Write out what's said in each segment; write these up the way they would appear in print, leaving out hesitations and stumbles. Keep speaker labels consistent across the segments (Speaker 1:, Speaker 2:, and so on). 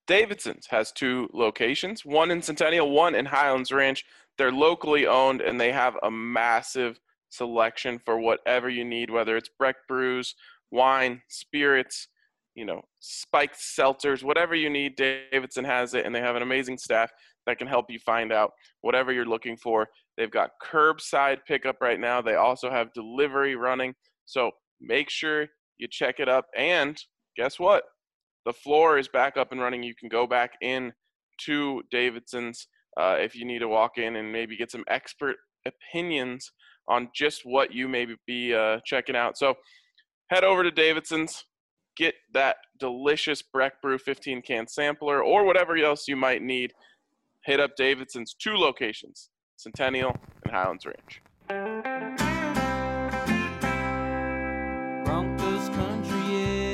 Speaker 1: Davidson's has 2 locations, one in Centennial, one in Highlands Ranch. They're locally owned, and they have a massive selection for whatever you need, whether it's Breck brews, wine, spirits, spiked seltzers, whatever you need, Davidson has it, and they have an amazing staff that can help you find out whatever you're looking for. They've got curbside pickup right now. They also have delivery running. So make sure you check it up. And guess what? The floor is back up and running. You can go back in to Davidson's if you need to walk in and maybe get some expert opinions on just what you may be checking out. So head over to Davidson's, get that delicious Breck Brew 15-can sampler or whatever else you might need. Hit up Davidson's 2 locations, Centennial and Highlands Ranch.
Speaker 2: Broncos country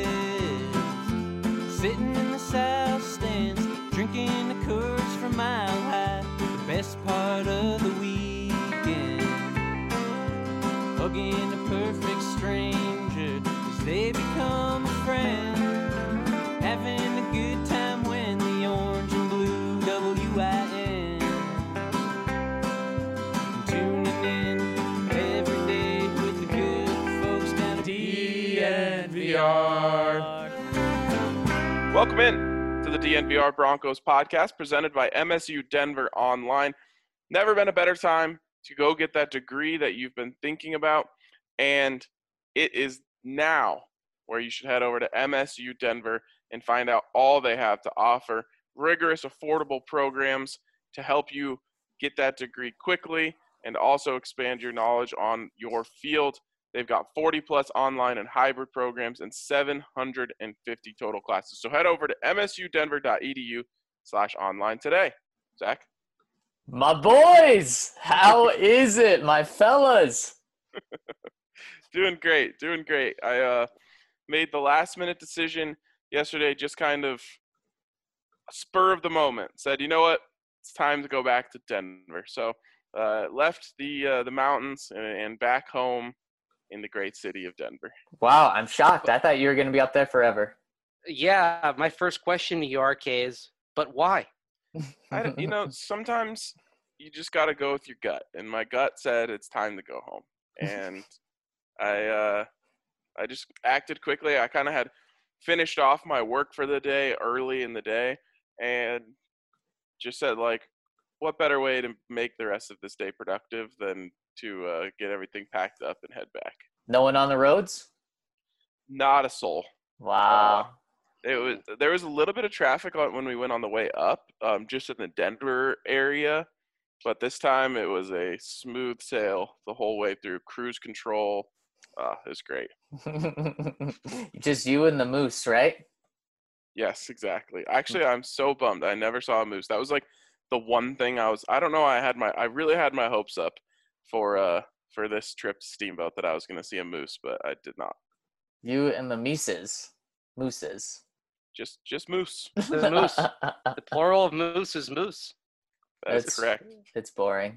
Speaker 2: is sitting in the south stands, drinking the Coors from Mile High. The best part of the weekend, hugging a perfect stranger as they become a friend, having a good time when the orange and blue WIN, tuning in every day with the good folks down at DNVR.
Speaker 1: Welcome in to the DNVR Broncos podcast presented by MSU Denver Online. Never been a better time to go get that degree that you've been thinking about, and it is now where you should head over to MSU Denver and find out all they have to offer. Rigorous, affordable programs to help you get that degree quickly and also expand your knowledge on your field. They've got 40-plus online and hybrid programs and 750 total classes. So head over to msudenver.edu/online today. Zach?
Speaker 3: My boys, how is it, my fellas?
Speaker 1: Doing great. I made the last-minute decision yesterday, just kind of spur of the moment. Said, you know what? It's time to go back to Denver. So left the mountains and back home in the great city of Denver.
Speaker 3: Wow, I'm shocked. I thought you were going to be up there forever.
Speaker 4: Yeah, my first question to you, RK, is, but why?
Speaker 1: Sometimes you just got to go with your gut. And my gut said it's time to go home. And I just acted quickly. I kind of had finished off my work for the day early in the day and just said, like, what better way to make the rest of this day productive than to get everything packed up and head back.
Speaker 3: No one on the roads?
Speaker 1: Not a soul.
Speaker 3: Wow.
Speaker 1: There was a little bit of traffic when we went on the way up, just in the Denver area, but this time it was a smooth sail the whole way through, cruise control. It was great.
Speaker 3: Just you and the moose, right?
Speaker 1: Yes, exactly. Actually, I'm so bummed I never saw a moose. That was like the one thing I don't know, I really had my hopes up for this trip to Steamboat that I was going to see a moose, but I did not.
Speaker 3: You and the mooses.
Speaker 1: Just moose.
Speaker 4: The moose. The plural of moose is moose.
Speaker 1: That's correct.
Speaker 3: It's boring.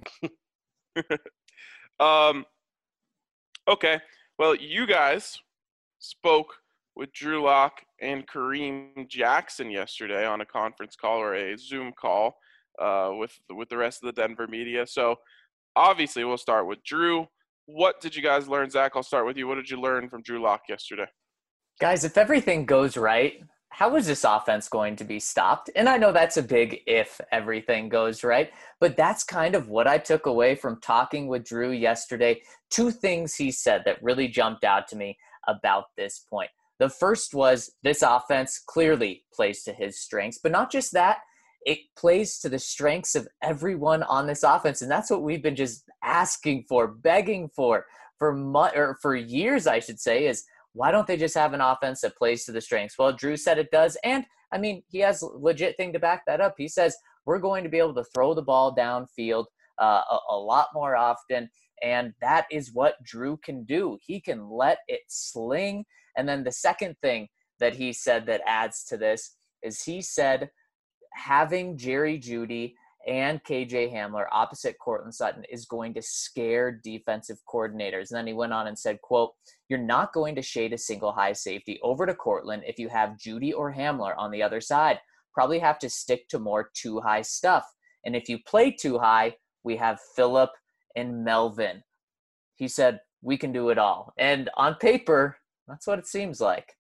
Speaker 1: Okay. Well, you guys spoke with Drew Lock and Kareem Jackson yesterday on a conference call or a Zoom call with the rest of the Denver media. So obviously we'll start with Drew. What did you guys learn? Zach, I'll start with you. What did you learn from Drew Lock yesterday?
Speaker 3: Guys, if everything goes right, how is this offense going to be stopped? And I know that's a big if everything goes right, but that's kind of what I took away from talking with Drew yesterday. 2 things he said that really jumped out to me about this point. The first was this offense clearly plays to his strengths, but not just that, it plays to the strengths of everyone on this offense. And that's what we've been just asking for, begging for years, I should say, is why don't they just have an offense that plays to the strengths? Well, Drew said it does. And I mean, he has a legit thing to back that up. He says, we're going to be able to throw the ball downfield a lot more often. And that is what Drew can do. He can let it sling. And then the second thing that he said that adds to this is he said having Jerry Jeudy and KJ Hamler opposite Courtland Sutton is going to scare defensive coordinators. And then he went on and said, quote, you're not going to shade a single high safety over to Courtland if you have Jeudy or Hamler on the other side. probably have to stick to more too high stuff. And if you play too high, we have Phillip and Melvin. He said, we can do it all. And on paper, that's what it seems like.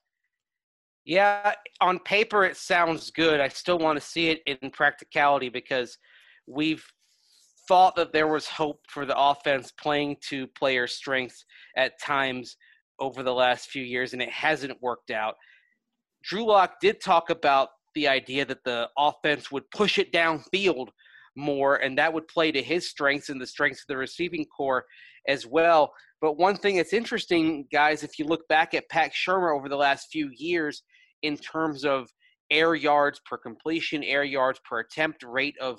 Speaker 4: Yeah, on paper it sounds good. I still want to see it in practicality because we've thought that there was hope for the offense playing to player strengths at times over the last few years, and it hasn't worked out. Drew Lock did talk about the idea that the offense would push it downfield more, and that would play to his strengths and the strengths of the receiving core as well. But one thing that's interesting, guys, if you look back at Pat Shurmur over the last few years in terms of air yards per completion, air yards per attempt, rate of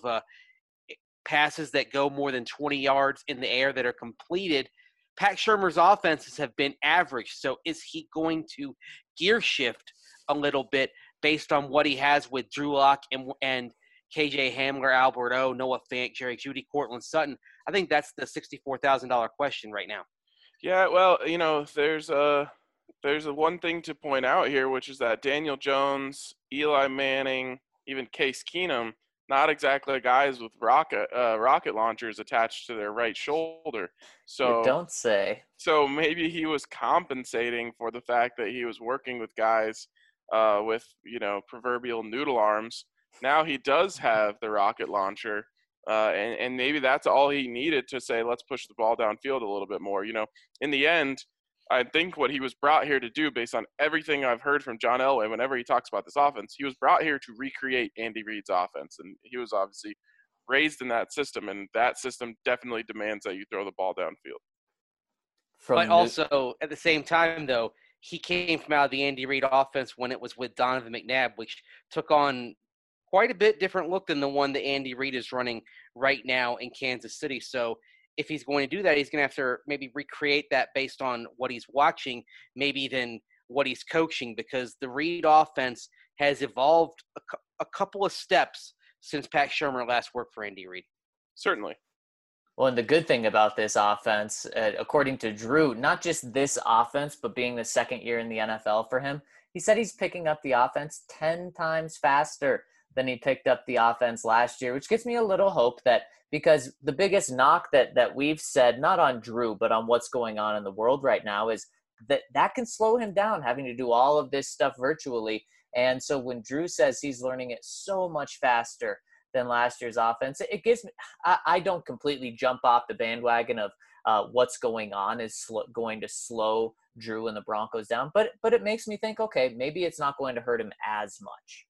Speaker 4: passes that go more than 20 yards in the air that are completed, Pat Shurmur's offenses have been average. So is he going to gear shift a little bit based on what he has with Drew Lock and KJ Hamler, Albert O, Noah Fant, Jerry Jeudy, Cortland Sutton? I think that's the $64,000 question right now.
Speaker 1: Yeah, well, there's a one thing to point out here, which is that Daniel Jones, Eli Manning, even Case Keenum, not exactly guys with rocket launchers attached to their right shoulder. So
Speaker 3: you don't say.
Speaker 1: So maybe he was compensating for the fact that he was working with guys with proverbial noodle arms. Now he does have the rocket launcher, and maybe that's all he needed to say, let's push the ball downfield a little bit more. In the end, I think what he was brought here to do, based on everything I've heard from John Elway whenever he talks about this offense, he was brought here to recreate Andy Reid's offense. And he was obviously raised in that system, and that system definitely demands that you throw the ball downfield.
Speaker 4: But also, at the same time, though, he came from out of the Andy Reid offense when it was with Donovan McNabb, which took on quite a bit different look than the one that Andy Reid is running right now in Kansas City. So if he's going to do that, he's going to have to maybe recreate that based on what he's watching, maybe than what he's coaching, because the Reid offense has evolved a couple of steps since Pat Shurmur last worked for Andy Reid.
Speaker 1: Certainly.
Speaker 3: Well, and the good thing about this offense, according to Drew, not just this offense, but being the second year in the NFL for him, he said he's picking up the offense 10 times faster than he picked up the offense last year, which gives me a little hope that, because the biggest knock that we've said, not on Drew, but on what's going on in the world right now, is that can slow him down, having to do all of this stuff virtually. And so when Drew says he's learning it so much faster than last year's offense, it gives me, I don't completely jump off the bandwagon of what's going on is going to slow Drew and the Broncos down, but it makes me think, okay, maybe it's not going to hurt him as much.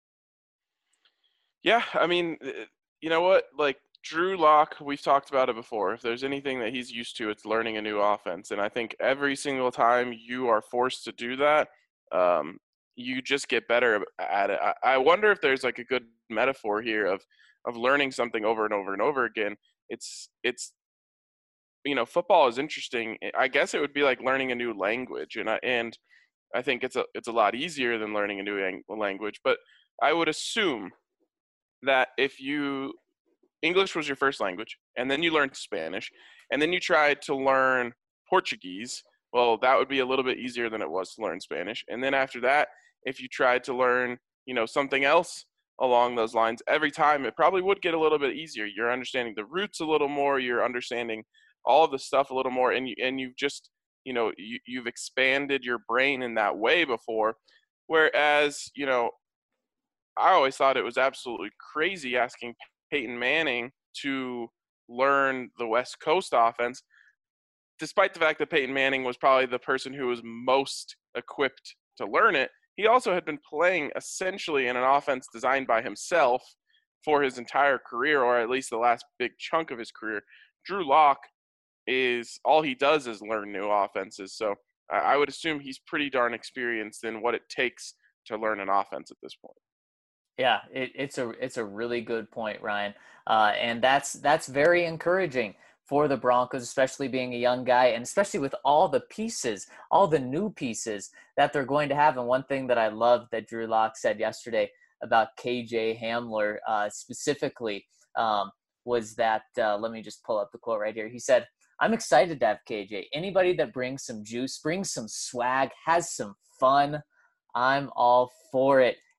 Speaker 1: Yeah, I mean, you know what? Like, Drew Lock, we've talked about it before. If there's anything that he's used to, it's learning a new offense. And I think every single time you are forced to do that, you just get better at it. I wonder if there's like a good metaphor here of learning something over and over and over again. It's football is interesting. I guess it would be like learning a new language, and I think it's a lot easier than learning a new language. But I would assume that if English was your first language, and then you learned Spanish, and then you tried to learn Portuguese, well, that would be a little bit easier than it was to learn Spanish. And then after that, if you tried to learn, something else along those lines, every time it probably would get a little bit easier. You're understanding the roots a little more, you're understanding all of the stuff a little more, and you've just, you've expanded your brain in that way before. Whereas, I always thought it was absolutely crazy asking Peyton Manning to learn the West Coast offense, despite the fact that Peyton Manning was probably the person who was most equipped to learn it. He also had been playing essentially in an offense designed by himself for his entire career, or at least the last big chunk of his career. Drew Lock all he does is learn new offenses. So I would assume he's pretty darn experienced in what it takes to learn an offense at this point.
Speaker 3: Yeah, it's a really good point, Ryan. And that's very encouraging for the Broncos, especially being a young guy, and especially with all the pieces, all the new pieces that they're going to have. And one thing that I love that Drew Lock said yesterday about KJ Hamler specifically was that, let me just pull up the quote right here. He said, "I'm excited to have KJ. Anybody that brings some juice, brings some swag, has some fun, I'm all for it."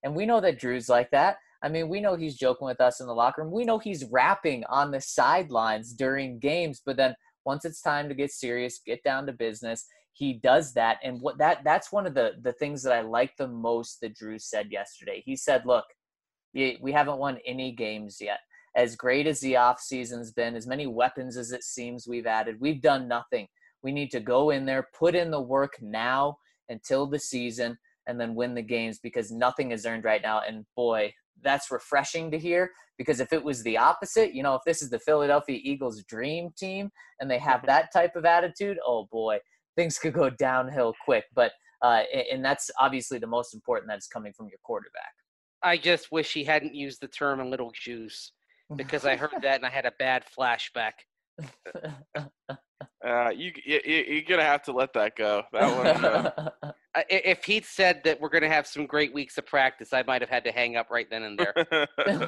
Speaker 3: And we know that Drew's like that. I mean, we know he's joking with us in the locker room. We know he's rapping on the sidelines during games, but then once it's time to get serious, get down to business, he does that. And that's one of the things that I like the most that Drew said yesterday. He said, look, we haven't won any games yet. As great as the offseason's been, as many weapons as it seems we've added, we've done nothing. We need to go in there, put in the work now until the season, and then win the games, because nothing is earned right now. And boy, that's refreshing to hear, because if it was the opposite, if this is the Philadelphia Eagles dream team and they have that type of attitude, oh boy, things could go downhill quick. But and that's obviously the most important, that is coming from your quarterback.
Speaker 4: I just wish he hadn't used the term "a little juice," because I heard that and I had a bad flashback.
Speaker 1: You're gonna have to let that go. That one.
Speaker 4: If he'd said that we're gonna have some great weeks of practice, I might have had to hang up right then and there.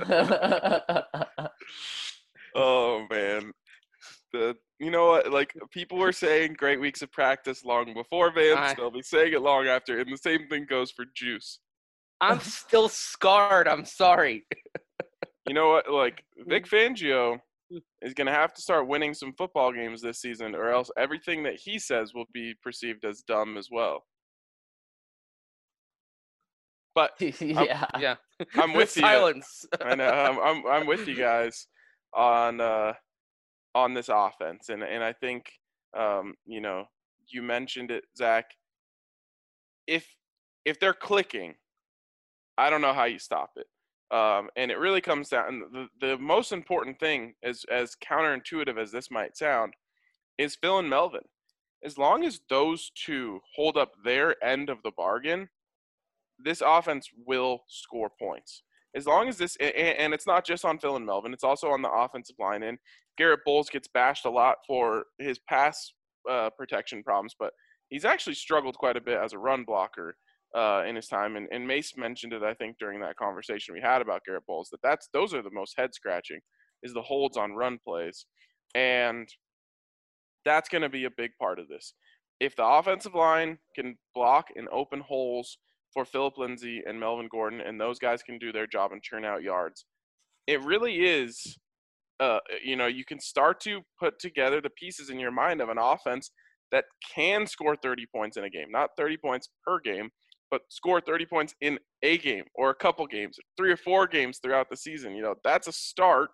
Speaker 1: Oh man, you know what? Like, people were saying great weeks of practice long before Vance. They'll be saying it long after, and the same thing goes for Juice.
Speaker 4: I'm still scarred. I'm sorry.
Speaker 1: You know what? Like, Vic Fangio is going to have to start winning some football games this season, or else everything that he says will be perceived as dumb as well. But
Speaker 3: yeah,
Speaker 1: I'm with
Speaker 4: silence.
Speaker 1: You. I know. I'm with you guys on this offense, and I think you mentioned it, Zach. If they're clicking, I don't know how you stop it. And it really comes down, the most important thing, as counterintuitive as this might sound, is Phil and Melvin. As long as those two hold up their end of the bargain, this offense will score points. As long as this, and it's not just on Phil and Melvin, it's also on the offensive line. And Garrett Bowles gets bashed a lot for his pass protection problems, but he's actually struggled quite a bit as a run blocker in his time, and Mace mentioned it, I think, during that conversation we had about Garrett Bowles, those are the most head-scratching, is the holds on run plays, and that's going to be a big part of this. If the offensive line can block and open holes for Phillip Lindsay and Melvin Gordon, and those guys can do their job and churn out yards, it really is, you can start to put together the pieces in your mind of an offense that can score 30 points in a game, not 30 points per game, but score 30 points in a game or a couple games, 3 or 4 games throughout the season. That's a start.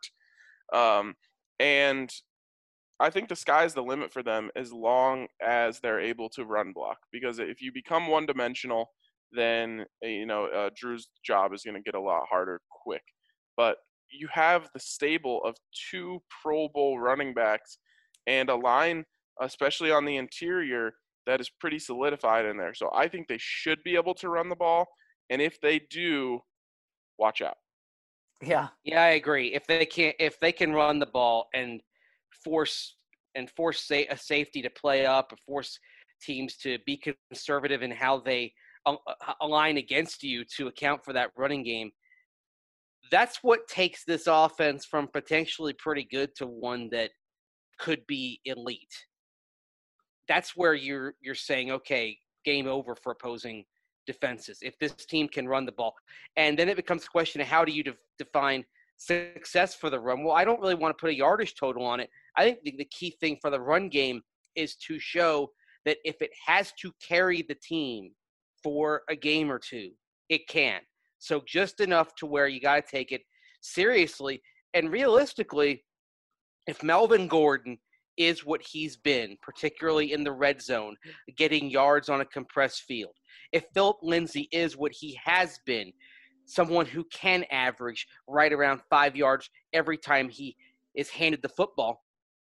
Speaker 1: And I think the sky's the limit for them as long as they're able to run block. Because if you become one-dimensional, then, Drew's job is going to get a lot harder quick. But you have the stable of 2 Pro Bowl running backs and a line, especially on the interior, that is pretty solidified in there. So I think they should be able to run the ball. And if they do, watch out.
Speaker 3: Yeah,
Speaker 4: I agree. If they can run the ball and force a safety to play up, or force teams to be conservative in how they align against you to account for that running game, that's what takes this offense from potentially pretty good to one that could be elite. That's where you're saying, okay, game over for opposing defenses if this team can run the ball. And then it becomes a question of how do you define success for the run? Well, I don't really want to put a yardage total on it. I think the key thing for the run game is to show that if it has to carry the team for a game or two, it can. So just enough to where you got to take it seriously. And realistically, if Melvin Gordon is what he's been, particularly in the red zone, getting yards on a compressed field, if Phillip Lindsay is what he has been, someone who can average right around 5 yards every time he is handed the football,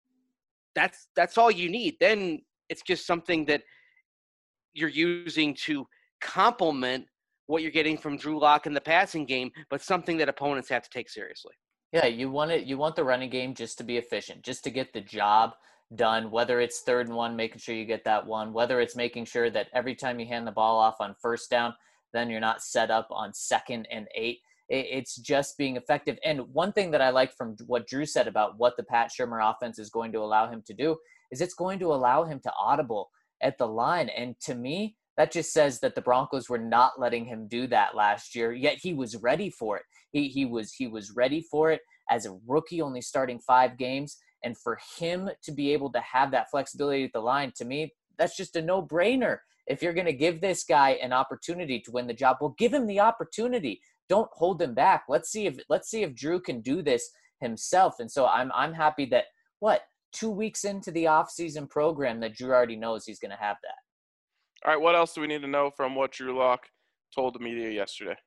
Speaker 4: that's all you need. Then it's just something that you're using to complement what you're getting from Drew Lock in the passing game, but something that opponents have to take seriously.
Speaker 3: Yeah, you want the running game just to be efficient, just to get the job done, whether it's 3rd and 1, making sure you get that one, whether it's making sure that every time you hand the ball off on 1st down, then you're not set up on 2nd and 8. It's just being effective. And one thing that I like from what Drew said about what the Pat Shurmur offense is going to allow him to do is it's going to allow him to audible at the line. And to me, that just says that the Broncos were not letting him do that last year, yet he was ready for it. He was ready for it as a rookie, only starting 5 games. And for him to be able to have that flexibility at the line, to me, that's just a no-brainer. If you're going to give this guy an opportunity to win the job, well, give him the opportunity. Don't hold him back. Let's see if Drew can do this himself. And so I'm happy that 2 weeks into the offseason program that Drew already knows he's going to have that.
Speaker 1: All right, what else do we need to know from what Drew Lock told the media yesterday?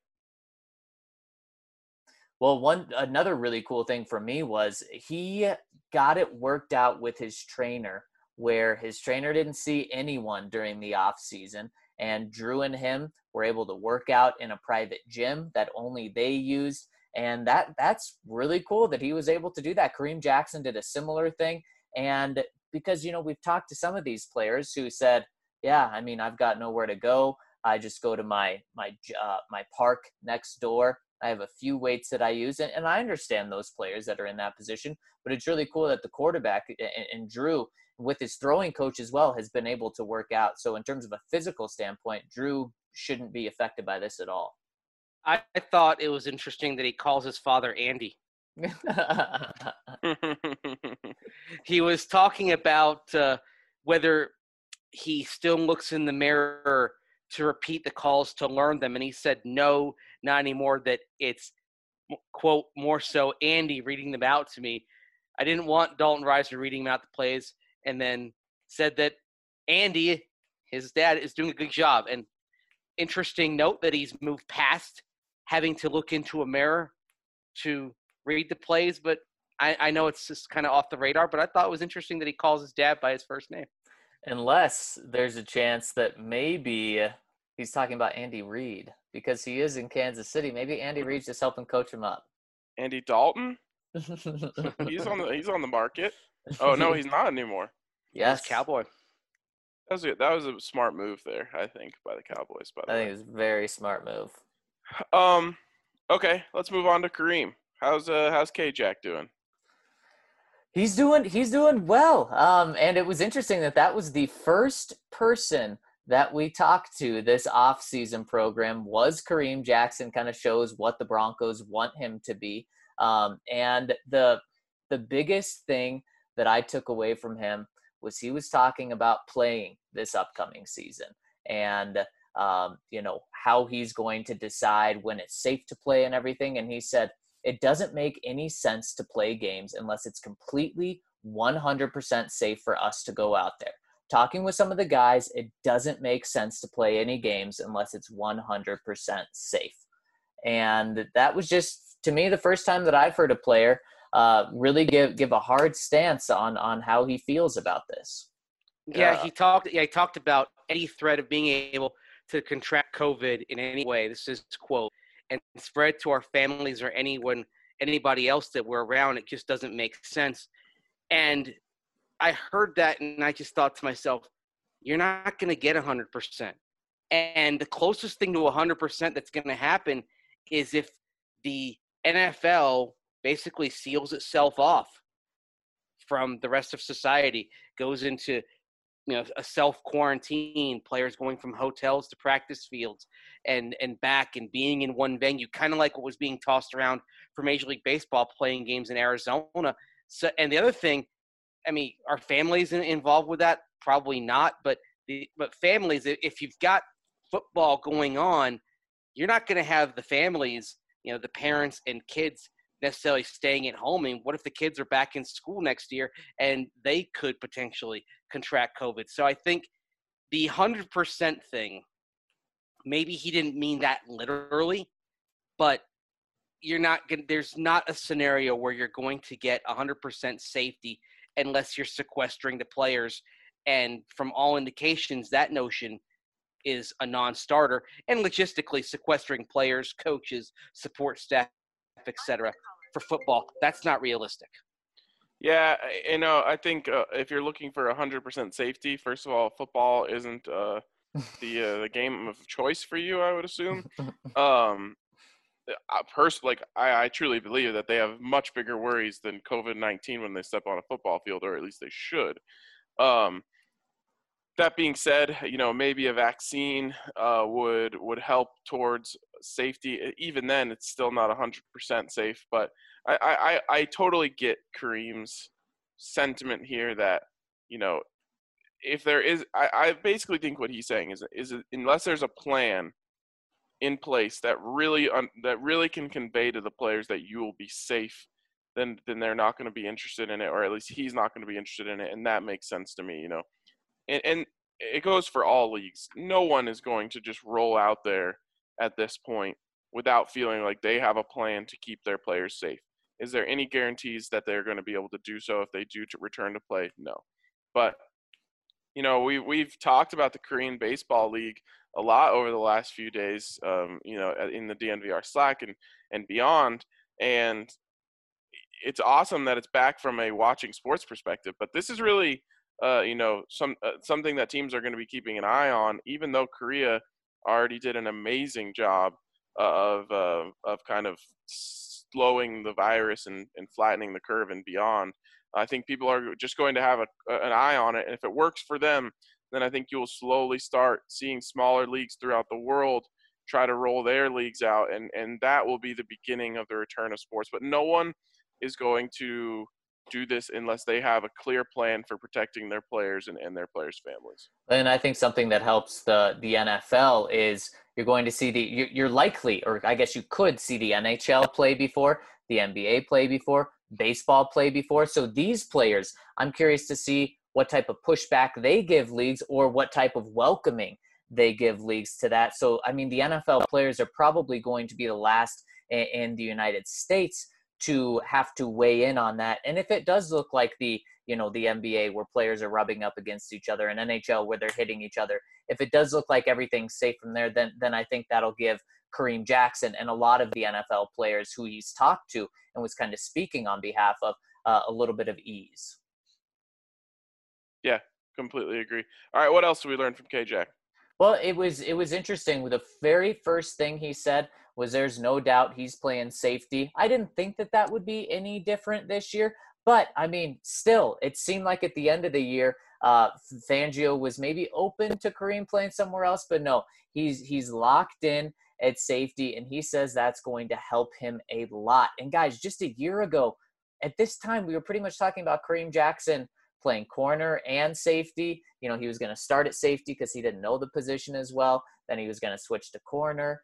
Speaker 3: Well, another really cool thing for me was he got it worked out with his trainer, where his trainer didn't see anyone during the off season, and Drew and him were able to work out in a private gym that only they used, and that's really cool that he was able to do that. Kareem Jackson did a similar thing, and because we've talked to some of these players who said, yeah, I mean, I've got nowhere to go. I just go to my park next door. I have a few weights that I use, and I understand those players that are in that position, but it's really cool that the quarterback and Drew, with his throwing coach as well, has been able to work out. So in terms of a physical standpoint, Drew shouldn't be affected by this at all.
Speaker 4: I thought it was interesting that he calls his father Andy. He was talking about whether he still looks in the mirror to repeat the calls to learn them, and he said no, not anymore, that it's, quote, more so Andy reading them out to me. I didn't want Dalton Risner reading them out the plays, and then said that Andy, his dad, is doing a good job. And interesting note that he's moved past having to look into a mirror to read the plays, but I know it's just kind of off the radar, but I thought it was interesting that he calls his dad by his first name.
Speaker 3: Unless there's a chance that maybe he's talking about Andy Reid, because he is in Kansas City. Maybe Andy Reid's just helping coach him up.
Speaker 1: Andy Dalton? He's on the market. Oh no, he's not anymore.
Speaker 3: Yes,
Speaker 4: He's Cowboy.
Speaker 1: That was a smart move there, I think, by the Cowboys. By the way,
Speaker 3: I think it was a very smart move.
Speaker 1: Okay, let's move on to Kareem. How's K-Jack doing?
Speaker 3: He's doing well. And it was interesting that was the first person that we talked to this off-season program was Kareem Jackson. Kind of shows what the Broncos want him to be. And the biggest thing that I took away from him was he was talking about playing this upcoming season and how he's going to decide when it's safe to play and everything. And he said, it doesn't make any sense to play games unless it's completely 100% safe for us to go out there. Talking with some of the guys, it doesn't make sense to play any games unless it's 100% safe. And that was just, to me, the first time that I've heard a player really give a hard stance on how he feels about this.
Speaker 4: Yeah, he talked about any threat of being able to contract COVID in any way. This is quote, and spread to our families or anybody else that we're around. It just doesn't make sense. And I heard that, and I just thought to myself, you're not going to get 100%. And the closest thing to 100% that's going to happen is if the NFL basically seals itself off from the rest of society, goes into a self-quarantine, players going from hotels to practice fields and back and being in one venue, kind of like what was being tossed around for Major League Baseball playing games in Arizona. So, and the other thing, I mean, are families involved with that? Probably not, but families, if you've got football going on, you're not going to have the families, the parents and kids necessarily staying at home. I mean, what if the kids are back in school next year and they could potentially contract COVID? So I think the 100% thing, maybe he didn't mean that literally, but there's not a scenario where you're going to get 100% safety unless you're sequestering the players. And from all indications, that notion is a non-starter, and logistically sequestering players, coaches, support staff, etc. for football, that's not realistic.
Speaker 1: Yeah, I think if you're looking for 100% safety, first of all, football isn't the game of choice for you, I would assume. I truly believe that they have much bigger worries than COVID-19 when they step on a football field, or at least they should. That being said, maybe a vaccine would help towards safety. Even then, it's still not 100% safe. But I totally get Kareem's sentiment here that, if there is, I basically think what he's saying is unless there's a plan in place that really can convey to the players that you will be safe, then they're not going to be interested in it, or at least he's not going to be interested in it, and that makes sense to me. And it goes for all leagues. No one is going to just roll out there at this point without feeling like they have a plan to keep their players safe. Is there any guarantees that they're going to be able to do so if they do to return to play? No. But, we've talked about the Korean Baseball League a lot over the last few days, in the DNVR Slack and beyond. And it's awesome that it's back from a watching sports perspective. But this is really something that teams are going to be keeping an eye on, even though Korea already did an amazing job of kind of slowing the virus and flattening the curve and beyond. I think people are just going to have an eye on it. And if it works for them, then I think you'll slowly start seeing smaller leagues throughout the world try to roll their leagues out. And that will be the beginning of the return of sports. But no one is going to do this unless they have a clear plan for protecting their players and their players' families.
Speaker 3: And I think something that helps the NFL is you're going to see you're likely, or I guess you could see the NHL play before, the NBA play before, baseball play before. So these players, I'm curious to see what type of pushback they give leagues or what type of welcoming they give leagues to that. So, I mean, the NFL players are probably going to be the last in the United States to have to weigh in on that. And if it does look like the NBA where players are rubbing up against each other, and NHL where they're hitting each other, if it does look like everything's safe from there, then I think that'll give Kareem Jackson and a lot of the NFL players who he's talked to and was kind of speaking on behalf of a little bit of ease.
Speaker 1: Yeah, completely agree. All right, what else did we learn from K-Jack?
Speaker 3: Well, it was interesting. The very first thing he said was there's no doubt he's playing safety. I didn't think that would be any different this year, but I mean, still, it seemed like at the end of the year, Fangio was maybe open to Kareem playing somewhere else, but no, he's locked in at safety, and he says that's going to help him a lot. And guys, just a year ago, at this time, we were pretty much talking about Kareem Jackson playing corner and safety. He was going to start at safety because he didn't know the position as well. Then he was going to switch to corner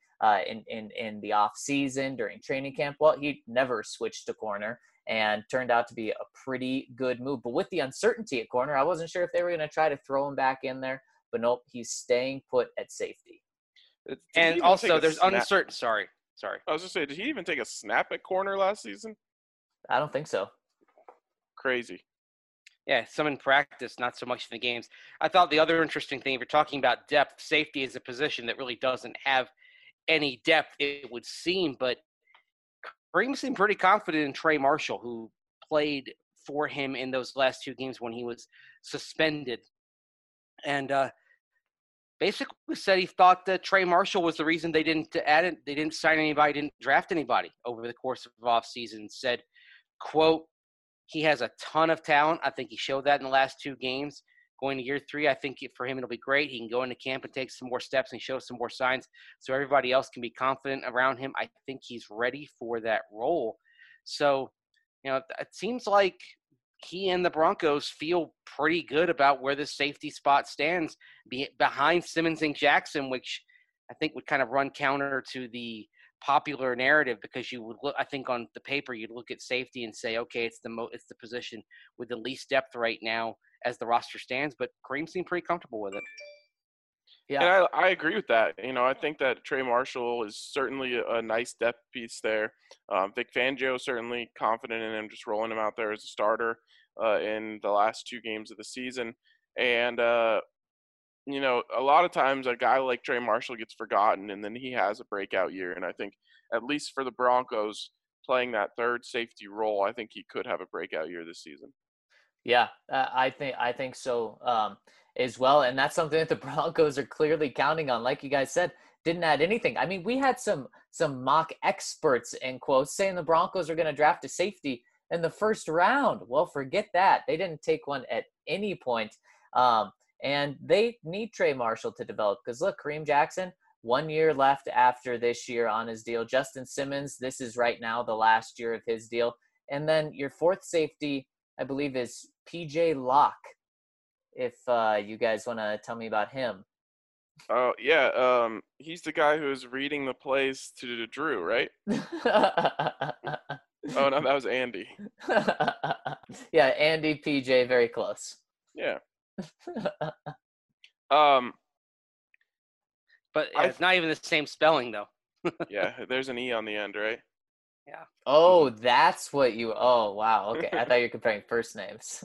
Speaker 3: in the off season during training camp. Well, he never switched to corner and turned out to be a pretty good move. But with the uncertainty at corner, I wasn't sure if they were going to try to throw him back in there. But nope, he's staying put at safety.
Speaker 4: And also, there's uncertain. Sorry.
Speaker 1: I was just saying, did he even take a snap at corner last season?
Speaker 3: I don't think so.
Speaker 1: Crazy.
Speaker 4: Yeah, some in practice, not so much in the games. I thought the other interesting thing, if you're talking about depth, safety is a position that really doesn't have any depth, it would seem. But Kareem seemed pretty confident in Trey Marshall, who played for him in those last two games when he was suspended. And basically said he thought that Trey Marshall was the reason they didn't add it. They didn't sign anybody, didn't draft anybody over the course of offseason. Said, quote, he has a ton of talent. I think he showed that in the last two games. Going to year three, I think for him it'll be great. He can go into camp and take some more steps and show some more signs so everybody else can be confident around him. I think he's ready for that role. So, it seems like he and the Broncos feel pretty good about where the safety spot stands behind Simmons and Jackson, which I think would kind of run counter to the popular narrative, because you would look, I think on the paper, you'd look at safety and say, okay, it's the position with the least depth right now as the roster stands, but Kareem seemed pretty comfortable with it.
Speaker 1: Yeah, and I agree with that. I think that Trey Marshall is certainly a nice depth piece there. Vic Fangio certainly confident in him, just rolling him out there as a starter in the last two games of the season. And, a lot of times a guy like Trey Marshall gets forgotten, and then he has a breakout year. And I think, at least for the Broncos, playing that third safety role, I think he could have a breakout year this season.
Speaker 3: Yeah, I think so as well. And that's something that the Broncos are clearly counting on. Like you guys said, didn't add anything. I mean, we had some mock experts, in quotes, saying the Broncos are going to draft a safety in the first round. Well, forget that. They didn't take one at any point. And they need Trey Marshall to develop because look, Kareem Jackson, 1 year left after this year on his deal. Justin Simmons, this is right now the last year of his deal. And then your fourth safety, I believe, is PJ Locke. If you guys want to tell me about him.
Speaker 1: Oh, yeah. He's the guy who was reading the plays to Drew, right? Oh, no, that was Andy.
Speaker 3: Yeah, Andy, PJ, very close.
Speaker 1: Yeah.
Speaker 4: But it's not even the same spelling, though.
Speaker 1: Yeah, there's an E on the end, right?
Speaker 4: Yeah.
Speaker 3: Oh, that's what you. Oh, wow. Okay, I thought you were comparing first names.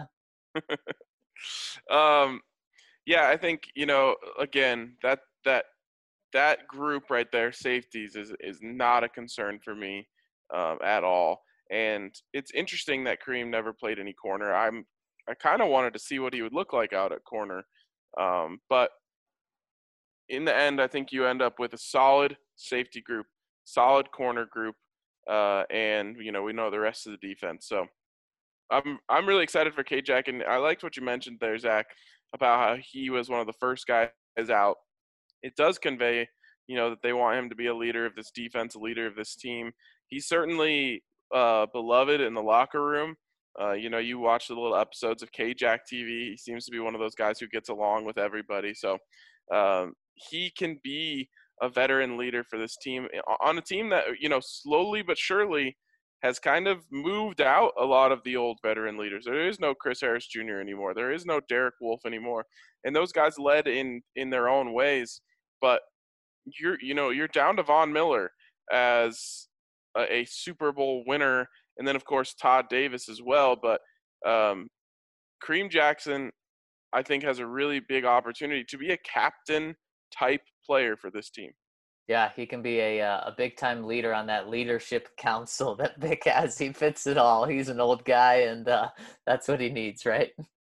Speaker 1: Yeah, I think, again, that group right there, safeties, is not a concern for me at all. And it's interesting that Kareem never played any corner. I kind of wanted to see what he would look like out at corner. But in the end, I think you end up with a solid safety group, solid corner group, and we know the rest of the defense. So I'm really excited for K-Jack, and I liked what you mentioned there, Zach, about how he was one of the first guys out. It does convey, that they want him to be a leader of this defense, a leader of this team. He's certainly beloved in the locker room. You watch the little episodes of K-Jack TV. He seems to be one of those guys who gets along with everybody. So he can be a veteran leader for this team on a team that, slowly but surely has kind of moved out a lot of the old veteran leaders. There is no Chris Harris Jr. anymore. There is no Derek Wolfe anymore. And those guys led in their own ways. But you're down to Von Miller as a Super Bowl winner. And then, of course, Todd Davis as well. But Kareem Jackson, I think, has a really big opportunity to be a captain-type player for this team.
Speaker 3: Yeah, he can be a big-time leader on that leadership council that Vic has. He fits it all. He's an old guy, and that's what he needs, right?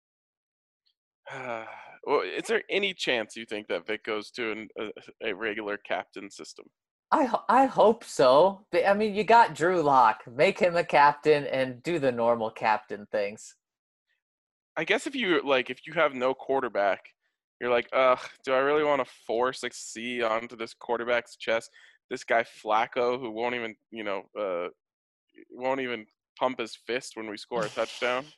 Speaker 1: Well, is there any chance you think that Vic goes to a regular captain system?
Speaker 3: I hope so. I mean, you got Drew Lock. Make him a captain and do the normal captain things.
Speaker 1: I guess if you have no quarterback, you're like, do I really want to force a C onto this quarterback's chest? This guy Flacco, who won't even pump his fist when we score a touchdown.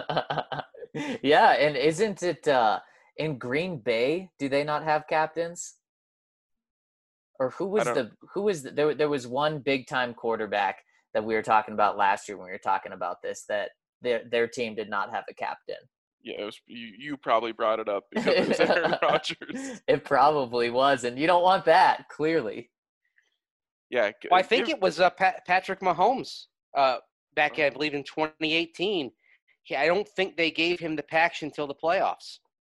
Speaker 3: Yeah, and isn't it in Green Bay? Do they not have captains? Or who was there was one big time quarterback that we were talking about last year when we were talking about this, that their team did not have a captain.
Speaker 1: Yeah, it was, you probably brought it up because it was Aaron Rodgers.
Speaker 3: It probably was, and you don't want that, clearly.
Speaker 1: Yeah.
Speaker 4: Well, I think it was Patrick Mahomes back, I believe, in 2018. I don't think they gave him the patch until the playoffs.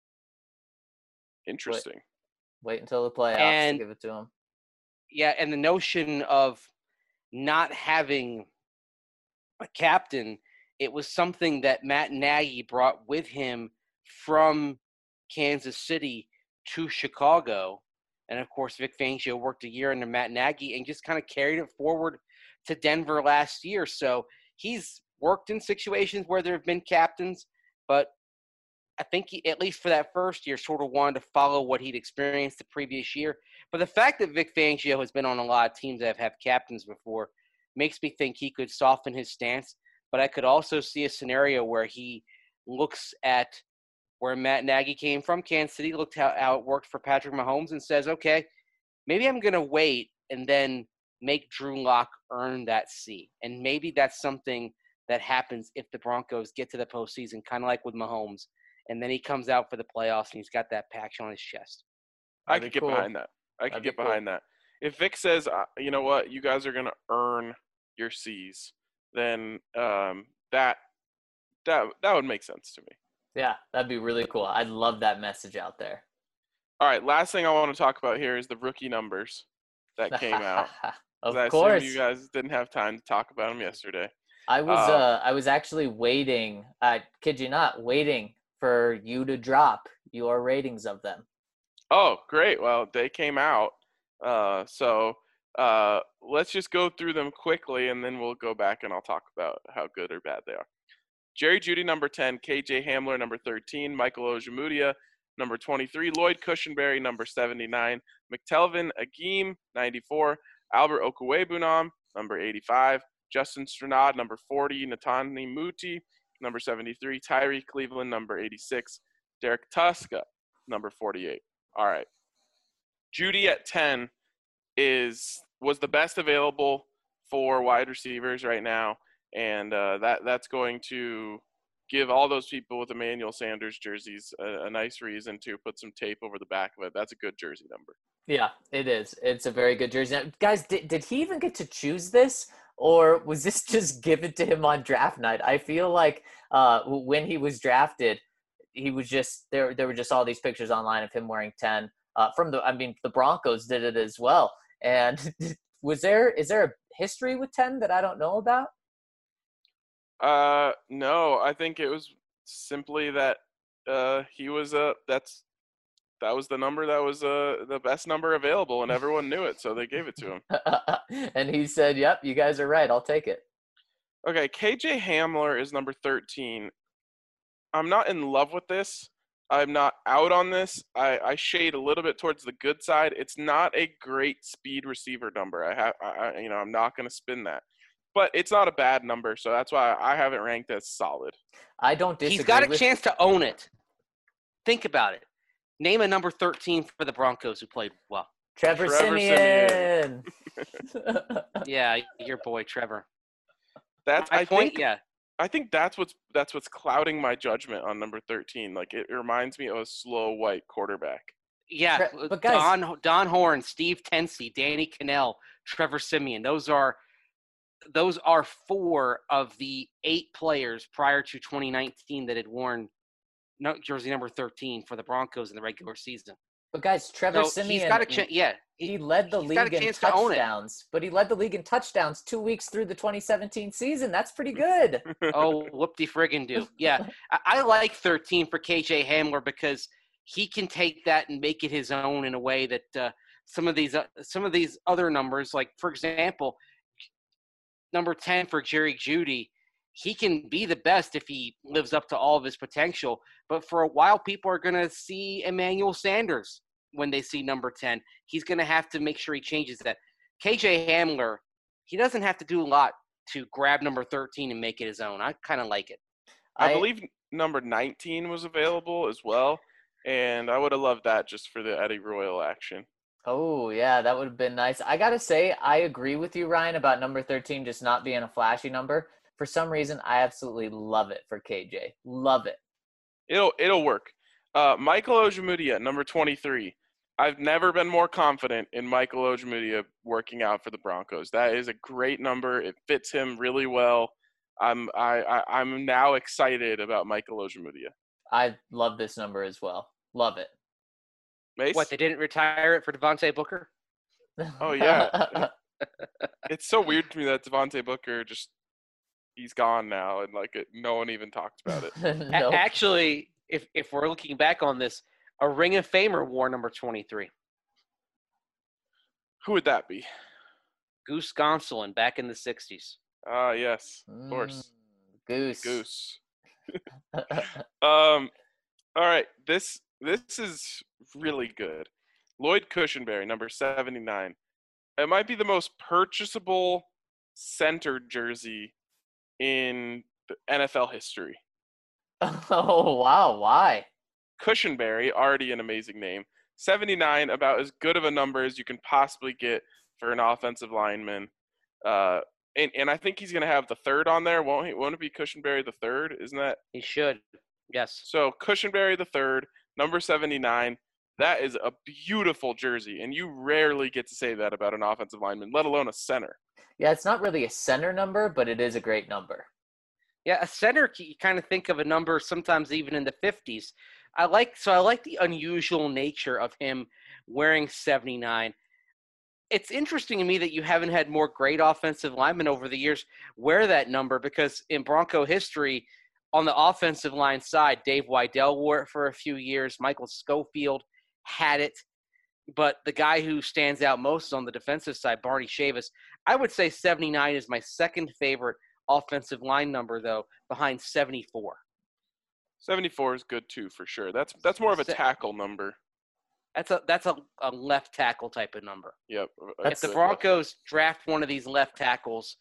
Speaker 1: Interesting.
Speaker 3: Wait until the playoffs to give it to him.
Speaker 4: Yeah, and the notion of not having a captain, it was something that Matt Nagy brought with him from Kansas City to Chicago. And, of course, Vic Fangio worked a year under Matt Nagy and just kind of carried it forward to Denver last year. So he's worked in situations where there have been captains, but I think he, at least for that first year, sort of wanted to follow what he'd experienced the previous year. But the fact that Vic Fangio has been on a lot of teams that have captains before makes me think he could soften his stance. But I could also see a scenario where he looks at where Matt Nagy came from, Kansas City, looked how it worked for Patrick Mahomes and says, okay, maybe I'm going to wait and then make Drew Lock earn that C. And maybe that's something that happens if the Broncos get to the postseason, kind of like with Mahomes. And then he comes out for the playoffs and he's got that patch on his chest.
Speaker 1: I could get behind that. I could get behind that. If Vic says, you know what, you guys are going to earn your C's, then that would make sense to me.
Speaker 3: Yeah, that'd be really cool. I'd love that message out there.
Speaker 1: All right, last thing I want to talk about here is the rookie numbers that came out.
Speaker 3: Of
Speaker 1: I
Speaker 3: course.
Speaker 1: assume you guys didn't have time to talk about them yesterday.
Speaker 3: I was actually waiting, I kid you not, waiting for you to drop your ratings of them.
Speaker 1: Oh, great. Well, they came out. So let's just go through them quickly, and then we'll go back and I'll talk about how good or bad they are. Jerry Jeudy, number 10. KJ Hamler, number 13. Michael Ojemudia, number 23. Lloyd Cushenberry, number 79. McTelvin Agim, 94. Albert Okwuegbunam, number 85. Justin Stranad, number 40. Natani Muti, number 73. Tyree Cleveland, number 86. Derek Tuska, number 48. All right. Judy at 10 was the best available for wide receivers right now, and that's going to give all those people with Emmanuel Sanders jerseys a nice reason to put some tape over the back of it. That's a good jersey number.
Speaker 3: Yeah, it is. It's a very good jersey. Now, guys, did he even get to choose this, or was this just given to him on draft night? I feel like when he was drafted, he was just there were just all these pictures online of him wearing 10. The Broncos did it as well. And is there a history with 10 that I don't know about?
Speaker 1: No, I think it was simply that he was that was the number that was the best number available, and everyone knew it, so they gave it to him.
Speaker 3: And he said, "Yep, you guys are right. I'll take it."
Speaker 1: Okay, KJ Hamler is number 13. I'm not in love with this. I'm not out on this. I shade a little bit towards the good side. It's not a great speed receiver number. I'm not going to spin that. But it's not a bad number, so that's why I have it ranked as solid.
Speaker 3: I don't disagree.
Speaker 4: He's got a chance to own it. Think about it. Name a number 13 for the Broncos who played well.
Speaker 3: Trevor Siemian.
Speaker 4: Yeah, your boy Trevor.
Speaker 1: I think that's what's clouding my judgment on number 13. Like, it reminds me of a slow white quarterback.
Speaker 4: Yeah,
Speaker 3: but guys,
Speaker 4: Don Horn, Steve Tensey, Danny Cannell, Trevor Siemian. Those are 4 of the 8 players prior to 2019 that had worn jersey number 13 for the Broncos in the regular season.
Speaker 3: But guys, Trevor Siemian,
Speaker 4: he's got a chance. Yeah,
Speaker 3: he led the league in touchdowns. But he led the league in touchdowns 2 weeks through the 2017 season. That's pretty good.
Speaker 4: Oh, whoop-de-friggin' do. Yeah, I like 13 for KJ Hamler because he can take that and make it his own in a way that some of these other numbers, like for example, number 10 for Jerry Jeudy, he can be the best if he lives up to all of his potential. But for a while, people are going to see Emmanuel Sanders when they see number 10. He's going to have to make sure he changes that. KJ Hamler, he doesn't have to do a lot to grab number 13 and make it his own. I kind of like it.
Speaker 1: I believe number 19 was available as well, and I would have loved that just for the Eddie Royal action.
Speaker 3: Oh, yeah, that would have been nice. I got to say, I agree with you, Ryan, about number 13 just not being a flashy number. For some reason, I absolutely love it for KJ. Love it.
Speaker 1: It'll work. Michael Ojemudia, number 23. I've never been more confident in Michael Ojemudia working out for the Broncos. That is a great number. It fits him really well. I'm now excited about Michael Ojemudia.
Speaker 3: I love this number as well. Love it.
Speaker 1: Mace?
Speaker 4: What, they didn't retire it for Devontae Booker?
Speaker 1: Oh, yeah. It's so weird to me that Devontae Booker he's gone now, and no one even talked about it.
Speaker 3: Nope.
Speaker 4: Actually, if we're looking back on this, a Ring of Famer wore number 23.
Speaker 1: Who would that be?
Speaker 4: Goose Gonsolin back in the 60s.
Speaker 1: Ah, yes, of course.
Speaker 3: Goose.
Speaker 1: All right, this is really good. Lloyd Cushenberry, number 79. It might be the most purchasable center jersey in the NFL history.
Speaker 3: Oh, wow. Why?
Speaker 1: Cushenberry, already an amazing name. 79, about as good of a number as you can possibly get for an offensive lineman. And I think he's going to have the third on there, won't he? Won't it be Cushenberry the third? Isn't that?
Speaker 4: He should. Yes.
Speaker 1: So Cushenberry the third, number 79. That is a beautiful jersey, and you rarely get to say that about an offensive lineman, let alone a center.
Speaker 3: Yeah, it's not really a center number, but it is a great number.
Speaker 4: Yeah, a center, you kind of think of a number sometimes even in the 50s. I like the unusual nature of him wearing 79. It's interesting to me that you haven't had more great offensive linemen over the years wear that number, because in Bronco history, on the offensive line side, Dave Wydell wore it for a few years. Michael Schofield had it. But the guy who stands out most on the defensive side, Barney Chavis, I would say 79 is my second favorite offensive line number, though, behind 74.
Speaker 1: 74 is good too, for sure. That's more of a
Speaker 4: Se-
Speaker 1: tackle number.
Speaker 4: That's a left tackle type of number.
Speaker 1: Yep.
Speaker 4: If the Broncos draft one of these left tackles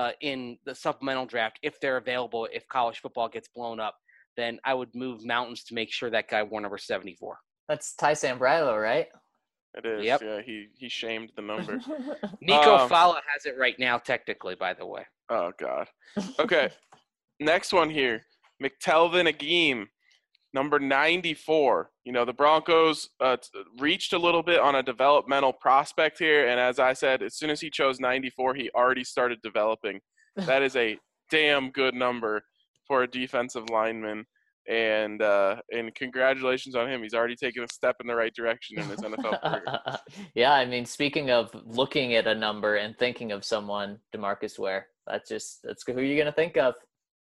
Speaker 4: in the supplemental draft, if they're available, if college football gets blown up, then I would move mountains to make sure that guy wore number 74.
Speaker 3: That's Ty Sambrailo, right?
Speaker 1: It is.
Speaker 4: Yep.
Speaker 1: Yeah, he shamed the number.
Speaker 4: Nico Fala has it right now, technically, by the way.
Speaker 1: Oh, God. Okay, next one here. McTelvin Agim, number 94. The Broncos reached a little bit on a developmental prospect here, and as I said, as soon as he chose 94, he already started developing. That is a damn good number for a defensive lineman, and congratulations on him. He's already taken a step in the right direction in his NFL career.
Speaker 3: Yeah, I mean, speaking of looking at a number and thinking of someone, DeMarcus Ware, that's who you're going to think of.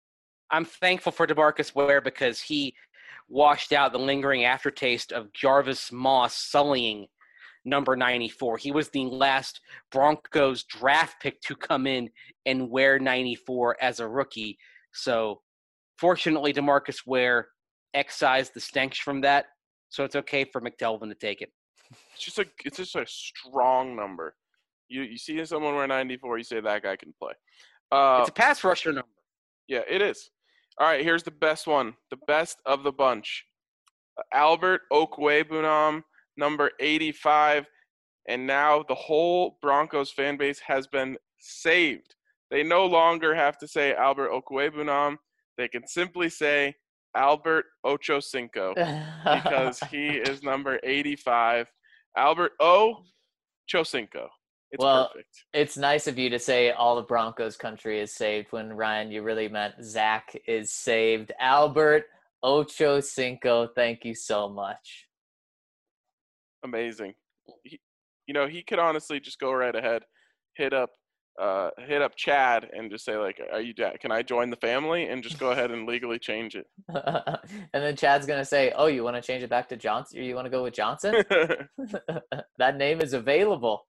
Speaker 4: I'm thankful for DeMarcus Ware because he washed out the lingering aftertaste of Jarvis Moss sullying number 94. He was the last Broncos draft pick to come in and wear 94 as a rookie. So fortunately, DeMarcus Ware excised the stench from that, so it's okay for McTelvin to take it.
Speaker 1: It's just a strong number. You see someone wear 94, you say that guy can play.
Speaker 4: It's a pass rusher number.
Speaker 1: Yeah, it is. All right, here's the best one, the best of the bunch. Albert Okwuegbunam, number 85, and now the whole Broncos fan base has been saved. They no longer have to say Albert Okwuegbunam. They can simply say Albert Ochocinco because he is number 85. Albert Ochocinco. It's perfect.
Speaker 3: It's nice of you to say all the Broncos country is saved when, Ryan, you really meant Zach is saved. Albert Ochocinco, thank you so much.
Speaker 1: Amazing. He could honestly just go right ahead, hit up Chad and just say, like, can I join the family, and just go ahead and legally change it.
Speaker 3: And then Chad's going to say, oh, you want to change it back to Johnson? Or you want to go with Johnson? That name is available.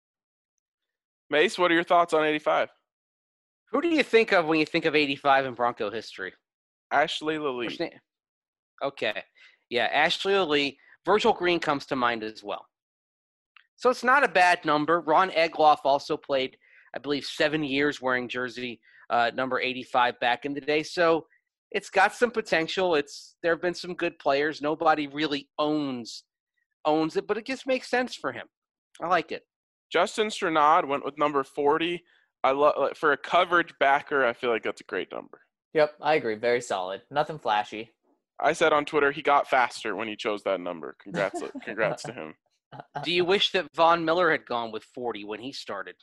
Speaker 1: Mace, what are your thoughts on 85?
Speaker 4: Who do you think of when you think of 85 in Bronco history?
Speaker 1: Ashley Lilly.
Speaker 4: Okay. Yeah, Ashley Lilly. Virgil Green comes to mind as well. So it's not a bad number. Ron Egloff also played, I believe, 7 years wearing jersey number 85 back in the day. So it's got some potential. There have been some good players. Nobody really owns it, but it just makes sense for him. I like it.
Speaker 1: Justin Strnad went with number 40. For a coverage backer, I feel like that's a great number.
Speaker 3: Yep, I agree. Very solid. Nothing flashy.
Speaker 1: I said on Twitter he got faster when he chose that number. Congrats to him.
Speaker 4: Do you wish that Von Miller had gone with 40 when he started?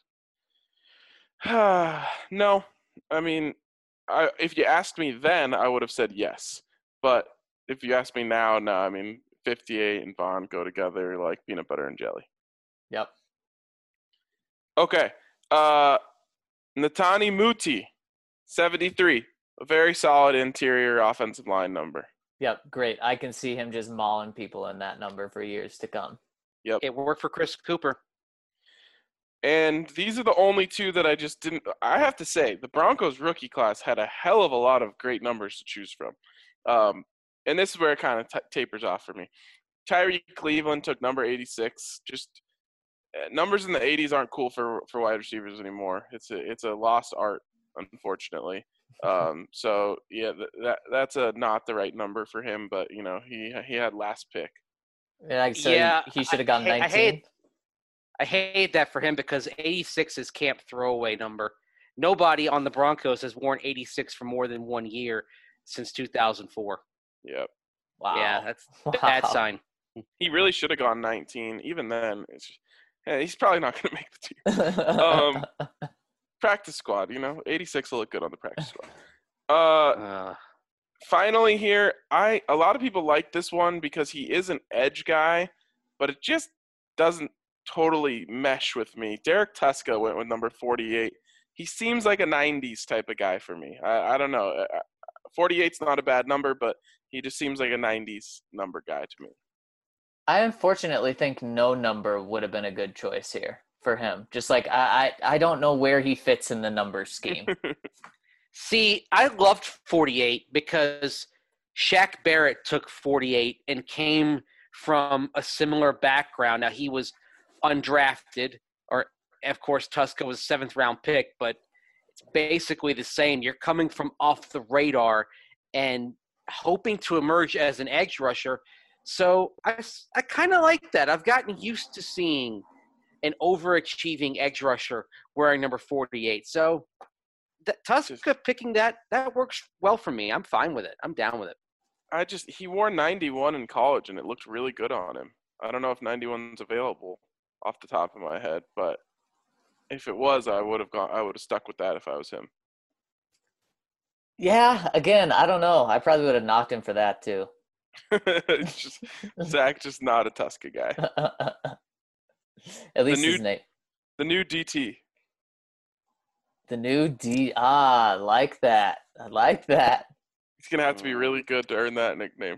Speaker 1: No. I mean, if you asked me then, I would have said yes. But if you ask me now, no. I mean, 58 and Von go together like peanut butter and jelly.
Speaker 3: Yep.
Speaker 1: Okay. Netani Muti, 73. A very solid interior offensive line number.
Speaker 3: Yep, great. I can see him just mauling people in that number for years to come.
Speaker 1: Yep.
Speaker 4: It worked for Chris Cooper.
Speaker 1: And these are the only two that I just didn't – I have to say, the Broncos rookie class had a hell of a lot of great numbers to choose from. And this is where it kind of tapers off for me. Tyree Cleveland took number 86. Just numbers in the 80s aren't cool for wide receivers anymore. It's a lost art, unfortunately. So, yeah, that's not the right number for him. But, he had last pick.
Speaker 3: Yeah, he should have gone 19.
Speaker 4: I hate that for him because 86 is camp throwaway number. Nobody on the Broncos has worn 86 for more than 1 year since 2004.
Speaker 1: Yep.
Speaker 4: Wow. Yeah, that's a bad sign.
Speaker 1: He really should have gone 19. Even then, he's probably not going to make the team. Practice squad, 86 will look good on the practice squad. Finally here, a lot of people like this one because he is an edge guy, but it just doesn't totally mesh with me. Derek Tuska went with number 48. He seems like a 90s type of guy for me. I don't know. 48's not a bad number, but he just seems like a 90s number guy to me.
Speaker 3: I unfortunately think no number would have been a good choice here for him. Just like I don't know where he fits in the number scheme.
Speaker 4: See, I loved 48 because Shaq Barrett took 48 and came from a similar background. Now, he was undrafted, or of course, Tuska was a 7th-round pick, but it's basically the same. You're coming from off the radar and hoping to emerge as an edge rusher. So I kind of like that. I've gotten used to seeing an overachieving edge rusher wearing number 48. So Tuska picking that works well for me. I'm fine with it. I'm down with it.
Speaker 1: He wore 91 in college, and it looked really good on him. I don't know if 91's available off the top of my head, but if it was, I would have stuck with that if I was him.
Speaker 3: Yeah, again, I don't know. I probably would have knocked him for that too.
Speaker 1: Zach just not a Tuska guy.
Speaker 3: At least his name.
Speaker 1: The new DT.
Speaker 3: The new D. I like that. I like that.
Speaker 1: He's going to have to be really good to earn that nickname.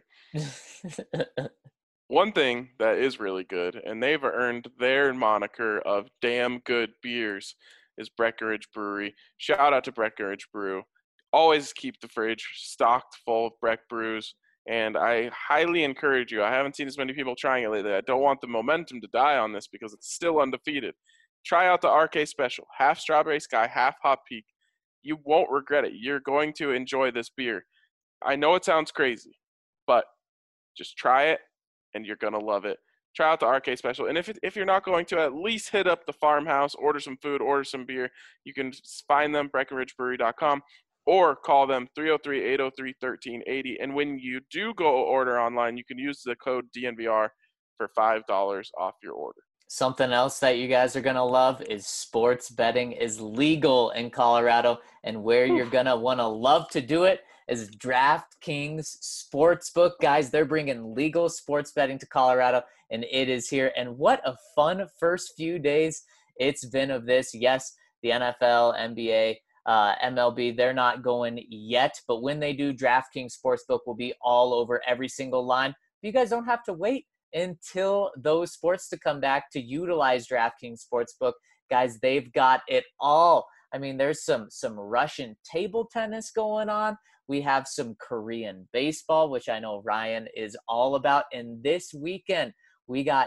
Speaker 1: One thing that is really good, and they've earned their moniker of damn good beers, is Breckenridge Brewery. Shout out to Breckenridge Brew. Always keep the fridge stocked full of Breck brews, and I highly encourage you. I haven't seen as many people trying it lately. I don't want the momentum to die on this because it's still undefeated. Try out the RK Special, half Strawberry Sky, half Hop Peak. You won't regret it. You're going to enjoy this beer. I know it sounds crazy, but just try it, and you're going to love it. Try out the RK Special. And if you're not going to, at least hit up the farmhouse, order some food, order some beer. You can find them, BreckenridgeBrewery.com, or call them 303-803-1380. And when you do go order online, you can use the code DNVR for $5 off your order.
Speaker 3: Something else that you guys are going to love is sports betting is legal in Colorado. And where you're going to want to love to do it is DraftKings Sportsbook. Guys, they're bringing legal sports betting to Colorado, and it is here. And what a fun first few days it's been of this. Yes, the NFL, NBA, MLB, they're not going yet. But when they do, DraftKings Sportsbook will be all over every single line. You guys don't have to wait until those sports to come back to utilize DraftKings Sportsbook. Guys, they've got it all. I mean, there's some Russian table tennis going on. We have some Korean baseball, which I know Ryan is all about. And this weekend, we got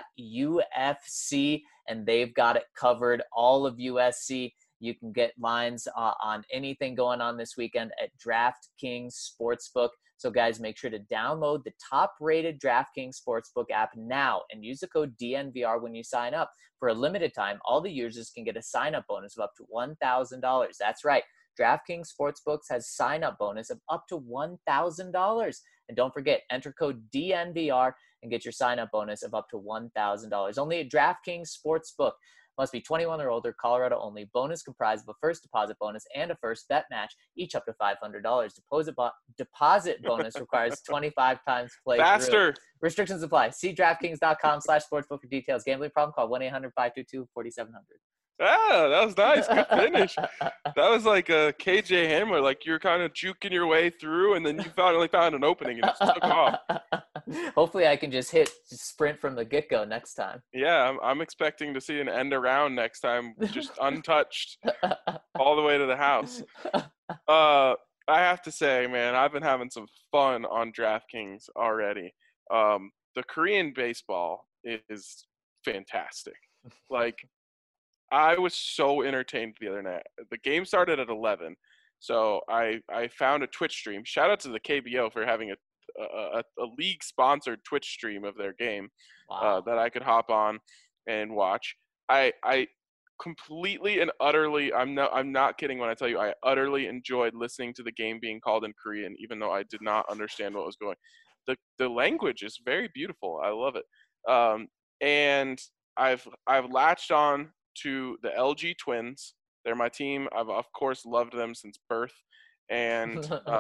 Speaker 3: UFC, and they've got it covered, all of USC. You can get lines on anything going on this weekend at DraftKings Sportsbook. So, guys, make sure to download the top-rated DraftKings Sportsbook app now and use the code DNVR when you sign up. For a limited time, all the users can get a sign-up bonus of up to $1,000. That's right. DraftKings Sportsbooks has sign-up bonus of up to $1,000. And don't forget, enter code DNVR and get your sign-up bonus of up to $1,000. Only at DraftKings Sportsbook. Must be 21 or older, Colorado only. Bonus comprised of a first deposit bonus and a first bet match, each up to $500. Deposit bonus requires 25 times play.
Speaker 1: Faster.
Speaker 3: Restrictions apply. See DraftKings.com/sportsbook for details. Gambling problem? Call 1-800-522-4700.
Speaker 1: Ah, that was nice. Good finish. That was like a KJ Hamler. Like you're kind of juking your way through, and then you finally found an opening and it just took off.
Speaker 3: Hopefully I can just sprint from the get-go next time.
Speaker 1: Yeah, I'm expecting to see an end around next time, just untouched all the way to the house. I have to say, man, I've been having some fun on DraftKings already. The Korean baseball is fantastic. Like, I was so entertained the other night. The game started at 11, so I found a Twitch stream. Shout out to the KBO for having a league-sponsored Twitch stream of their game.
Speaker 3: Wow.
Speaker 1: That I could hop on and watch. I completely and utterly, I'm not kidding when I tell you, I utterly enjoyed listening to the game being called in Korean, even though I did not understand what was going. The language is very beautiful. I love it. And I've latched on to the LG Twins. They're my team. I've of course loved them since birth, and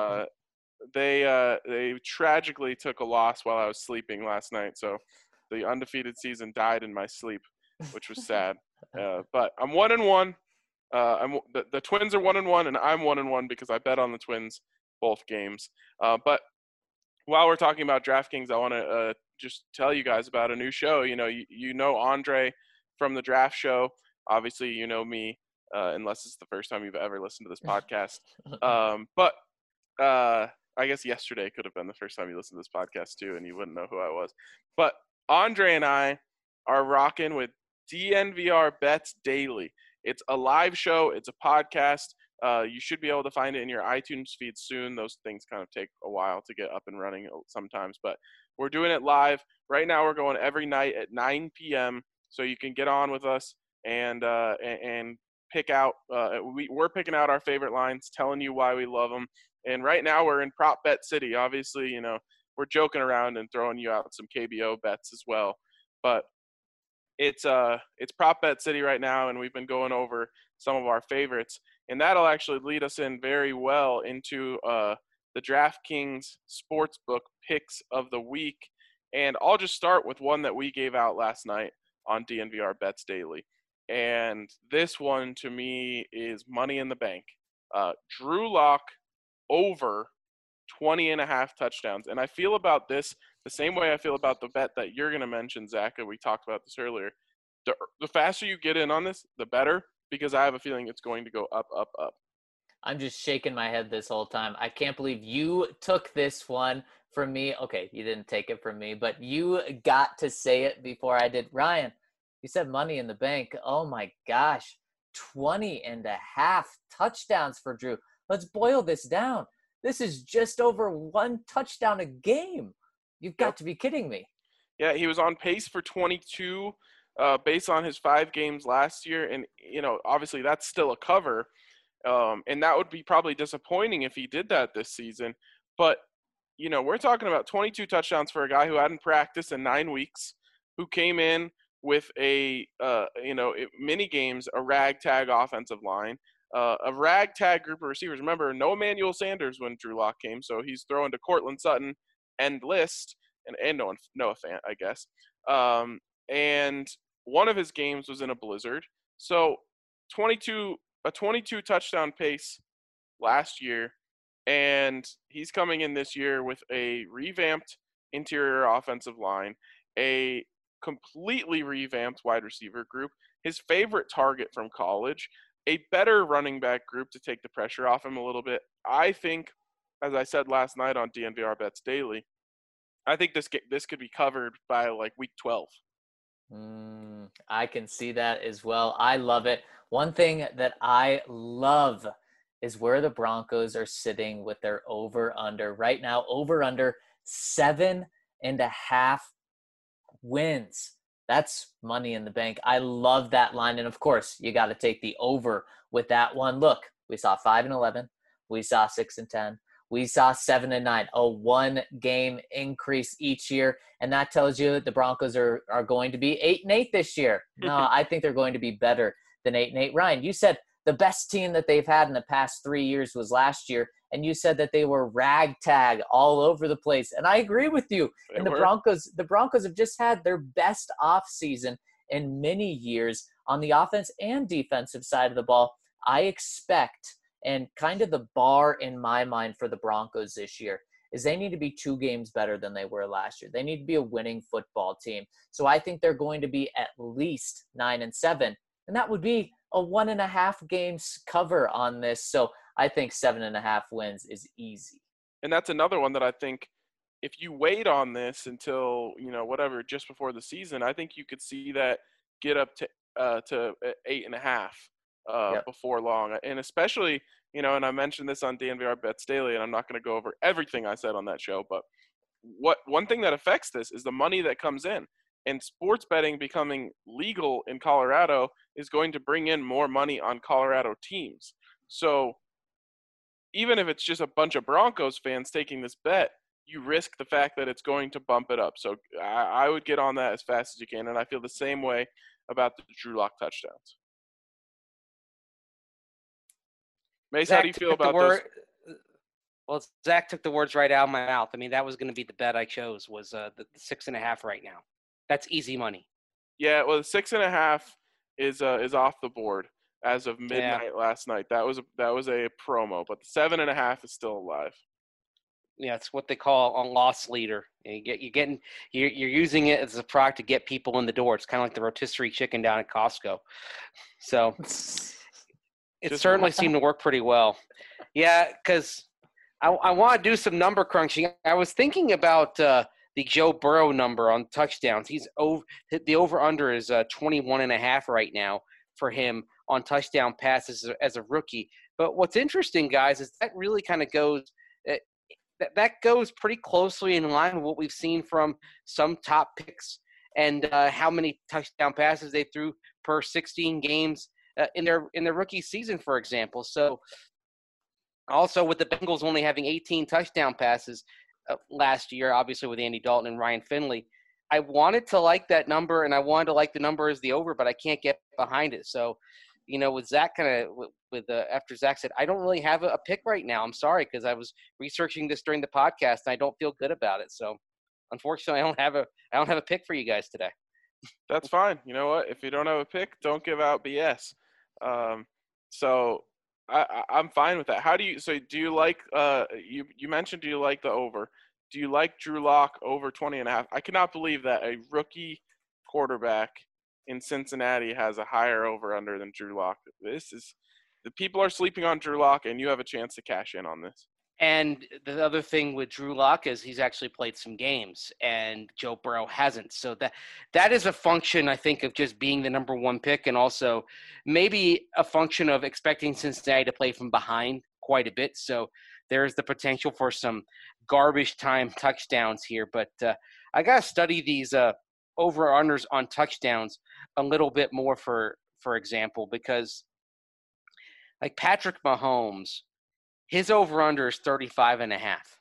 Speaker 1: they tragically took a loss while I was sleeping last night. So the undefeated season died in my sleep, which was sad. But I'm 1-1. The Twins are 1-1, and I'm 1-1 because I bet on the Twins both games. But while we're talking about DraftKings, I want to just tell you guys about a new show. You know Andre from the Draft Show. Obviously, you know me, unless it's the first time you've ever listened to this podcast. But I guess yesterday could have been the first time you listened to this podcast too, and you wouldn't know who I was. But Andre and I are rocking with DNVR Bets Daily. It's a live show. It's a podcast. You should be able to find it in your iTunes feed soon. Those things kind of take a while to get up and running sometimes, but we're doing it live. Right now we're going every night at 9 p.m., so you can get on with us and pick out we're picking out our favorite lines, telling you why we love them. And right now we're in prop bet city. Obviously, you know, we're joking around and throwing you out some KBO bets as well, but it's prop bet city right now, and we've been going over some of our favorites, and that'll actually lead us in very well into the DraftKings Sportsbook picks of the week. And I'll just start with one that we gave out last night on DNVR Bets Daily. And this one to me is Money in the Bank. Drew Lock over 20.5 touchdowns. And I feel about this the same way I feel about the bet that you're going to mention, Zach, and we talked about this earlier. The faster you get in on this, the better, because I have a feeling it's going to go up, up, up.
Speaker 3: I'm just shaking my head this whole time. I can't believe you took this one from me. Okay, you didn't take it from me, but you got to say it before I did. Ryan, you said Money in the Bank. Oh my gosh, 20.5 touchdowns for Drew. Let's boil this down. This is just over 1 touchdown a game. You've got to be kidding me.
Speaker 1: Yeah, he was on pace for 22 based on his 5 games last year. And, you know, obviously that's still a cover. And that would be probably disappointing if he did that this season. But, you know, we're talking about 22 touchdowns for a guy who hadn't practiced in 9 weeks, who came in with a, mini games, a ragtag offensive line, a ragtag group of receivers. Remember, no Emmanuel Sanders when Drew Lock came, so he's throwing to Cortland Sutton and List and Noah Fant, I guess. And one of his games was in a blizzard. So 22 touchdown pace last year, and he's coming in this year with a revamped interior offensive line, a completely revamped wide receiver group, his favorite target from college, a better running back group to take the pressure off him a little bit. I think, as I said last night on DNVR Bets Daily, I think this could be covered by like week 12.
Speaker 3: I can see that as well. I love it. One thing that I love is where the Broncos are sitting with their over-under. Right now, over-under 7.5 wins. That's Money in the Bank. I love that line. And, of course, you got to take the over with that one. Look, we saw 5-11. We saw 6-10. We saw 7-9, a 1-game increase each year. And that tells you the Broncos are going to be 8-8 this year. No, I think they're going to be better than 8-8. Ryan, you said the best team that they've had in the past 3 years was last year. And you said that they were ragtag all over the place. And I agree with you. And the Broncos have just had their best offseason in many years on the offense and defensive side of the ball. I expect, and kind of the bar in my mind for the Broncos this year, is they need to be 2 games better than they were last year. They need to be a winning football team. So I think they're going to be at least 9-7. And that would be a 1.5 games cover on this. So I think 7.5 wins is easy.
Speaker 1: And that's another one that I think if you wait on this until, whatever, just before the season, I think you could see that get up to 8.5 before long. And especially, and I mentioned this on DNVR Bets Daily, and I'm not going to go over everything I said on that show, but one thing that affects this is the money that comes in. And sports betting becoming legal in Colorado is going to bring in more money on Colorado teams. So even if it's just a bunch of Broncos fans taking this bet, you risk the fact that it's going to bump it up. So I would get on that as fast as you can, and I feel the same way about the Drew Lock touchdowns. Mace, how do you feel about this?
Speaker 4: Well, Zach took the words right out of my mouth. I mean, that was going to be the bet I chose, was the 6.5 right now. That's easy money.
Speaker 1: Yeah, well, the 6.5 is off the board as of midnight last night. That was a promo, but the 7.5 is still alive.
Speaker 4: Yeah, it's what they call a loss leader. You're using it as a product to get people in the door. It's kind of like the rotisserie chicken down at Costco. So it certainly seemed to work pretty well. Yeah, because I want to do some number crunching. I was thinking about the Joe Burrow number on touchdowns. The over-under is 21.5 right now for him on touchdown passes as a rookie. But what's interesting, guys, is that really kind of goes that goes pretty closely in line with what we've seen from some top picks and how many touchdown passes they threw per 16 games in their rookie season, for example. So also with the Bengals only having 18 touchdown passes last year, obviously with Andy Dalton and Ryan Finley, I wanted to like that number and I wanted to like the number as the over, but I can't get behind it. So, with Zach after Zach said, I don't really have a pick right now. I'm sorry, because I was researching this during the podcast and I don't feel good about it. So unfortunately, I don't have a pick for you guys today.
Speaker 1: That's fine. You know what? If you don't have a pick, don't give out BS. So I'm fine with that. Do you like, you mentioned, do you like the over? Do you like Drew Lock over 20.5? I cannot believe that a rookie quarterback in Cincinnati has a higher over-under than Drew Lock. The people are sleeping on Drew Lock, and you have a chance to cash in on this.
Speaker 4: And the other thing with Drew Lock is he's actually played some games, and Joe Burrow hasn't. So that is a function, I think, of just being the number one pick, and also maybe a function of expecting Cincinnati to play from behind quite a bit. So there's the potential for some garbage time touchdowns here. But I got to study these over-unders on touchdowns a little bit more, for example, because like Patrick Mahomes, his over-under is 35.5.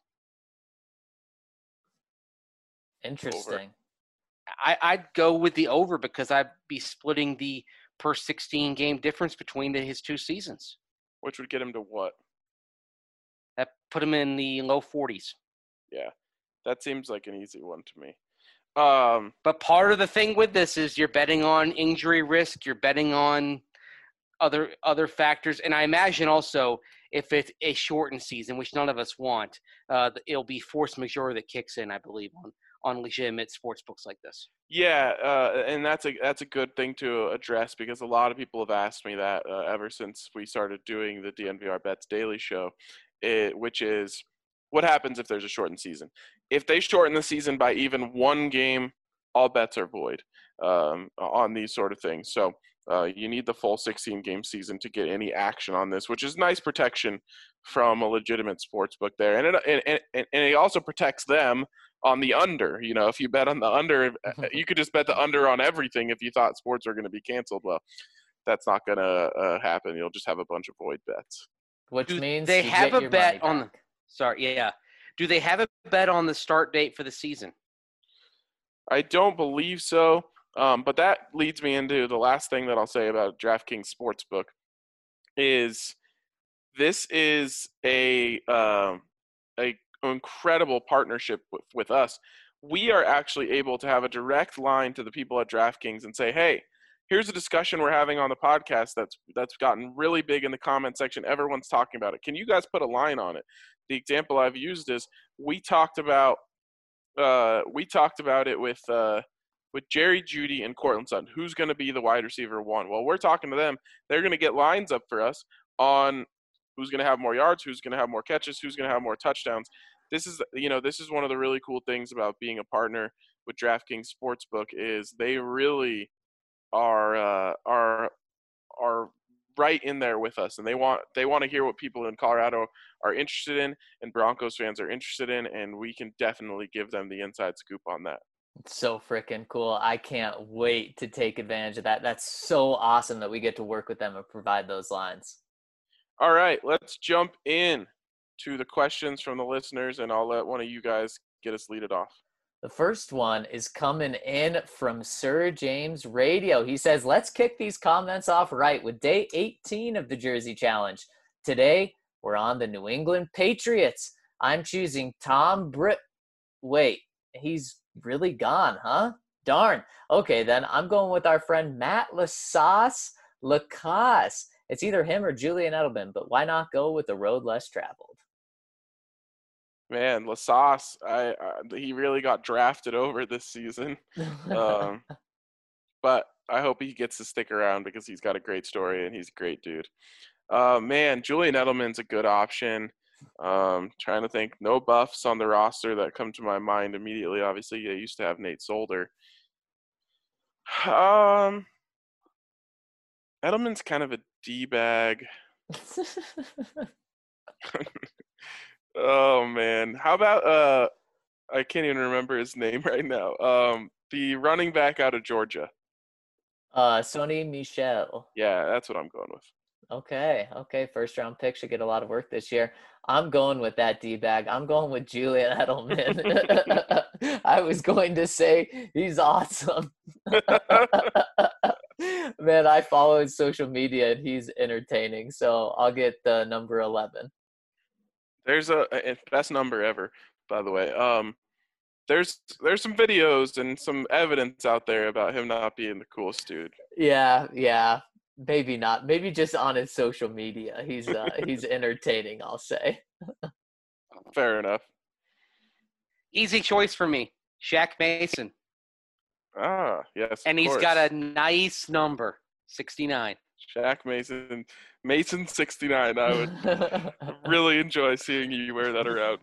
Speaker 3: Interesting.
Speaker 1: Over.
Speaker 4: I'd go with the over because I'd be splitting the per 16 game difference between his two seasons.
Speaker 1: Which would get him to what?
Speaker 4: That put him in the low 40s.
Speaker 1: Yeah, that seems like an easy one to me.
Speaker 4: But part of the thing with this is you're betting on injury risk. You're betting on other factors. And I imagine also if it's a shortened season, which none of us want, it'll be force majeure that kicks in, I believe, on legitimate sports books like this.
Speaker 1: Yeah, and that's a good thing to address because a lot of people have asked me that ever since we started doing the DNVR Bets Daily Show, which is what happens if there's a shortened season. If they shorten the season by even one game, all bets are void on these sort of things. So you need the full 16-game season to get any action on this, which is nice protection from a legitimate sports book there. And it also protects them on the under. If you bet on the under, you could just bet the under on everything if you thought sports are going to be canceled. Well, that's not going to happen. You'll just have a bunch of void bets.
Speaker 3: Which means
Speaker 4: they have a bet on
Speaker 3: the –
Speaker 4: sorry, yeah. Do they have a bet on the start date for the season?
Speaker 1: I don't believe so. But that leads me into the last thing that I'll say about DraftKings Sportsbook is this is a incredible partnership with us. We are actually able to have a direct line to the people at DraftKings and say, hey, here's a discussion we're having on the podcast that's gotten really big in the comment section. Everyone's talking about it. Can you guys put a line on it? The example I've used is we talked about it with Jerry Jeudy and Courtland Sutton. Who's going to be the wide receiver one? Well, we're talking to them. They're going to get lines up for us on who's going to have more yards, who's going to have more catches, who's going to have more touchdowns. This is one of the really cool things about being a partner with DraftKings Sportsbook is they really are right in there with us, and they want to hear what people in Colorado are interested in and Broncos fans are interested in, and we can definitely give them the inside scoop on that.
Speaker 3: It's so freaking cool. I can't wait to take advantage of that. That's so awesome that we get to work with them and provide those lines.
Speaker 1: All right, let's jump in to the questions from the listeners, and I'll let one of you guys get us lead it off.
Speaker 3: The first one is coming in from Sir James Radio. He says, let's kick these comments off right with day 18 of the Jersey Challenge. Today, we're on the New England Patriots. I'm choosing Tom Britt. Wait, he's really gone, huh? Darn. Okay, then I'm going with our friend Matt Lacasse. It's either him or Julian Edelman, but why not go with the road less traveled?
Speaker 1: Man, Lacasse, he really got drafted over this season. But I hope he gets to stick around because he's got a great story and he's a great dude. Man, Julian Edelman's a good option. Trying to think. No buffs on the roster that come to my mind immediately. Obviously, they used to have Nate Solder. Edelman's kind of a D-bag. Oh, man. How about I can't even remember his name right now. The running back out of Georgia.
Speaker 3: Sony Michel.
Speaker 1: Yeah, that's what I'm going with.
Speaker 3: Okay. First round pick should get a lot of work this year. I'm going with that D-bag. I'm going with Julian Edelman. I was going to say he's awesome. Man, I follow his social media and he's entertaining. So I'll get the number 11.
Speaker 1: There's a best number ever, by the way. There's some videos and some evidence out there about him not being the coolest dude.
Speaker 3: Yeah. Maybe not. Maybe just on his social media. He's entertaining, I'll say.
Speaker 1: Fair enough.
Speaker 4: Easy choice for me. Shaq Mason.
Speaker 1: Ah, yes.
Speaker 4: And he's got a nice number, 69.
Speaker 1: Shaq Mason. Mason 69. I would really enjoy seeing you wear that around.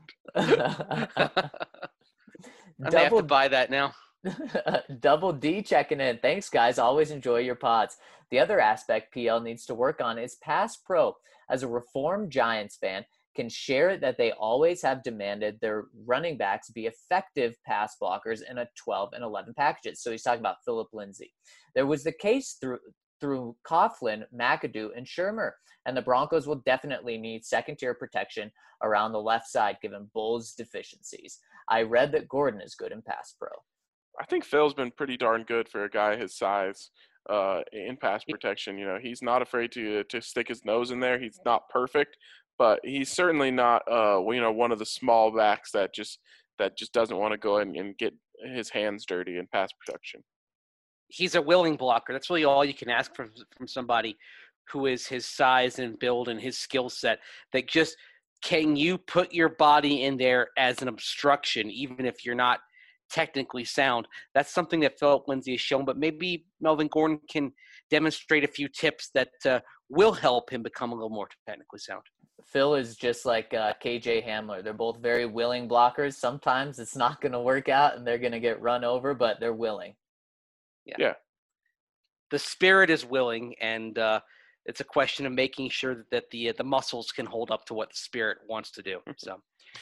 Speaker 4: I have to buy that now.
Speaker 3: Double D checking in. Thanks, guys. Always enjoy your pods. The other aspect PL needs to work on is pass pro. As a reformed Giants fan, can share that they always have demanded their running backs be effective pass blockers in a 12 and 11 packages. So he's talking about Philip Lindsay. There was the case through Coughlin, McAdoo, and Shermer, and the Broncos will definitely need second-tier protection around the left side given Bull's deficiencies. I read that Gordon is good in pass pro.
Speaker 1: I think Phil's been pretty darn good for a guy his size in pass protection. You know, he's not afraid to stick his nose in there. He's not perfect, but he's certainly not one of the small backs that just doesn't want to go in and get his hands dirty in pass protection.
Speaker 4: He's a willing blocker. That's really all you can ask from somebody who is his size and build and his skill set. That just, can you put your body in there as an obstruction, even if you're not technically sound? That's something that Philip Lindsay has shown, but maybe Melvin Gordon can demonstrate a few tips that will help him become a little more technically sound.
Speaker 3: Phil is just like KJ Hamler. They're both very willing blockers. Sometimes it's not going to work out and they're going to get run over, but they're willing.
Speaker 4: Yeah. The spirit is willing, and it's a question of making sure that the muscles can hold up to what the spirit wants to do. So,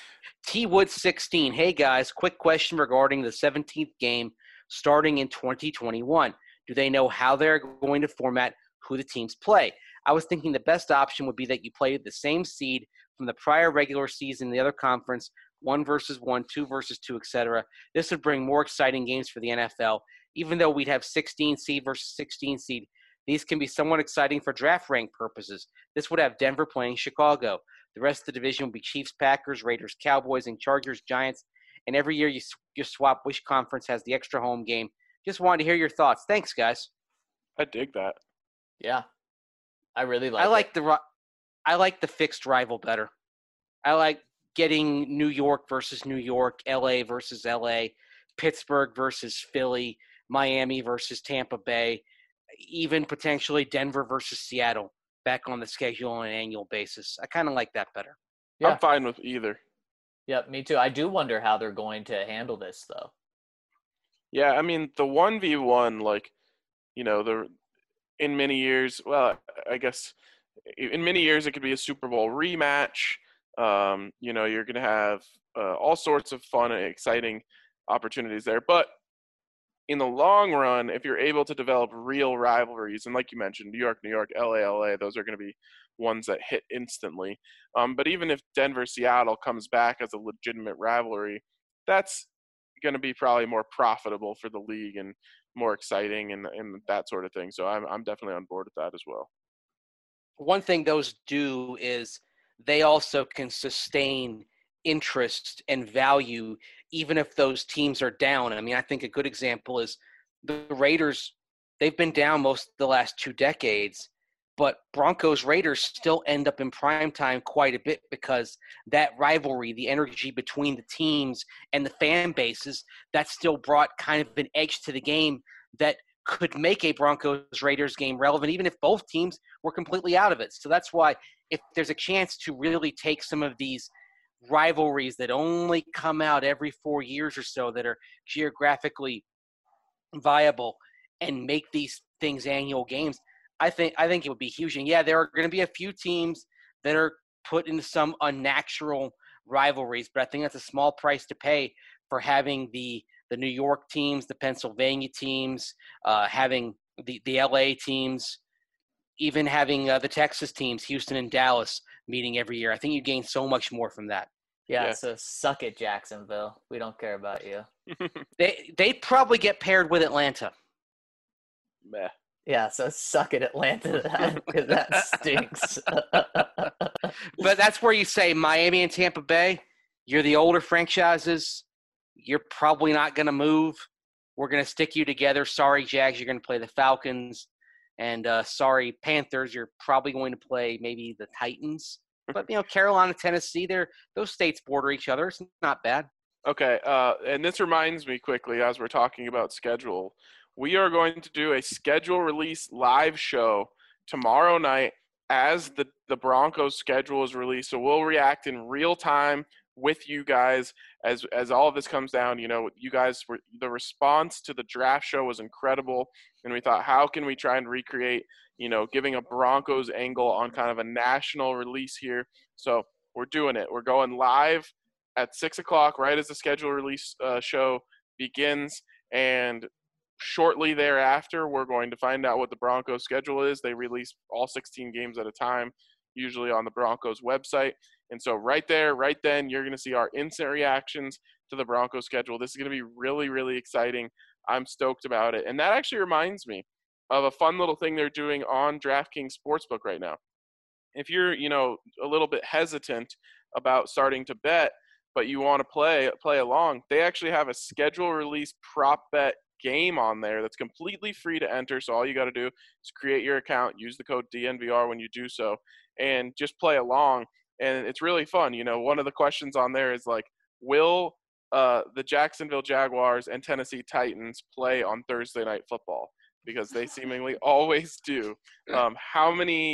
Speaker 4: T Wood 16. Hey guys, quick question regarding the 17th game starting in 2021. Do they know how they're going to format who the teams play? I was thinking the best option would be that you play the same seed from the prior regular season in the other conference, 1 versus 1, 2 versus 2, etc. This would bring more exciting games for the NFL. Even though we'd have 16 seed versus 16 seed, these can be somewhat exciting for draft rank purposes. This would have Denver playing Chicago. The rest of the division will be Chiefs, Packers, Raiders, Cowboys, and Chargers, Giants. And every year you swap which conference has the extra home game. Just wanted to hear your thoughts. Thanks, guys.
Speaker 1: I dig that.
Speaker 3: Yeah, I really like it.
Speaker 4: I like the fixed rival better. I like getting New York versus New York, LA versus LA, Pittsburgh versus Philly, Miami versus Tampa Bay, even potentially Denver versus Seattle back on the schedule on an annual basis. I kind of like that better.
Speaker 3: Yeah.
Speaker 1: I'm fine with either.
Speaker 3: Yeah, me too. I do wonder how they're going to handle this, though.
Speaker 1: Yeah, I mean, the 1v1, in many years, well, I guess in many years it could be a Super Bowl rematch. You're going to have all sorts of fun and exciting opportunities there. But in the long run, if you're able to develop real rivalries, and like you mentioned, New York, LA, those are going to be ones that hit instantly. But even if Denver-Seattle comes back as a legitimate rivalry, that's going to be probably more profitable for the league and more exciting and that sort of thing. So I'm definitely on board with that as well.
Speaker 4: One thing those do is they also can sustain interest and value even if those teams are down. I mean, I think a good example is the Raiders. They've been down most of the last 2 decades, but Broncos-Raiders still end up in prime time quite a bit because that rivalry, the energy between the teams and the fan bases, that still brought kind of an edge to the game that could make a Broncos-Raiders game relevant even if both teams were completely out of it. So that's why if there's a chance to really take some of these rivalries that only come out every 4 years or so that are geographically viable and make these things annual games, I think it would be huge. And yeah, there are going to be a few teams that are put into some unnatural rivalries, but I think that's a small price to pay for having the New York teams, the Pennsylvania teams, having the LA teams, even having the Texas teams, Houston and Dallas, meeting every year. I think you gain so much more from that.
Speaker 3: Yeah, so suck it, Jacksonville. We don't care about you.
Speaker 4: They probably get paired with Atlanta.
Speaker 1: Meh.
Speaker 3: Yeah, so suck it, Atlanta, because that stinks.
Speaker 4: But that's where you say Miami and Tampa Bay, you're the older franchises. You're probably not going to move. We're going to stick you together. Sorry, Jags, you're going to play the Falcons. And sorry, Panthers, you're probably going to play maybe the Titans. But, Carolina, Tennessee, those states border each other. It's not bad.
Speaker 1: Okay, and this reminds me quickly as we're talking about schedule. We are going to do a schedule release live show tomorrow night as the Broncos schedule is released. So we'll react in real time with you guys as all of this comes down. You guys the response to the draft show was incredible, and we thought, how can we try and recreate, giving a Broncos angle on kind of a national release here. So we're doing it. We're going live at 6:00 right as the schedule release show begins, and shortly thereafter, we're going to find out what the Broncos schedule is. They release all 16 games at a time, usually on the Broncos website. And so right there, right then, you're going to see our instant reactions to the Broncos schedule. This is going to be really, really exciting. I'm stoked about it. And that actually reminds me of a fun little thing they're doing on DraftKings Sportsbook right now. If you're, a little bit hesitant about starting to bet, but you want to play along, they actually have a schedule release prop bet game on there that's completely free to enter. So all you got to do is create your account, use the code DNVR when you do so, and just play along. And it's really fun. One of the questions on there is like, will the Jacksonville Jaguars and Tennessee Titans play on Thursday Night Football? Because they seemingly always do. How many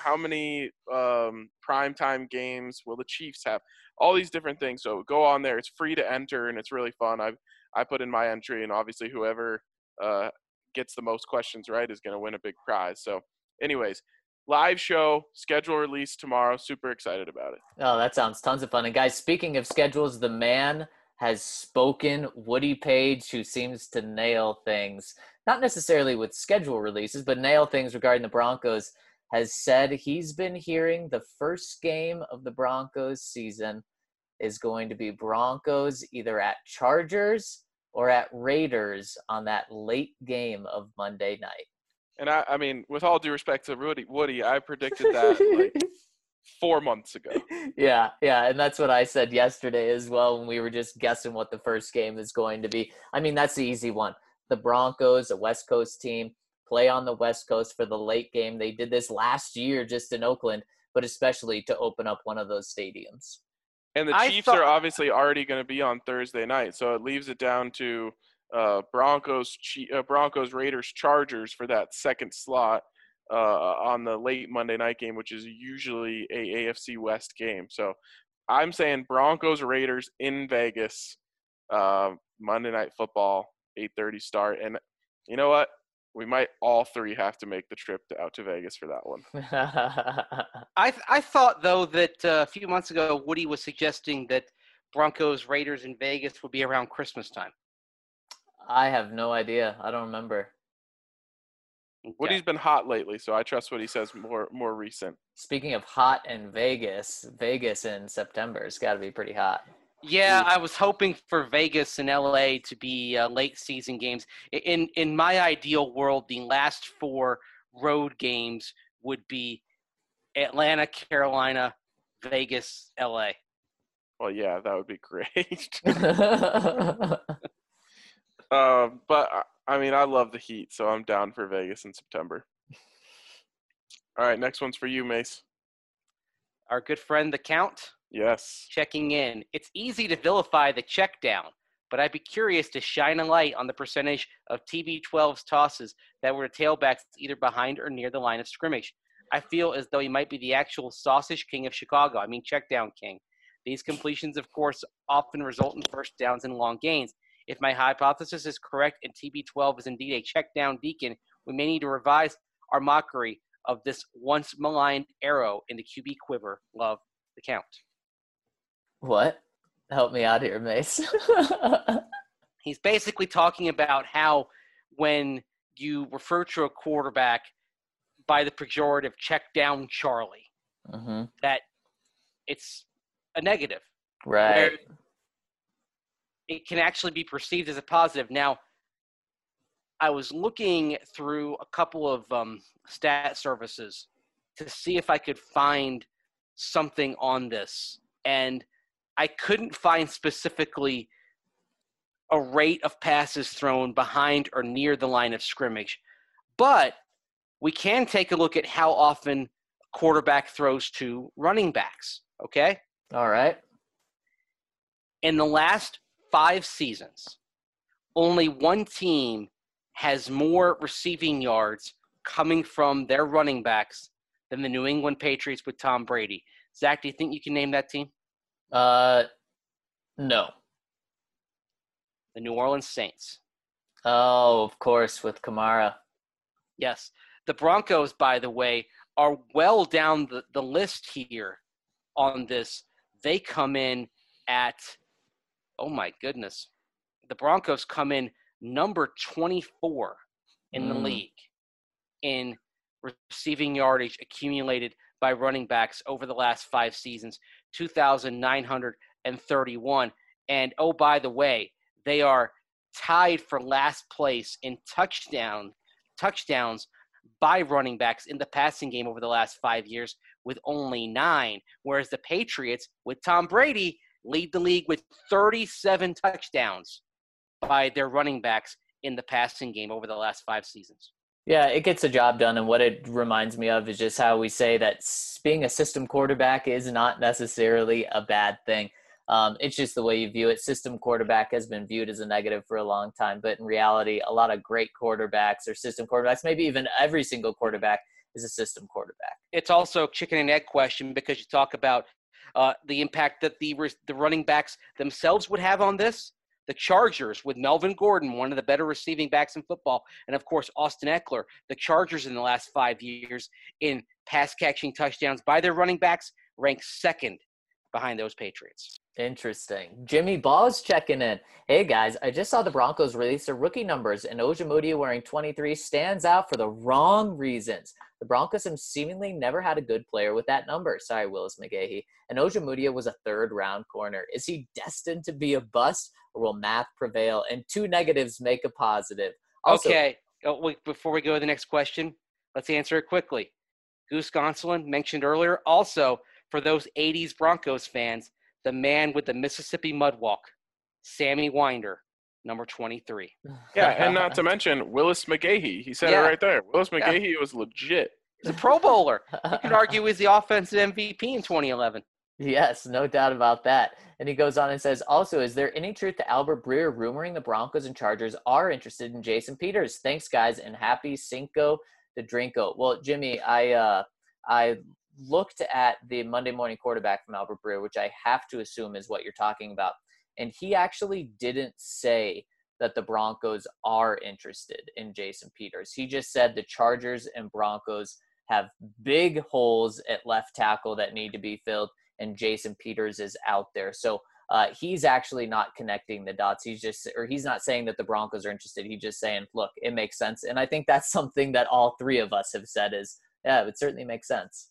Speaker 1: primetime games will the Chiefs have? All these different things. So go on there. It's free to enter, and it's really fun. I put in my entry, and obviously whoever gets the most questions right is going to win a big prize. So anyways, live show, schedule release tomorrow. Super excited about it.
Speaker 3: Oh, that sounds tons of fun. And guys, speaking of schedules, the man has spoken. Woody Page, who seems to nail things, not necessarily with schedule releases, but nail things regarding the Broncos, has said he's been hearing the first game of the Broncos season is going to be Broncos either at Chargers or at Raiders on that late game of Monday night.
Speaker 1: And I mean, with all due respect to Woody, I predicted that 4 months ago.
Speaker 3: Yeah, and that's what I said yesterday as well when we were just guessing what the first game is going to be. I mean, that's the easy one. The Broncos, a West Coast team, play on the West Coast for the late game. They did this last year just in Oakland, but especially to open up one of those stadiums.
Speaker 1: And the Chiefs are obviously already going to be on Thursday night, so it leaves it down to Broncos, Raiders, Chargers for that second slot on the late Monday night game, which is usually a AFC West game. So I'm saying Broncos, Raiders in Vegas, Monday Night Football, 8:30 start. And you know what? We might all three have to make the trip out to Vegas for that one.
Speaker 4: I thought, though, that a few months ago, Woody was suggesting that Broncos, Raiders in Vegas would be around Christmas time.
Speaker 3: I have no idea. I don't remember.
Speaker 4: Okay.
Speaker 1: Woody's been hot lately, so I trust what he says more recent.
Speaker 3: Speaking of hot in Vegas in September, it's got to be pretty hot.
Speaker 4: Yeah, I was hoping for Vegas and LA to be late season games. In my ideal world, the last 4 road games would be Atlanta, Carolina, Vegas, LA.
Speaker 1: Well, yeah, that would be great. But I mean, I love the heat, so I'm down for Vegas in September. All right, next one's for you, Mace.
Speaker 4: Our good friend, the Count.
Speaker 1: Yes.
Speaker 4: Checking in. It's easy to vilify the check down, but I'd be curious to shine a light on the percentage of TB12's tosses that were to tailbacks either behind or near the line of scrimmage. I feel as though he might be the actual sausage king of Chicago. I mean, check down king. These completions, of course, often result in first downs and long gains. If my hypothesis is correct and TB12 is indeed a check down deacon, we may need to revise our mockery of this once maligned arrow in the QB quiver. Love the count.
Speaker 3: What? Help me out here, Mace.
Speaker 4: He's basically talking about how when you refer to a quarterback by the pejorative check down Charlie, that it's a negative.
Speaker 3: Right.
Speaker 4: It can actually be perceived as a positive. Now, I was looking through a couple of stat services to see if I could find something on this, and I couldn't find specifically a rate of passes thrown behind or near the line of scrimmage. But we can take a look at how often quarterback throws to running backs, okay?
Speaker 3: All right.
Speaker 4: In the last 5 seasons, only one team has more receiving yards coming from their running backs than the New England Patriots with Tom Brady. Zach, do you think you can name that team?
Speaker 3: No.
Speaker 4: The New Orleans Saints.
Speaker 3: Oh, of course, with Kamara.
Speaker 4: Yes. The Broncos, by the way, are well down the list here on this. They come in at, oh my goodness, the Broncos come in number 24 in the league in receiving yardage accumulated by running backs over the last 5 seasons, 2,931. And, oh, by the way, they are tied for last place in touchdowns by running backs in the passing game over the last 5 years with only 9, whereas the Patriots with Tom Brady lead the league with 37 touchdowns by their running backs in the passing game over the last 5 seasons.
Speaker 3: Yeah, it gets the job done, and what it reminds me of is just how we say that being a system quarterback is not necessarily a bad thing. It's just the way you view it. System quarterback has been viewed as a negative for a long time, but in reality, a lot of great quarterbacks or system quarterbacks, maybe even every single quarterback is a system quarterback.
Speaker 4: It's also a chicken and egg question because you talk about the impact that the running backs themselves would have on this. The Chargers with Melvin Gordon, one of the better receiving backs in football, and of course Austin Eckler. The Chargers in the last 5 years in pass catching touchdowns by their running backs rank second behind those Patriots.
Speaker 3: Interesting. Jimmy Ball's checking in. Hey, guys, I just saw the Broncos release their rookie numbers, and Ojemudia wearing 23 stands out for the wrong reasons. The Broncos have seemingly never had a good player with that number. Sorry, Willis McGahee. And Ojemudia was a third-round corner. Is he destined to be a bust, or will math prevail and 2 negatives make a positive? Also,
Speaker 4: okay. Wait, before we go to the next question, let's answer it quickly. Goose Gonsolin mentioned earlier. Also, for those 80s Broncos fans, the man with the Mississippi mud walk, Sammy Winder, number 23.
Speaker 1: Yeah, and not to mention Willis McGahee. He said it right there. Willis McGahee was legit.
Speaker 4: He's a Pro Bowler. You could argue he's the offensive MVP in 2011.
Speaker 3: Yes, no doubt about that. And he goes on and says, also, is there any truth to Albert Breer rumoring the Broncos and Chargers are interested in Jason Peters? Thanks, guys, and happy Cinco de Drinko. Well, Jimmy, I looked at the Monday Morning Quarterback from Albert Breer, which I have to assume is what you're talking about. And he actually didn't say that the Broncos are interested in Jason Peters. He just said the Chargers and Broncos have big holes at left tackle that need to be filled, and Jason Peters is out there. So he's actually not connecting the dots. He's not saying that the Broncos are interested. He's just saying, look, it makes sense. And I think that's something that all 3 of us have said is, yeah, it certainly makes sense.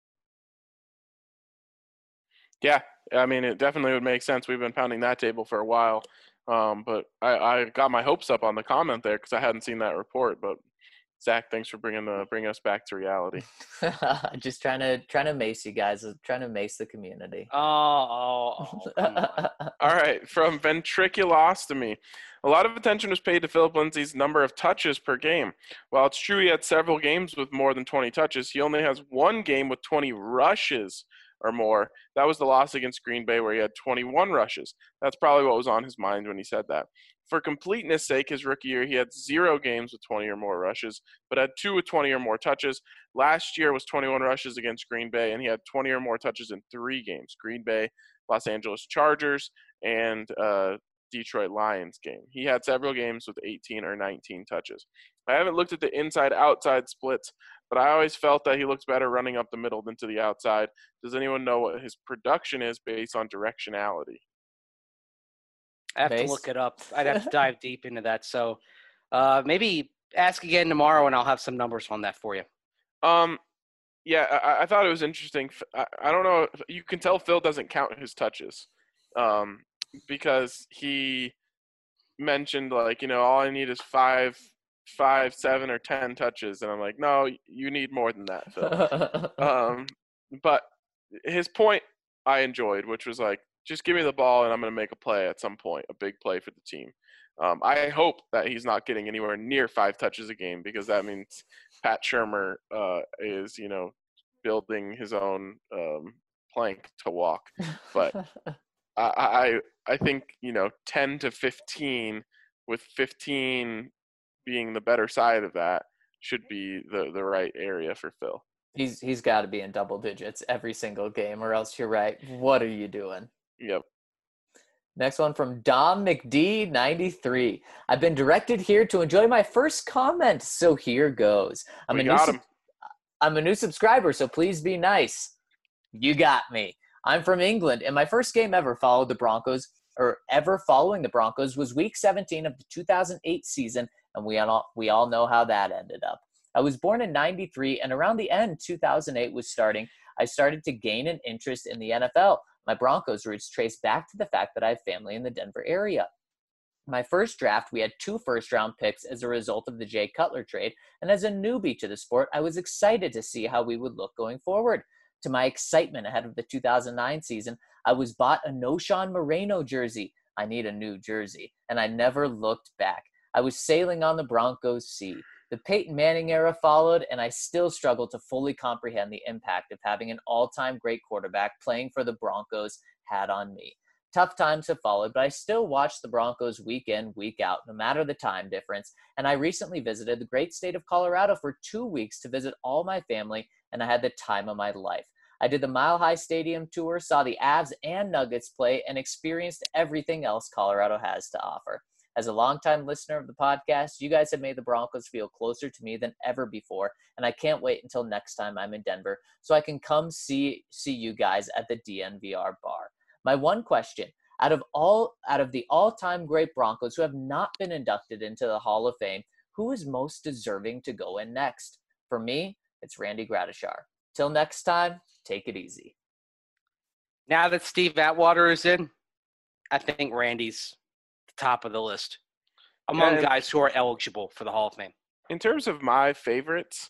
Speaker 1: Yeah, I mean, it definitely would make sense. We've been pounding that table for a while. But I got my hopes up on the comment there because I hadn't seen that report. But Zach, thanks for bringing us back to reality.
Speaker 3: Just trying to mace you guys. Trying to mace the community.
Speaker 4: Oh, come on.
Speaker 1: All right, from ventriculostomy. A lot of attention was paid to Philip Lindsay's number of touches per game. While it's true he had several games with more than 20 touches, he only has one game with 20 rushes or more. That was the loss against Green Bay where he had 21 rushes. That's probably what was on his mind when he said that. For completeness sake, his rookie year, he had 0 games with 20 or more rushes, but had 2 with 20 or more touches. Last year was 21 rushes against Green Bay, and he had 20 or more touches in 3 games: Green Bay, Los Angeles Chargers, and Detroit Lions game. He had several games with 18 or 19 touches. I haven't looked at the inside-outside splits, but I always felt that he looks better running up the middle than to the outside. Does anyone know what his production is based on directionality?
Speaker 4: I have to look it up. I'd have to dive deep into that. So maybe ask again tomorrow, and I'll have some numbers on that for you.
Speaker 1: Yeah, I thought it was interesting. I don't know. You can tell Phil doesn't count his touches because he mentioned, like, all I need is 5, 7, or 10 touches. And I'm like, no, you need more than that, Phil. But his point I enjoyed, which was like, just give me the ball and I'm going to make a play at some point, a big play for the team. I hope that he's not getting anywhere near 5 touches a game, because that means Pat Shurmur is, building his own plank to walk. But I think, 10 to 15, with 15 being the better side of that, should be the right area for Phil.
Speaker 3: He's got to be in double digits every single game, or else you're right. What are you doing?
Speaker 1: Yep.
Speaker 3: Next one from Dom McD 93. I've been directed here to enjoy my first comment, so here goes. I'm a new subscriber, so please be nice. You got me. I'm from England, and my first game ever following the Broncos was Week 17 of the 2008 season, and we all know how that ended up. I was born in 93, and around the end 2008 was starting, I started to gain an interest in the NFL. My Broncos roots trace back to the fact that I have family in the Denver area. My first draft, we had 2 first-round picks as a result of the Jay Cutler trade, and as a newbie to the sport, I was excited to see how we would look going forward. To my excitement ahead of the 2009 season, I was bought a Noshawn Moreno jersey. I need a new jersey, and I never looked back. I was sailing on the Broncos' sea. The Peyton Manning era followed, and I still struggle to fully comprehend the impact of having an all-time great quarterback playing for the Broncos had on me. Tough times have followed, but I still watch the Broncos week in, week out, no matter the time difference, and I recently visited the great state of Colorado for 2 weeks to visit all my family, and I had the time of my life. I did the Mile High Stadium tour, saw the Avs and Nuggets play, and experienced everything else Colorado has to offer. As a longtime listener of the podcast, you guys have made the Broncos feel closer to me than ever before, and I can't wait until next time I'm in Denver so I can come see you guys at the DNVR bar. My one question, out of the all-time great Broncos who have not been inducted into the Hall of Fame, who is most deserving to go in next? For me, it's Randy Gradishar. Till next time, take it easy.
Speaker 4: Now that Steve Atwater is in, I think Randy's top of the list among guys who are eligible for the Hall of Fame.
Speaker 1: In terms of my favorites,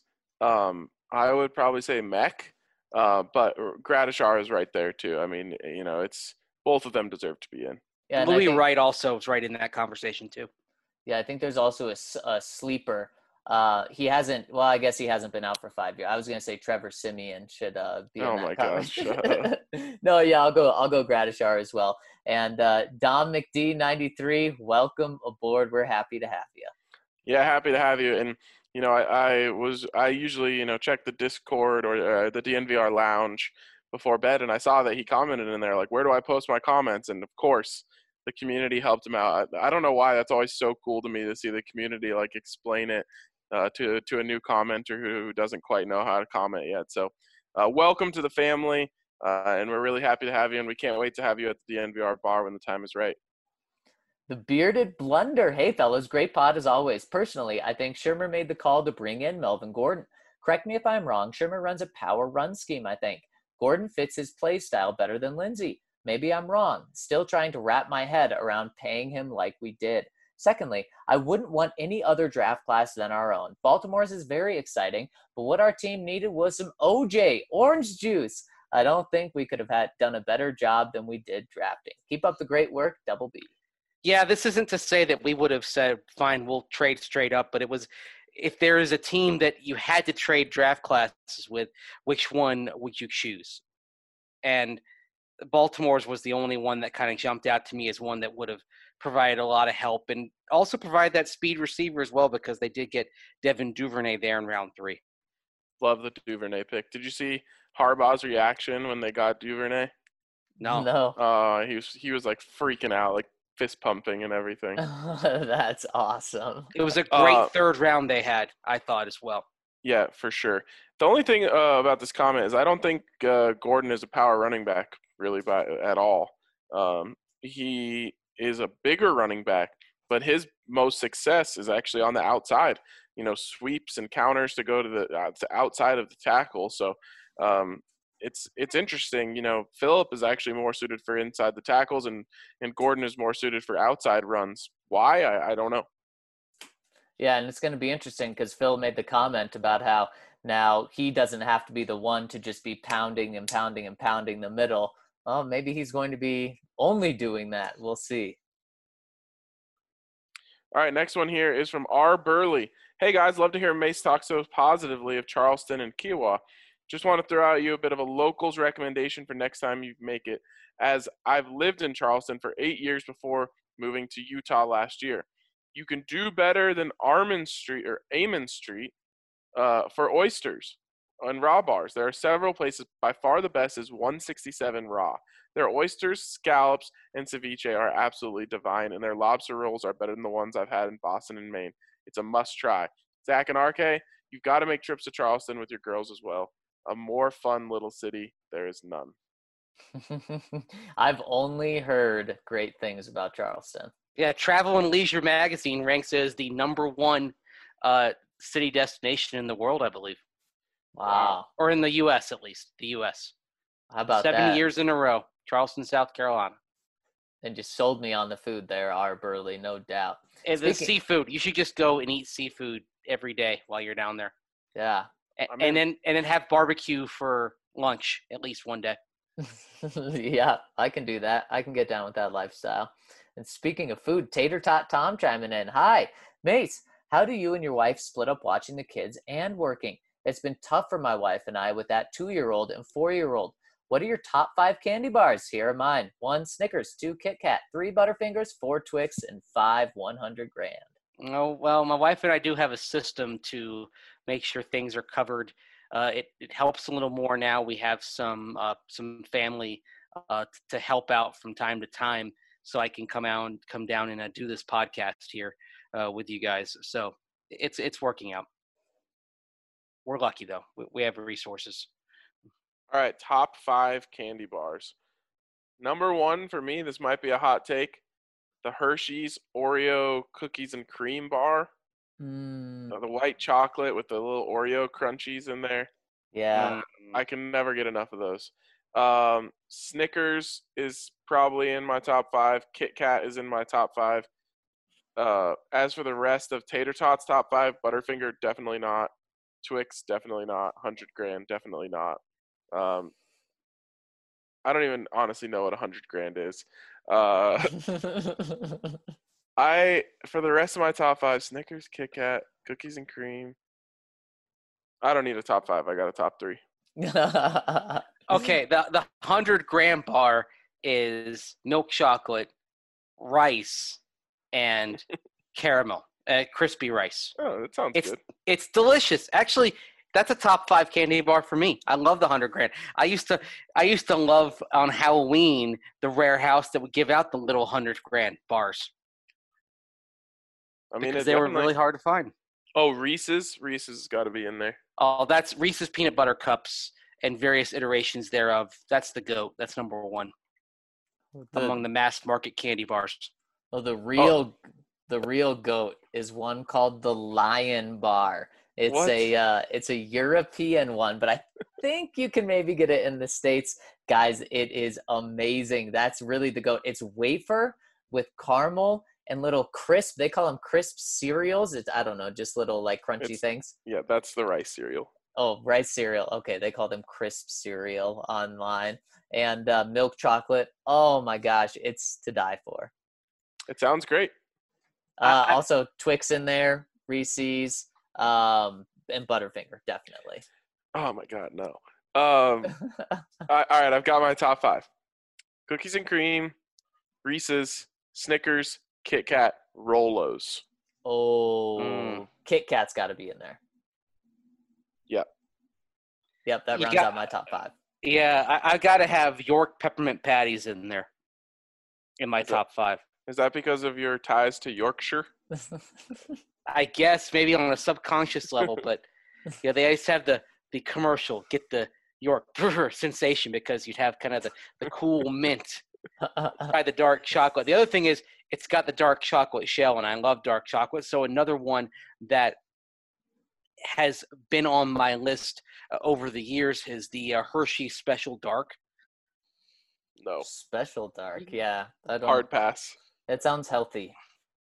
Speaker 1: I would probably say Mech, but Gradishar is right there too. I mean, it's both of them deserve to be in.
Speaker 4: Yeah, Louis Wright also is right in that conversation too.
Speaker 3: Yeah, I think there's also a sleeper. He hasn't. Well, I guess he hasn't been out for 5 years. I was gonna say Trevor Siemian should be in that conversation. No, yeah, I'll go Gradishar as well. And Dom McD 93, welcome aboard. We're happy to have you.
Speaker 1: Yeah, happy to have you. And I usually check the Discord or the DNVR lounge before bed, and I saw that he commented in there like, where do I post my comments? And of course, the community helped him out. I don't know why that's always so cool to me to see the community like explain it to a new commenter who doesn't quite know how to comment yet. So welcome to the family, and we're really happy to have you, and we can't wait to have you at the DNVR bar when the time is right.
Speaker 3: The Bearded Blunder. Hey, fellas, great pod as always. Personally, I think Shurmur made the call to bring in Melvin Gordon. Correct me if I'm wrong. Shurmur runs a power run scheme, I think. Gordon fits his play style better than Lindsey. Maybe I'm wrong. Still trying to wrap my head around paying him like we did. Secondly, I wouldn't want any other draft class than our own. Baltimore's is very exciting, but what our team needed was some OJ, orange juice. I don't think we could have done a better job than we did drafting. Keep up the great work, Double B.
Speaker 4: Yeah, this isn't to say that we would have said, fine, we'll trade straight up, but it was, if there is a team that you had to trade draft classes with, which one would you choose? and Baltimore's was the only one that kind of jumped out to me as one that would have provided a lot of help and also provide that speed receiver as well, because they did get Devin Duvernay there in round 3.
Speaker 1: Love the Duvernay pick. Did you see Harbaugh's reaction when they got Duvernay?
Speaker 4: No.
Speaker 3: No.
Speaker 1: He was like freaking out, like fist pumping and everything.
Speaker 3: That's awesome.
Speaker 4: It was a great third round they had, I thought, as well.
Speaker 1: Yeah, for sure. The only thing about this comment is I don't think Gordon is a power running back really at all. He is a bigger running back, but his most success is actually on the outside. You know, sweeps and counters to go to the outside of the tackle. So it's interesting. You know, Phillip is actually more suited for inside the tackles, and Gordon is more suited for outside runs. Why? I don't know.
Speaker 3: Yeah, and it's going to be interesting because Phil made the comment about how now he doesn't have to be the one to just be pounding and pounding and pounding the middle. Oh, maybe he's going to be only doing that. We'll see.
Speaker 1: All right, next one here is from R. Burley. Hey, guys, love to hear Mace talk so positively of Charleston and Kiowa. Just want to throw out you a bit of a locals recommendation for next time you make it, as I've lived in Charleston for 8 years before moving to Utah last year. You can do better than Amon Street for oysters and raw bars. There are several places. By far the best is 167 Raw. Their oysters, scallops, and ceviche are absolutely divine, and their lobster rolls are better than the ones I've had in Boston and Maine. It's a must-try. Zach and RK, you've got to make trips to Charleston with your girls as well. A more fun little city, there is none.
Speaker 3: I've only heard great things about Charleston.
Speaker 4: Yeah, Travel and Leisure Magazine ranks as the #1 city destination in the world, I believe.
Speaker 3: Wow.
Speaker 4: Or in the U.S., at least. The U.S.
Speaker 3: How about
Speaker 4: 7 years in a row. Charleston, South Carolina.
Speaker 3: And just sold me on the food there, R. Burley, no doubt.
Speaker 4: And the seafood. You should just go and eat seafood every day while you're down there.
Speaker 3: Yeah.
Speaker 4: And then have barbecue for lunch at least one day.
Speaker 3: Yeah, I can do that. I can get down with that lifestyle. And speaking of food, Tater Tot Tom chiming in. Hi, Mace. How do you and your wife split up watching the kids and working? It's been tough for my wife and I with that 2-year-old and 4-year-old. What are your top 5 candy bars? Here are mine. 1 Snickers, 2 Kit Kat, 3 Butterfingers, 4 Twix, and 5 100 grand.
Speaker 4: Oh, well, my wife and I do have a system to make sure things are covered. It helps a little more now. We have some family to help out from time to time, so I can come down and do this podcast here with you guys. So it's working out. We're lucky though. We have resources.
Speaker 1: All right, top 5 candy bars. Number 1 for me, this might be a hot take, the Hershey's Oreo cookies and cream bar. The white chocolate with the little Oreo crunchies in there.
Speaker 3: Yeah.
Speaker 1: I can never get enough of those. Snickers is probably in my top 5. Kit Kat is in my top 5. As for the rest of Tater Tots top 5, Butterfinger definitely not. Twix definitely not. 100 grand definitely not. I don't even honestly know what 100 grand is. For the rest of my top 5, Snickers, Kit Kat, cookies and cream. I don't need a top 5. I got a top 3.
Speaker 4: Okay, the 100 gram bar is milk chocolate, rice, and caramel, crispy rice.
Speaker 1: Oh, that sounds good.
Speaker 4: It's delicious. Actually, that's a top 5 candy bar for me. I love the 100 grand. I used to love on Halloween the Rare House that would give out the little 100 grand bars.
Speaker 1: I mean,
Speaker 4: because they were really hard to find.
Speaker 1: Oh, Reese's has got to be in there.
Speaker 4: Oh, that's Reese's peanut butter cups and various iterations thereof. That's the GOAT. That's number 1 among the mass market candy bars.
Speaker 3: Well, the real GOAT is one called the Lion Bar. It's a European one, but I think you can maybe get it in the States. Guys, it is amazing. That's really the GOAT. It's wafer with caramel and little crisp. They call them crisp cereals. I don't know, just little like crunchy things.
Speaker 1: Yeah, that's the rice cereal.
Speaker 3: Oh, rice cereal. Okay, they call them crisp cereal online. And milk chocolate. Oh my gosh, it's to die for.
Speaker 1: It sounds great.
Speaker 3: Also, Twix in there, Reese's, and Butterfinger, definitely.
Speaker 1: Oh my God, no. All right, I've got my top 5. Cookies and cream, Reese's, Snickers, Kit Kat, Rolos.
Speaker 3: Kit Kat's got to be in there.
Speaker 1: Yep.
Speaker 3: Yep, that rounds out my top 5.
Speaker 4: Yeah, I got to have York peppermint patties in there in my top 5.
Speaker 1: Is that because of your ties to Yorkshire?
Speaker 4: I guess maybe on a subconscious level, but yeah, they always have the commercial, get the York sensation, because you'd have kind of the cool mint by the dark chocolate. The other thing is it's got the dark chocolate shell, and I love dark chocolate. So another one that has been on my list over the years is the Hershey Special Dark.
Speaker 1: No.
Speaker 3: Special Dark, yeah.
Speaker 1: Hard pass.
Speaker 3: It sounds healthy.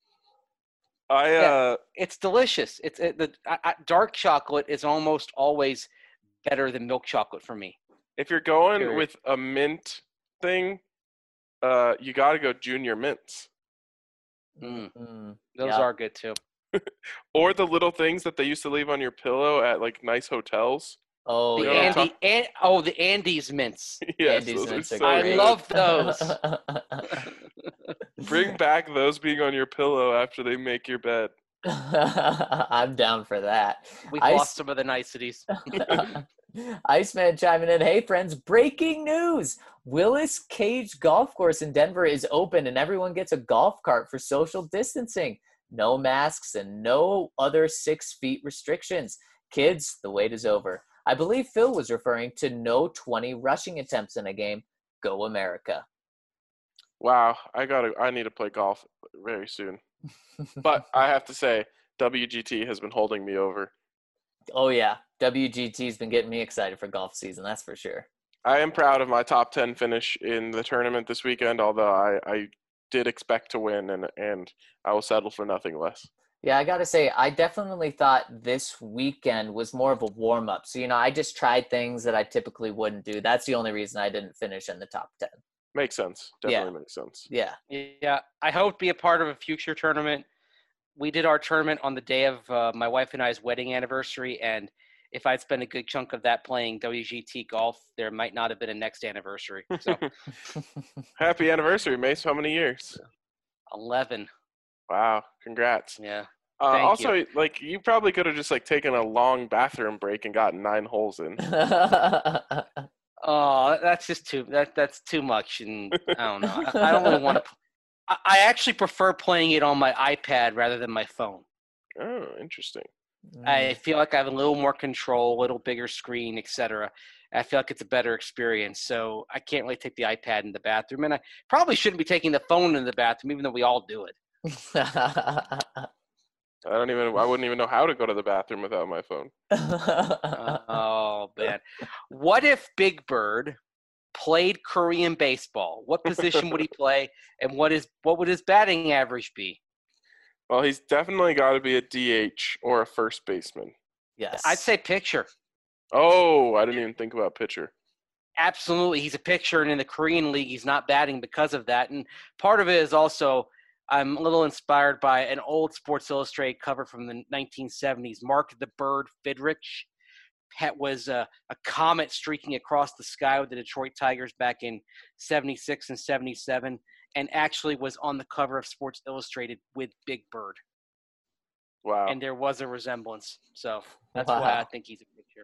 Speaker 4: It's delicious. Dark chocolate is almost always better than milk chocolate for me.
Speaker 1: If you're going with a mint thing, you got to go Junior Mints.
Speaker 4: Those are good too.
Speaker 1: Or the little things that they used to leave on your pillow at like nice hotels.
Speaker 3: Oh,
Speaker 4: the Andes mints.
Speaker 1: Yes,
Speaker 3: Andes
Speaker 1: those
Speaker 3: mints
Speaker 1: are
Speaker 3: are
Speaker 1: so
Speaker 4: I
Speaker 1: good.
Speaker 4: love those.
Speaker 1: Bring back those being on your pillow after they make your bed.
Speaker 3: I'm down for that.
Speaker 4: We've lost some of the niceties.
Speaker 3: Iceman chiming in. Hey, friends, breaking news. Willis Cage Golf Course in Denver is open, and everyone gets a golf cart for social distancing. No masks and no other 6 feet restrictions. Kids, the wait is over. I believe Phil was referring to no 20 rushing attempts in a game. Go America.
Speaker 1: Wow, I need to play golf very soon. But I have to say, WGT has been holding me over.
Speaker 3: Oh, yeah. WGT's been getting me excited for golf season, that's for sure.
Speaker 1: I am proud of my top 10 finish in the tournament this weekend, although I did expect to win, and I will settle for nothing less.
Speaker 3: Yeah, I got to say, I definitely thought this weekend was more of a warm-up. So, I just tried things that I typically wouldn't do. That's the only reason I didn't finish in the top 10.
Speaker 1: Makes sense. Definitely makes sense.
Speaker 3: Yeah.
Speaker 4: Yeah, I hope to be a part of a future tournament. We did our tournament on the day of my wife and I's wedding anniversary, and if I'd spent a good chunk of that playing WGT golf, there might not have been a next anniversary. So,
Speaker 1: Happy anniversary, Mace. How many years?
Speaker 4: 11.
Speaker 1: Wow, congrats.
Speaker 4: Yeah.
Speaker 1: Also,
Speaker 4: you.
Speaker 1: you probably could have just taken a long bathroom break and gotten 9 holes in.
Speaker 4: Oh, that's just that's too much, and I don't know. I don't really want to. I actually prefer playing it on my iPad rather than my phone.
Speaker 1: Oh, interesting.
Speaker 4: I feel like I have a little more control, a little bigger screen, etc. I feel like it's a better experience. So I can't really take the iPad in the bathroom, and I probably shouldn't be taking the phone in the bathroom, even though we all do it.
Speaker 1: I wouldn't even know how to go to the bathroom without my phone.
Speaker 4: Oh, man. What if Big Bird played Korean baseball? What position would he play, and what would his batting average be?
Speaker 1: Well, he's definitely got to be a DH or a first baseman.
Speaker 3: Yes.
Speaker 4: I'd say pitcher.
Speaker 1: Oh, I didn't even think about pitcher.
Speaker 4: Absolutely. He's a pitcher, and in the Korean League, he's not batting because of that. And part of it is also I'm a little inspired by an old Sports Illustrated cover from the 1970s. Mark the Bird Fidrich was a comet streaking across the sky with the Detroit Tigers back in 76 and 77, and actually was on the cover of Sports Illustrated with Big Bird.
Speaker 1: Wow.
Speaker 4: And there was a resemblance. So that's why I think he's a pitcher.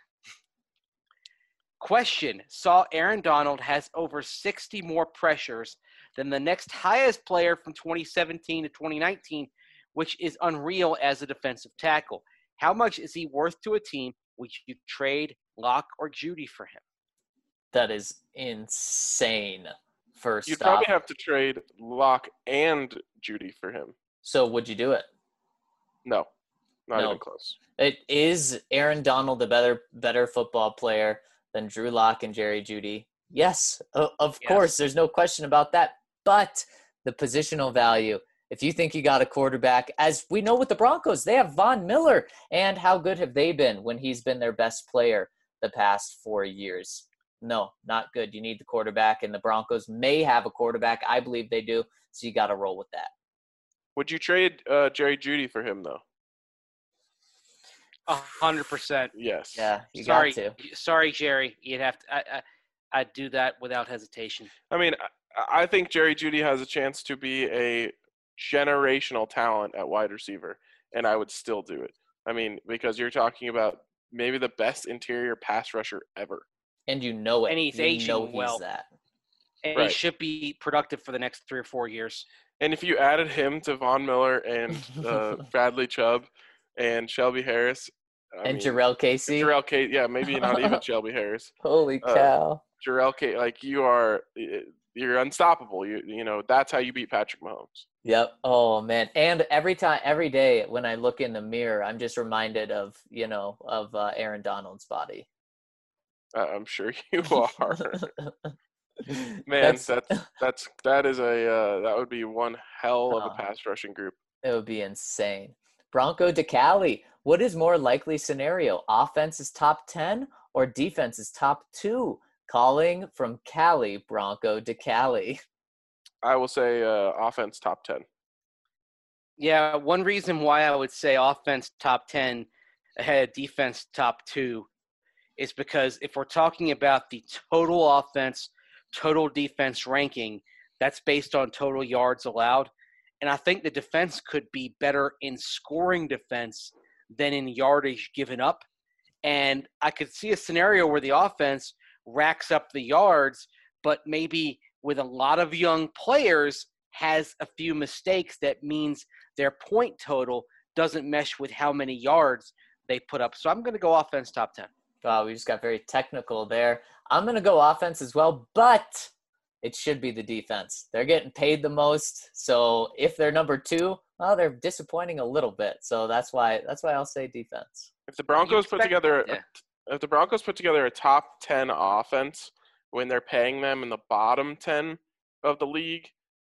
Speaker 4: Question. Saw Aaron Donald has over 60 more pressures than the next highest player from 2017 to 2019, which is unreal as a defensive tackle. How much is he worth to a team? Would you trade Locke or Judy for him?
Speaker 3: That is insane.
Speaker 1: You'd probably have to trade Locke and Judy for him.
Speaker 3: So would you do it?
Speaker 1: No, not even close.
Speaker 3: Is Aaron Donald a better football player than Drew Lock and Jerry Jeudy? Yes, of course. There's no question about that. But the positional value, if you think you got a quarterback, as we know with the Broncos, they have Von Miller. And how good have they been when he's been their best player the past 4 years? No, not good. You need the quarterback, and the Broncos may have a quarterback. I believe they do, so you got to roll with that.
Speaker 1: Would you trade Jerry Jeudy for him, though?
Speaker 4: 100%.
Speaker 1: Yes.
Speaker 3: Yeah, you
Speaker 4: Sorry,
Speaker 3: got to.
Speaker 4: sorry, Jerry. You'd have to. I'd do that without hesitation.
Speaker 1: I mean, I think Jerry Jeudy has a chance to be a generational talent at wide receiver, and I would still do it. I mean, because you're talking about maybe the best interior pass rusher ever.
Speaker 3: And you know it.
Speaker 4: And he's
Speaker 3: you
Speaker 4: aging
Speaker 3: know he's
Speaker 4: well.
Speaker 3: that.
Speaker 4: And
Speaker 1: Right.
Speaker 4: he should be productive for the next 3 or 4 years.
Speaker 1: And if you added him to Von Miller and Bradley Chubb and Shelby Harris,
Speaker 3: And Jarrell Casey.
Speaker 1: Jarrell Casey, yeah, maybe not even Shelby Harris.
Speaker 3: Holy cow.
Speaker 1: Jarrell Casey, like you're unstoppable. You know that's how you beat Patrick Mahomes.
Speaker 3: Yep. Oh man. And every day when I look in the mirror, I'm just reminded of Aaron Donald's body.
Speaker 1: I'm sure you are. Man, that would be one hell of a pass rushing group.
Speaker 3: It would be insane. Bronco to Cali. What is more likely scenario? Offense is top 10 or defense is top 2? Calling from Cali, Bronco to Cali.
Speaker 1: I will say offense top 10.
Speaker 4: Yeah, one reason why I would say offense top 10 ahead of defense top 2 is because if we're talking about the total offense, total defense ranking, that's based on total yards allowed. And I think the defense could be better in scoring defense than in yardage given up. And I could see a scenario where the offense racks up the yards, but maybe with a lot of young players has a few mistakes that means their point total doesn't mesh with how many yards they put up. So I'm going to go offense top 10.
Speaker 3: Wow, we just got very technical there. I'm going to go offense as well, but it should be the defense. They're getting paid the most. So if they're number 2, well, they're disappointing a little bit. So that's why I'll say defense.
Speaker 1: If the Broncos put together a top 10 offense when they're paying them in the bottom 10 of the league,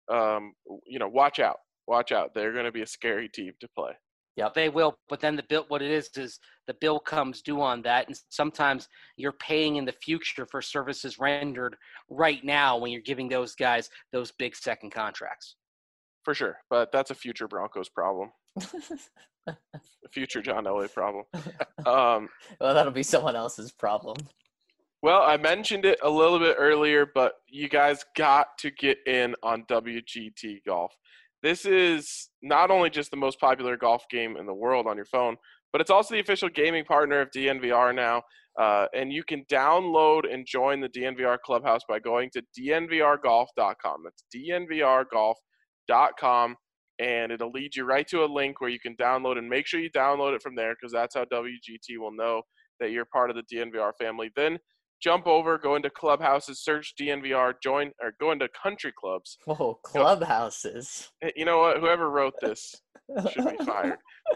Speaker 1: watch out. Watch out. They're going to be a scary team to play.
Speaker 4: Yep, they will. But then what it is the bill comes due on that. And sometimes you're paying in the future for services rendered right now when you're giving those guys those big second contracts.
Speaker 1: For sure. But that's a future Broncos problem. A future John Elway problem.
Speaker 3: Well, that'll be someone else's problem.
Speaker 1: Well, I mentioned it a little bit earlier, but you guys got to get in on WGT Golf. This is not only just the most popular golf game in the world on your phone, but it's also the official gaming partner of DNVR now. And you can download and join the DNVR Clubhouse by going to dnvrgolf.com. That's dnvrgolf.com. And it'll lead you right to a link where you can download, and make sure you download it from there because that's how WGT will know that you're part of the DNVR family. Then jump over, go into clubhouses, search DNVR, join, or go into country clubs.
Speaker 3: Whoa, clubhouses.
Speaker 1: You know what? Whoever wrote this should be fired.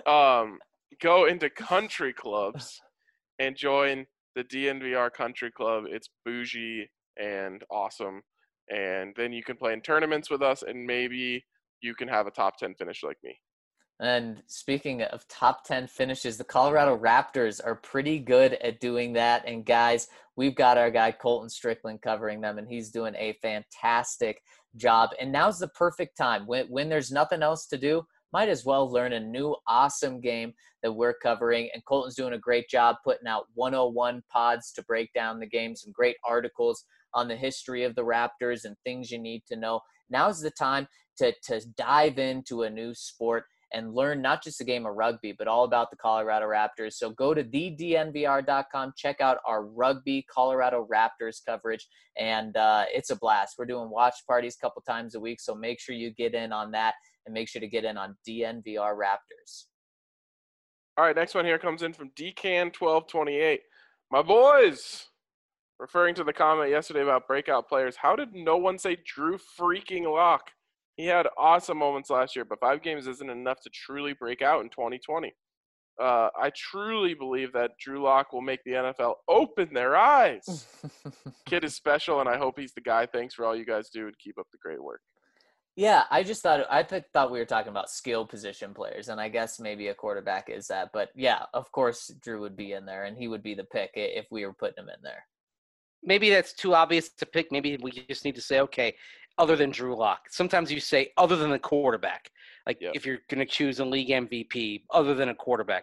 Speaker 1: Go into country clubs and join the DNVR Country Club. It's bougie and awesome. And then you can play in tournaments with us, and maybe you can have a top 10 finish like me.
Speaker 3: And speaking of top 10 finishes, the Colorado Raptors are pretty good at doing that. And guys, we've got our guy Colton Strickland covering them, and he's doing a fantastic job. And now's the perfect time. When there's nothing else to do, might as well learn a new awesome game that we're covering. And Colton's doing a great job putting out 101 pods to break down the game, some great articles on the history of the Raptors and things you need to know. Now's the time to dive into a new sport and learn not just the game of rugby, but all about the Colorado Raptors. So go to thednvr.com, check out our rugby Colorado Raptors coverage, and it's a blast. We're doing watch parties a couple times a week, so make sure you get in on that, and make sure to get in on DNVR Raptors.
Speaker 1: All right, next one here comes in from DCan1228. My boys, referring to the comment yesterday about breakout players, how did no one say Drew freaking Lock? He had awesome moments last year, but 5 games isn't enough to truly break out in 2020. I truly believe that Drew Lock will make the NFL open their eyes. Kid is special, and I hope he's the guy. Thanks for all you guys do, and keep up the great work.
Speaker 3: Yeah, I thought we were talking about skill position players, and I guess maybe a quarterback is that. But yeah, of course Drew would be in there, and he would be the pick if we were putting him in there.
Speaker 4: Maybe that's too obvious to pick. Maybe we just need to say, okay, other than Drew Lock. Sometimes you say other than the quarterback. Like if you're going to choose a league MVP, other than a quarterback.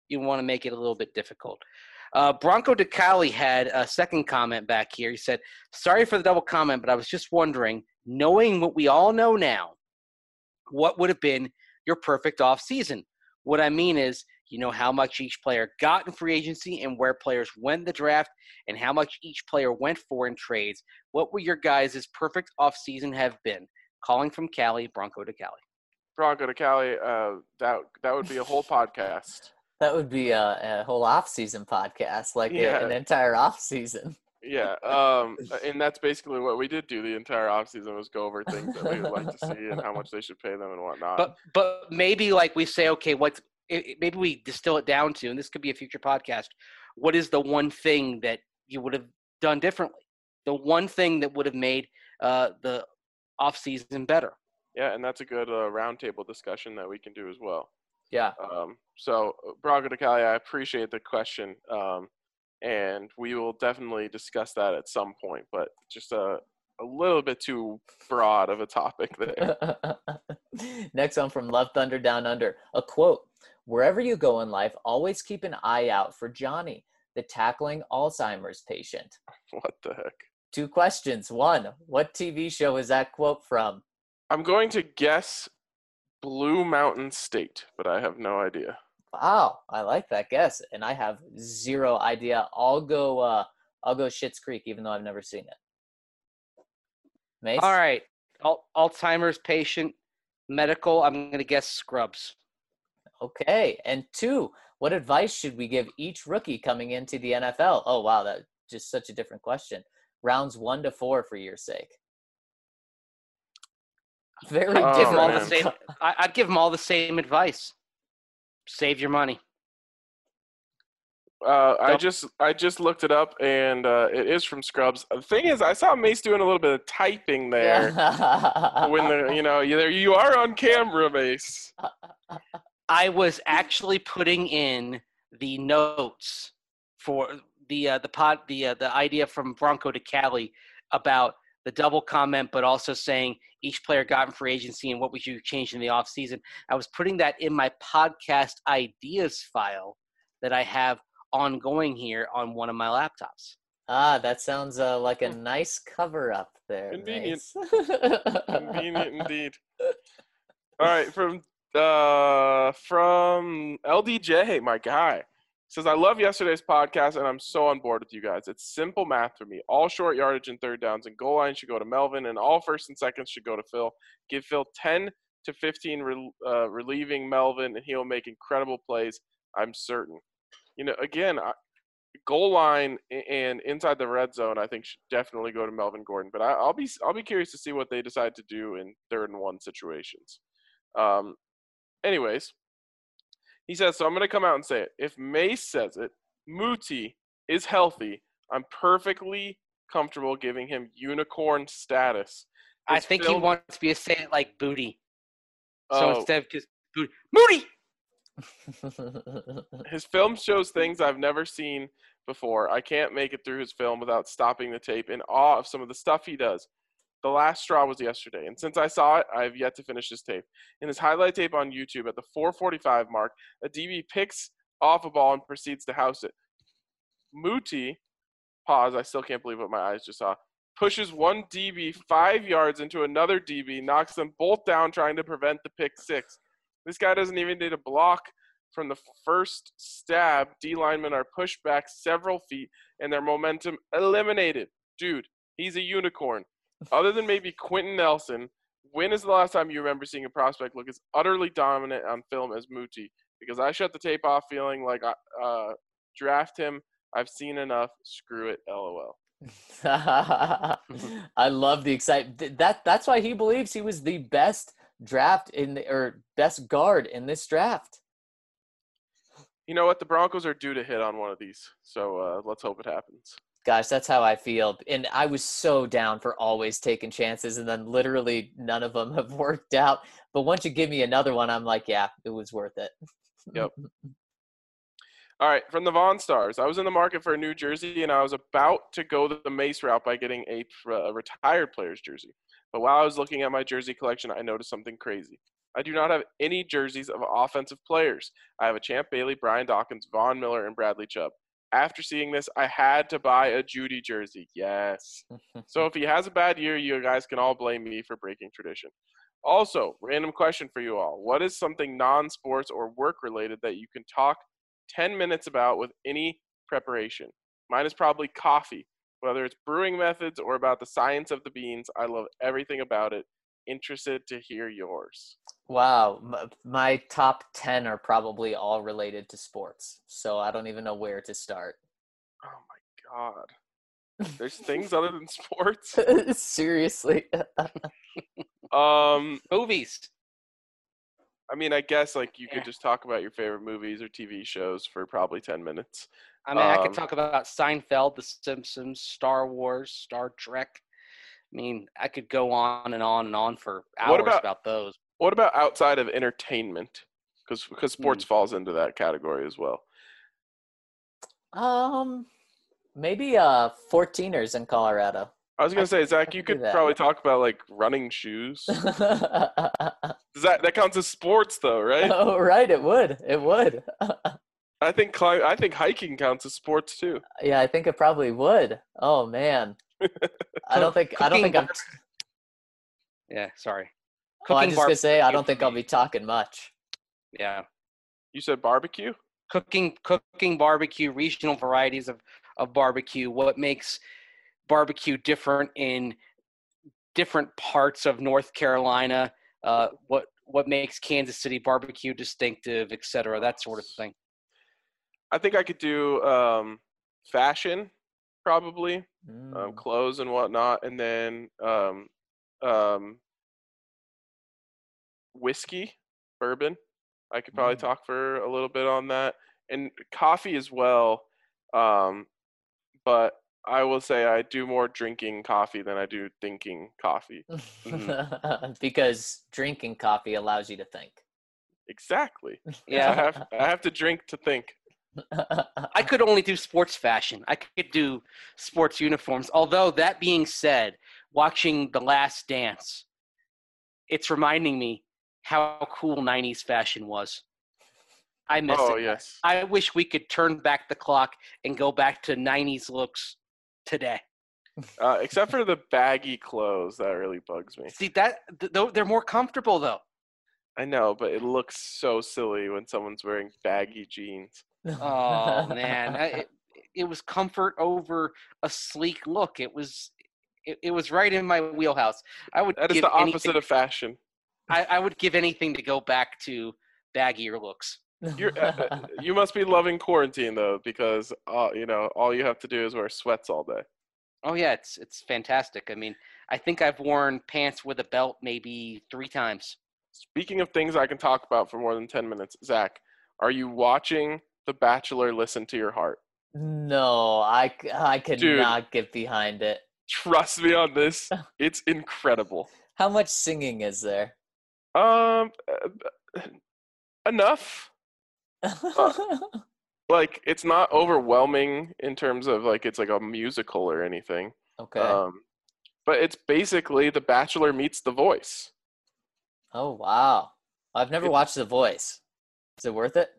Speaker 4: you want to make it a little bit difficult. Bronco DeCali had a second comment back here. He said, sorry for the double comment, but I was just wondering, knowing what we all know now, what would have been your perfect offseason? What I mean is, you know how much each player got in free agency and where players went in the draft and how much each player went for in trades. What would your guys' perfect offseason have been? Calling from Cali, Bronco DeCali.
Speaker 1: Bronco DeCali, that would be a whole podcast.
Speaker 3: That would be a whole off-season podcast, like an entire off-season.
Speaker 1: Yeah, and that's basically what we did do the entire offseason was go over things that we would like to see and how much they should pay them and whatnot.
Speaker 4: But maybe like we say, okay, maybe we distill it down to, and this could be a future podcast, what is the one thing that you would have done differently? The one thing that would have made the offseason better?
Speaker 1: Yeah, and that's a good roundtable discussion that we can do as well.
Speaker 3: Yeah.
Speaker 1: So, Bronco DeCali, I appreciate the question, and we will definitely discuss that at some point, but just a little bit too broad of a topic there.
Speaker 3: Next one from Love Thunder Down Under. A quote, wherever you go in life, always keep an eye out for Johnny, the tackling Alzheimer's patient.
Speaker 1: What the heck?
Speaker 3: 2 questions. 1, what TV show is that quote from?
Speaker 1: I'm going to guess Blue Mountain State, but I have no idea.
Speaker 3: Wow, I like that guess, and I have 0 idea. I'll go Schitt's Creek, even though I've never seen it. Mace?
Speaker 4: All right, Alzheimer's patient, medical. I'm going to guess Scrubs.
Speaker 3: Okay, and 2, what advice should we give each rookie coming into the NFL? Oh wow, that's just such a different question. Rounds 1 to 4 for your sake. Very different.
Speaker 4: I'd give them all the same advice. Save your money.
Speaker 1: I just looked it up, and it is from Scrubs. The thing is, I saw Mace doing a little bit of typing there. When you are on camera, Mace.
Speaker 4: I was actually putting in the notes for the idea from Bronco DeCali about the double comment, but also saying each player got in free agency and what would you change in the offseason. I was putting that in my podcast ideas file that I have ongoing here on one of my laptops.
Speaker 3: That sounds like a nice cover up there.
Speaker 1: Convenient.
Speaker 3: Nice.
Speaker 1: Convenient indeed. All right, from LDJ, my guy. Says, I love yesterday's podcast, and I'm so on board with you guys. It's simple math for me. All short yardage and third downs and goal line should go to Melvin, and all first and seconds should go to Phil. Give Phil 10 to 15 relieving Melvin, and he'll make incredible plays, I'm certain. Again, goal line and inside the red zone, I think should definitely go to Melvin Gordon. But I'll be curious to see what they decide to do in 3rd and 1 situations. Anyways. He says, so I'm going to come out and say it. If Mace says it, Muti is healthy. I'm perfectly comfortable giving him unicorn status.
Speaker 4: I think he wants me to say it like Booty. So instead of just Booty, Moody!
Speaker 1: His film shows things I've never seen before. I can't make it through his film without stopping the tape in awe of some of the stuff he does. The last straw was yesterday, and since I saw it, I have yet to finish this tape. In his highlight tape on YouTube, at the 4:45 mark, a DB picks off a ball and proceeds to house it. Muti, pause, I still can't believe what my eyes just saw, pushes one DB 5 yards into another DB, knocks them both down trying to prevent the pick six. This guy doesn't even need a block from the first stab. D linemen are pushed back several feet, and their momentum eliminated. Dude, he's a unicorn. Other than maybe Quentin Nelson, when is the last time you remember seeing a prospect look as utterly dominant on film as Muti? Because I shut the tape off feeling like draft him. I've seen enough. Screw it. LOL.
Speaker 3: I love the excitement. That's why he believes he was the best best guard in this draft.
Speaker 1: You know what? The Broncos are due to hit on one of these. So let's hope it happens.
Speaker 3: Gosh, that's how I feel. And I was so down for always taking chances, and then literally none of them have worked out. But once you give me another one, I'm like, yeah, it was worth it.
Speaker 1: Yep. All right, from the Vaughn Stars. I was in the market for a new jersey, and I was about to go the Mace route by getting a retired player's jersey. But while I was looking at my jersey collection, I noticed something crazy. I do not have any jerseys of offensive players. I have a Champ Bailey, Brian Dawkins, Von Miller, and Bradley Chubb. After seeing this, I had to buy a Judy jersey. Yes. So if he has a bad year, you guys can all blame me for breaking tradition. Also, random question for you all. What is something non-sports or work-related that you can talk 10 minutes about with any preparation? Mine is probably coffee. Whether it's brewing methods or about the science of the beans, I love everything about it. Interested to hear yours.
Speaker 3: Wow, my top 10 are probably all related to sports, so I don't even know where to start.
Speaker 1: Oh my God. There's things other than sports?
Speaker 3: Seriously.
Speaker 4: Movies.
Speaker 1: I mean, I guess like you could just talk about your favorite movies or TV shows for probably 10 minutes.
Speaker 4: I mean, I could talk about Seinfeld, The Simpsons, Star Wars, Star Trek. I mean, I could go on and on and on for hours about those.
Speaker 1: What about outside of entertainment? Because sports falls into that category as well.
Speaker 3: Maybe 14ers in Colorado.
Speaker 1: I was gonna say, Zach, you could probably talk about like running shoes. That counts as sports, though, right?
Speaker 3: Oh, right. It would. It would.
Speaker 1: I think hiking counts as sports too.
Speaker 3: Yeah, I think it probably would. Oh man, I don't think I'm.
Speaker 4: Yeah, sorry.
Speaker 3: Oh, I just gonna say I don't think I'll be talking much.
Speaker 4: Yeah.
Speaker 1: You said barbecue?
Speaker 4: Cooking barbecue, regional varieties of barbecue. What makes barbecue different in different parts of North Carolina? What makes Kansas City barbecue distinctive, et cetera, that sort of thing.
Speaker 1: I think I could do fashion, probably, clothes and whatnot, and then whiskey, bourbon. I could probably talk for a little bit on that, and coffee as well. But I will say I do more drinking coffee than I do thinking coffee.
Speaker 3: Because drinking coffee allows you to think.
Speaker 1: Exactly.
Speaker 4: Yeah.
Speaker 1: I have to drink to think.
Speaker 4: I could only do sports fashion. I could do sports uniforms. Although, that being said, watching The Last Dance, it's reminding me how cool 90s fashion was. I miss it.
Speaker 1: Oh, yes.
Speaker 4: I wish we could turn back the clock and go back to 90s looks today.
Speaker 1: Except for the baggy clothes. That really bugs me.
Speaker 4: See, they're more comfortable, though.
Speaker 1: I know, but it looks so silly when someone's wearing baggy jeans.
Speaker 4: Oh, man. It was comfort over a sleek look. It was right in my wheelhouse.
Speaker 1: That is the opposite of fashion.
Speaker 4: I would give anything to go back to baggier looks.
Speaker 1: You must be loving quarantine, though, because all you have to do is wear sweats all day.
Speaker 4: Oh yeah, it's fantastic. I mean, I think I've worn pants with a belt maybe 3 times.
Speaker 1: Speaking of things I can talk about for more than 10 minutes, Zach, are you watching The Bachelor? Listen to your heart.
Speaker 3: No, I could not get behind it.
Speaker 1: Trust me on this. It's incredible.
Speaker 3: How much singing is there?
Speaker 1: Enough. Like, it's not overwhelming in terms of like it's like a musical or anything.
Speaker 3: Okay.
Speaker 1: But it's basically The Bachelor meets The Voice.
Speaker 3: Oh wow! I've never watched The Voice. Is it worth it?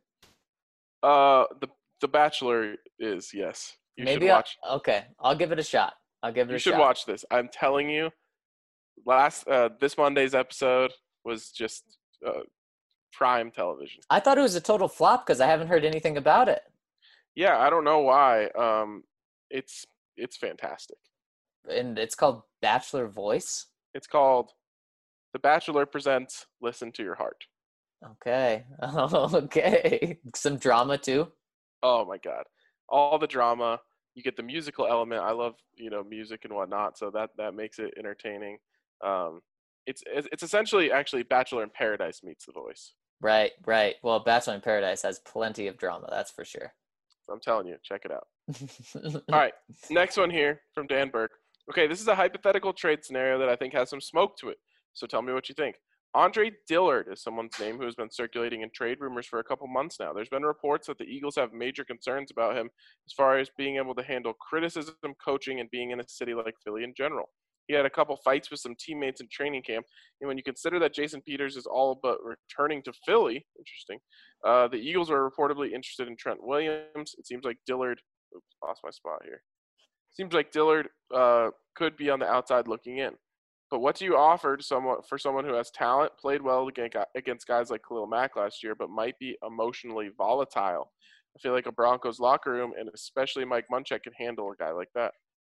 Speaker 1: The Bachelor is, yes. You should watch.
Speaker 3: Okay, I'll give it a shot.
Speaker 1: You should watch this. I'm telling you. This Monday's episode was just prime television.
Speaker 3: I thought it was a total flop because I haven't heard anything about it.
Speaker 1: Yeah, I don't know why. It's fantastic.
Speaker 3: And it's called Bachelor Voice?
Speaker 1: It's called The Bachelor Presents Listen to Your Heart.
Speaker 3: Okay. Okay. Some drama too?
Speaker 1: Oh my God. All the drama. You get the musical element. I love, music and whatnot, so that makes it entertaining. It's essentially actually Bachelor in Paradise meets The Voice.
Speaker 3: Right. Well, Bachelor in Paradise has plenty of drama, that's for sure.
Speaker 1: So I'm telling you, check it out. All right, next one here from Dan Burke. Okay, this is a hypothetical trade scenario that I think has some smoke to it. So tell me what you think. Andre Dillard is someone's name who has been circulating in trade rumors for a couple months now. There's been reports that the Eagles have major concerns about him as far as being able to handle criticism, coaching, and being in a city like Philly in general. He had a couple fights with some teammates in training camp. And when you consider that Jason Peters is all but returning to Philly, interesting, the Eagles are reportedly interested in Trent Williams. It seems like Dillard – oops, lost my spot here. Seems like Dillard could be on the outside looking in. But what do you offer to someone who has talent, played well against guys like Khalil Mack last year, but might be emotionally volatile? I feel like a Broncos locker room, and especially Mike Munchak, can handle a guy like that.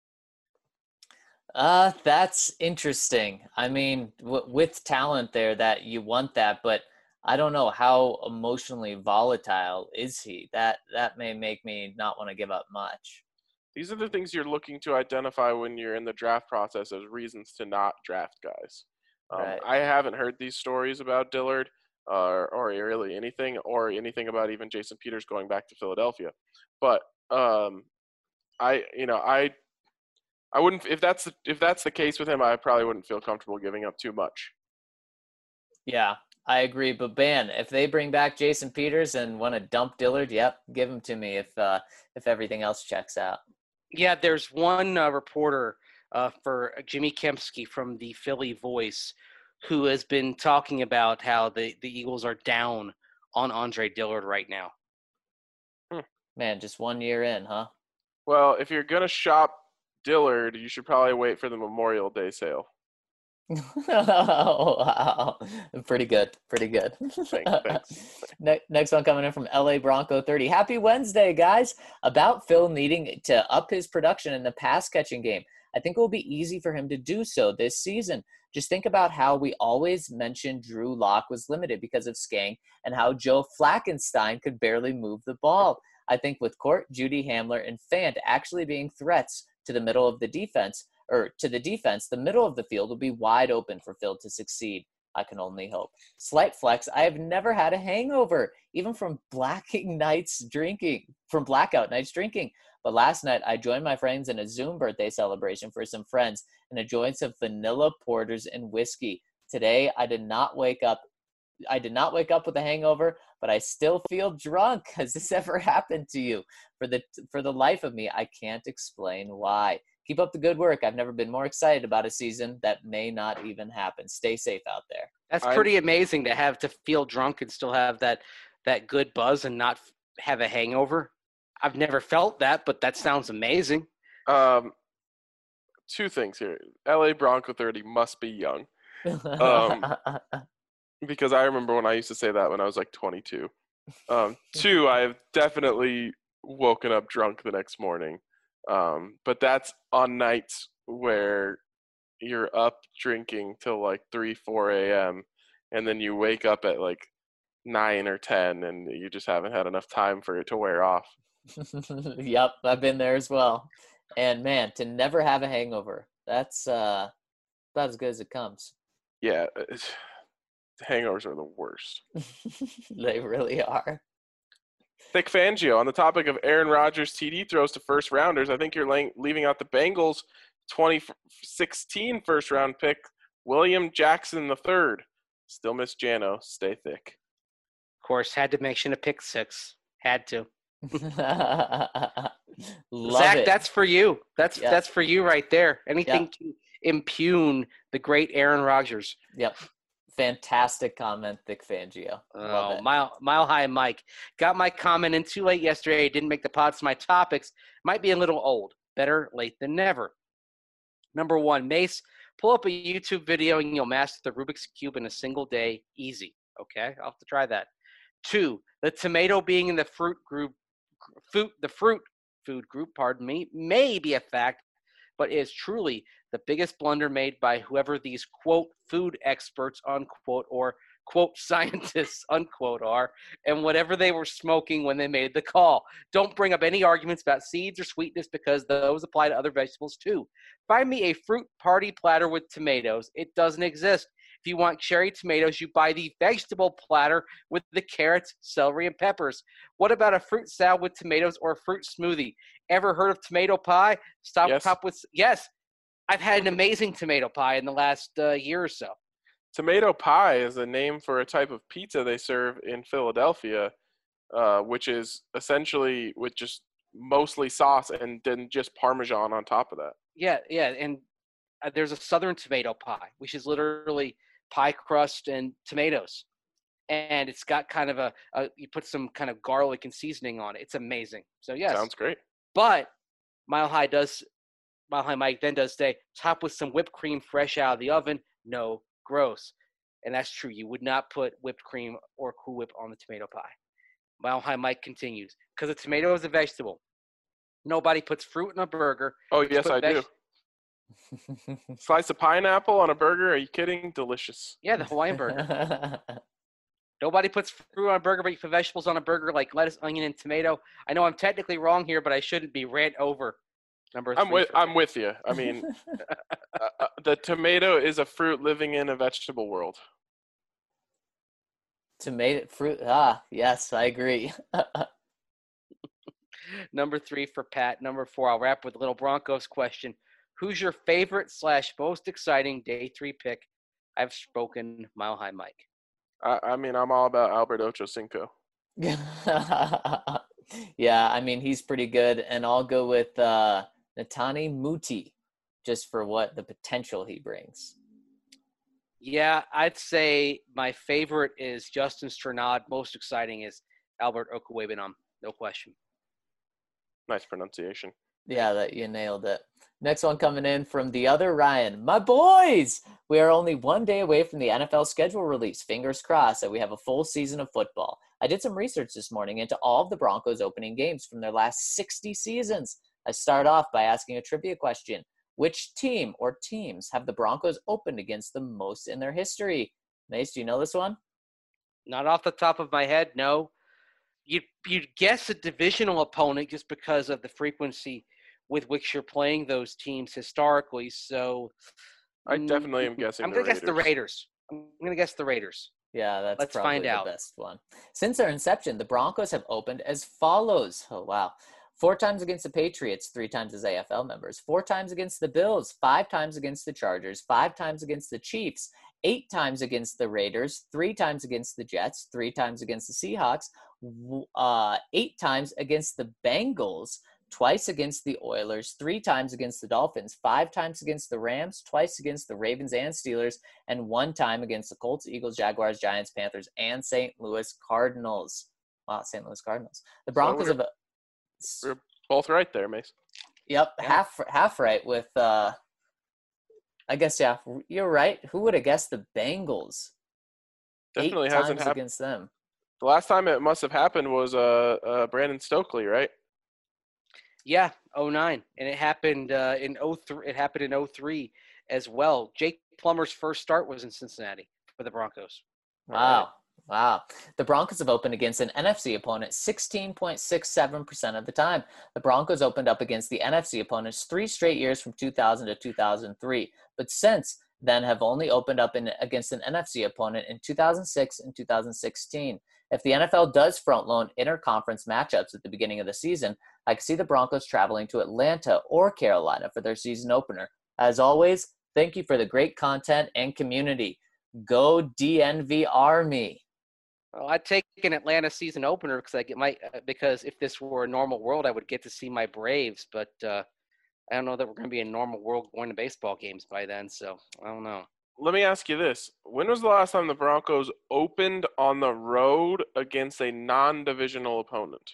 Speaker 3: That's interesting. I mean, with talent there, that you want that, but I don't know how emotionally volatile is he. That may make me not want to give up much.
Speaker 1: These are the things you're looking to identify when you're in the draft process as reasons to not draft guys.
Speaker 3: Right.
Speaker 1: I haven't heard these stories about Dillard or really anything about even Jason Peters going back to Philadelphia. But I wouldn't, if that's the case with him, I probably wouldn't feel comfortable giving up too much.
Speaker 3: Yeah, I agree. But man, if they bring back Jason Peters and want to dump Dillard, yep, give him to me if everything else checks out.
Speaker 4: Yeah, there's one reporter for Jimmy Kempski from the Philly Voice who has been talking about how the Eagles are down on Andre Dillard right now.
Speaker 3: Man, just 1 year in, huh?
Speaker 1: Well, if you're going to shop Dillard, you should probably wait for the Memorial Day sale.
Speaker 3: Oh, wow. Pretty good.
Speaker 1: Thanks.
Speaker 3: Next one coming in from LA Bronco 30. Happy Wednesday, guys. About Phil needing to up his production in the pass catching game. I think it will be easy for him to do so this season. Just think about how we always mentioned Drew Lock was limited because of Skang and how Joe Flackenstein could barely move the ball. I think with Court, Judy Hamler, and Fant actually being threats to the middle of the defense, the middle of the field will be wide open for Phil to succeed. I can only hope. Slight flex, I have never had a hangover, even from blackout nights drinking. But last night, I joined my friends in a Zoom birthday celebration for some friends and enjoyed some vanilla porters and whiskey. Today, I did not wake up with a hangover, but I still feel drunk. Has this ever happened to you? For the life of me, I can't explain why. Keep up the good work. I've never been more excited about a season that may not even happen. Stay safe out there.
Speaker 4: That's pretty amazing to have to feel drunk and still have that good buzz and not have a hangover. I've never felt that, but that sounds amazing.
Speaker 1: Two things here. LA Bronco 30 must be young. Because I remember when I used to say that when I was like 22. Two, I have definitely woken up drunk the next morning. But that's on nights where you're up drinking till like 3, 4 a.m. and then you wake up at like 9 or 10 and you just haven't had enough time for it to wear off.
Speaker 3: Yep, I've been there as well. And man, to never have a hangover, that's about as good as it comes.
Speaker 1: Yeah, hangovers are the worst.
Speaker 3: They really are.
Speaker 1: Vic Fangio, on the topic of Aaron Rodgers' TD throws to first rounders, I think you're leaving out the Bengals 2016 first round pick, William Jackson III. Still miss Jano. Stay thick.
Speaker 4: Of course, had to mention a pick six. Had to. Zach,
Speaker 3: it.
Speaker 4: That's for you. That's for you right there. Anything to impugn the great Aaron Rodgers.
Speaker 3: Yep. Fantastic comment, Vic Fangio.
Speaker 4: Oh, Mile High Mike. Got my comment in too late yesterday. Didn't make the pods. My topics might be a little old. Better late than never. Number 1, Mace, pull up a YouTube video and you'll master the Rubik's Cube in a single day. Easy. Okay, I'll have to try that. 2, the tomato being in the fruit food group, may be a fact, but is truly the biggest blunder made by whoever these, quote, food experts, unquote, or, quote, scientists, unquote, are, and whatever they were smoking when they made the call. Don't bring up any arguments about seeds or sweetness because those apply to other vegetables too. Find me a fruit party platter with tomatoes. It doesn't exist. If you want cherry tomatoes, you buy the vegetable platter with the carrots, celery, and peppers. What about a fruit salad with tomatoes or a fruit smoothie? Ever heard of tomato pie? Yes. I've had an amazing tomato pie in the last year or so.
Speaker 1: Tomato pie is a name for a type of pizza they serve in Philadelphia, which is essentially with just mostly sauce and then just Parmesan on top of that.
Speaker 4: Yeah, and there's a Southern tomato pie, which is literally pie crust and tomatoes. And it's got kind of you put some kind of garlic and seasoning on it. It's amazing. So, yes.
Speaker 1: Sounds great.
Speaker 4: But Mile High Mike then does say, top with some whipped cream fresh out of the oven. No, gross. And that's true. You would not put whipped cream or Cool Whip on the tomato pie. Mile High Mike continues, because a tomato is a vegetable. Nobody puts fruit in a burger.
Speaker 1: Oh, yes, I do. Slice of pineapple on a burger? Are you kidding? Delicious.
Speaker 4: Yeah, the Hawaiian burger. Nobody puts fruit on a burger, but you put vegetables on a burger like lettuce, onion, and tomato. I know I'm technically wrong here, but I shouldn't be. Rant over. Number 3.
Speaker 1: I'm with you. I mean, the tomato is a fruit living in a vegetable world.
Speaker 3: Tomato fruit. Yes, I agree.
Speaker 4: Number 3 for Pat. Number 4, I'll wrap with a little Broncos question. Who's your favorite / most exciting day 3 pick? I've spoken, Mile High Mike.
Speaker 1: I mean, I'm all about Albert Ochocinco.
Speaker 3: Yeah, I mean, he's pretty good. And I'll go with Netane Muti, just for what the potential he brings.
Speaker 4: Yeah, I'd say my favorite is Justin Strnad. Most exciting is Albert Okwuegbunam. No question.
Speaker 1: Nice pronunciation.
Speaker 3: Yeah, that you nailed it. Next one coming in from the other Ryan. My boys! We are only one day away from the NFL schedule release. Fingers crossed that we have a full season of football. I did some research this morning into all of the Broncos opening games from their last 60 seasons. I start off by asking a trivia question. Which team or teams have the Broncos opened against the most in their history? Mace, do you know this one?
Speaker 4: Not off the top of my head, no. You'd guess a divisional opponent just because of the frequency with which you're playing those teams historically. So
Speaker 1: I definitely am guessing.
Speaker 4: I'm going to guess the Raiders. I'm going to guess the Raiders.
Speaker 3: Yeah, that's
Speaker 4: Let's
Speaker 3: probably
Speaker 4: find out.
Speaker 3: The best one. Since their inception, the Broncos have opened as follows. Oh, wow. 4 times against the Patriots, 3 times as AFL members, 4 times against the Bills, 5 times against the Chargers, 5 times against the Chiefs, 8 times against the Raiders, 3 times against the Jets, 3 times against the Seahawks, 8 times against the Bengals, twice against the Oilers, 3 times against the Dolphins, 5 times against the Rams, twice against the Ravens and Steelers, and 1 time against the Colts, Eagles, Jaguars, Giants, Panthers, and St. Louis Cardinals. Wow, St. Louis Cardinals. The Broncos have
Speaker 1: We're both right there, Mace.
Speaker 3: Yep, yeah. half right with I guess, yeah, you're right. Who would have guessed the Bengals?
Speaker 1: Definitely
Speaker 3: 8
Speaker 1: hasn't
Speaker 3: times
Speaker 1: happened
Speaker 3: against them.
Speaker 1: The last time it must have happened was Brandon Stokely, right?
Speaker 4: Yeah, 09. And it happened in 03. It happened in 03 as well. Jake Plummer's first start was in Cincinnati for the Broncos.
Speaker 3: Wow. Wow. The Broncos have opened against an NFC opponent 16.67% of the time. The Broncos opened up against the NFC opponents 3 straight years from 2000 to 2003, but since then have only opened up against an NFC opponent in 2006 and 2016. If the NFL does front-load interconference matchups at the beginning of the season, I could see the Broncos traveling to Atlanta or Carolina for their season opener. As always, thank you for the great content and community. Go DNV Army.
Speaker 4: Well, I'd take an Atlanta season opener because if this were a normal world, I would get to see my Braves. But I don't know that we're going to be in a normal world going to baseball games by then. So I don't know.
Speaker 1: Let me ask you this. When was the last time the Broncos opened on the road against a non-divisional opponent?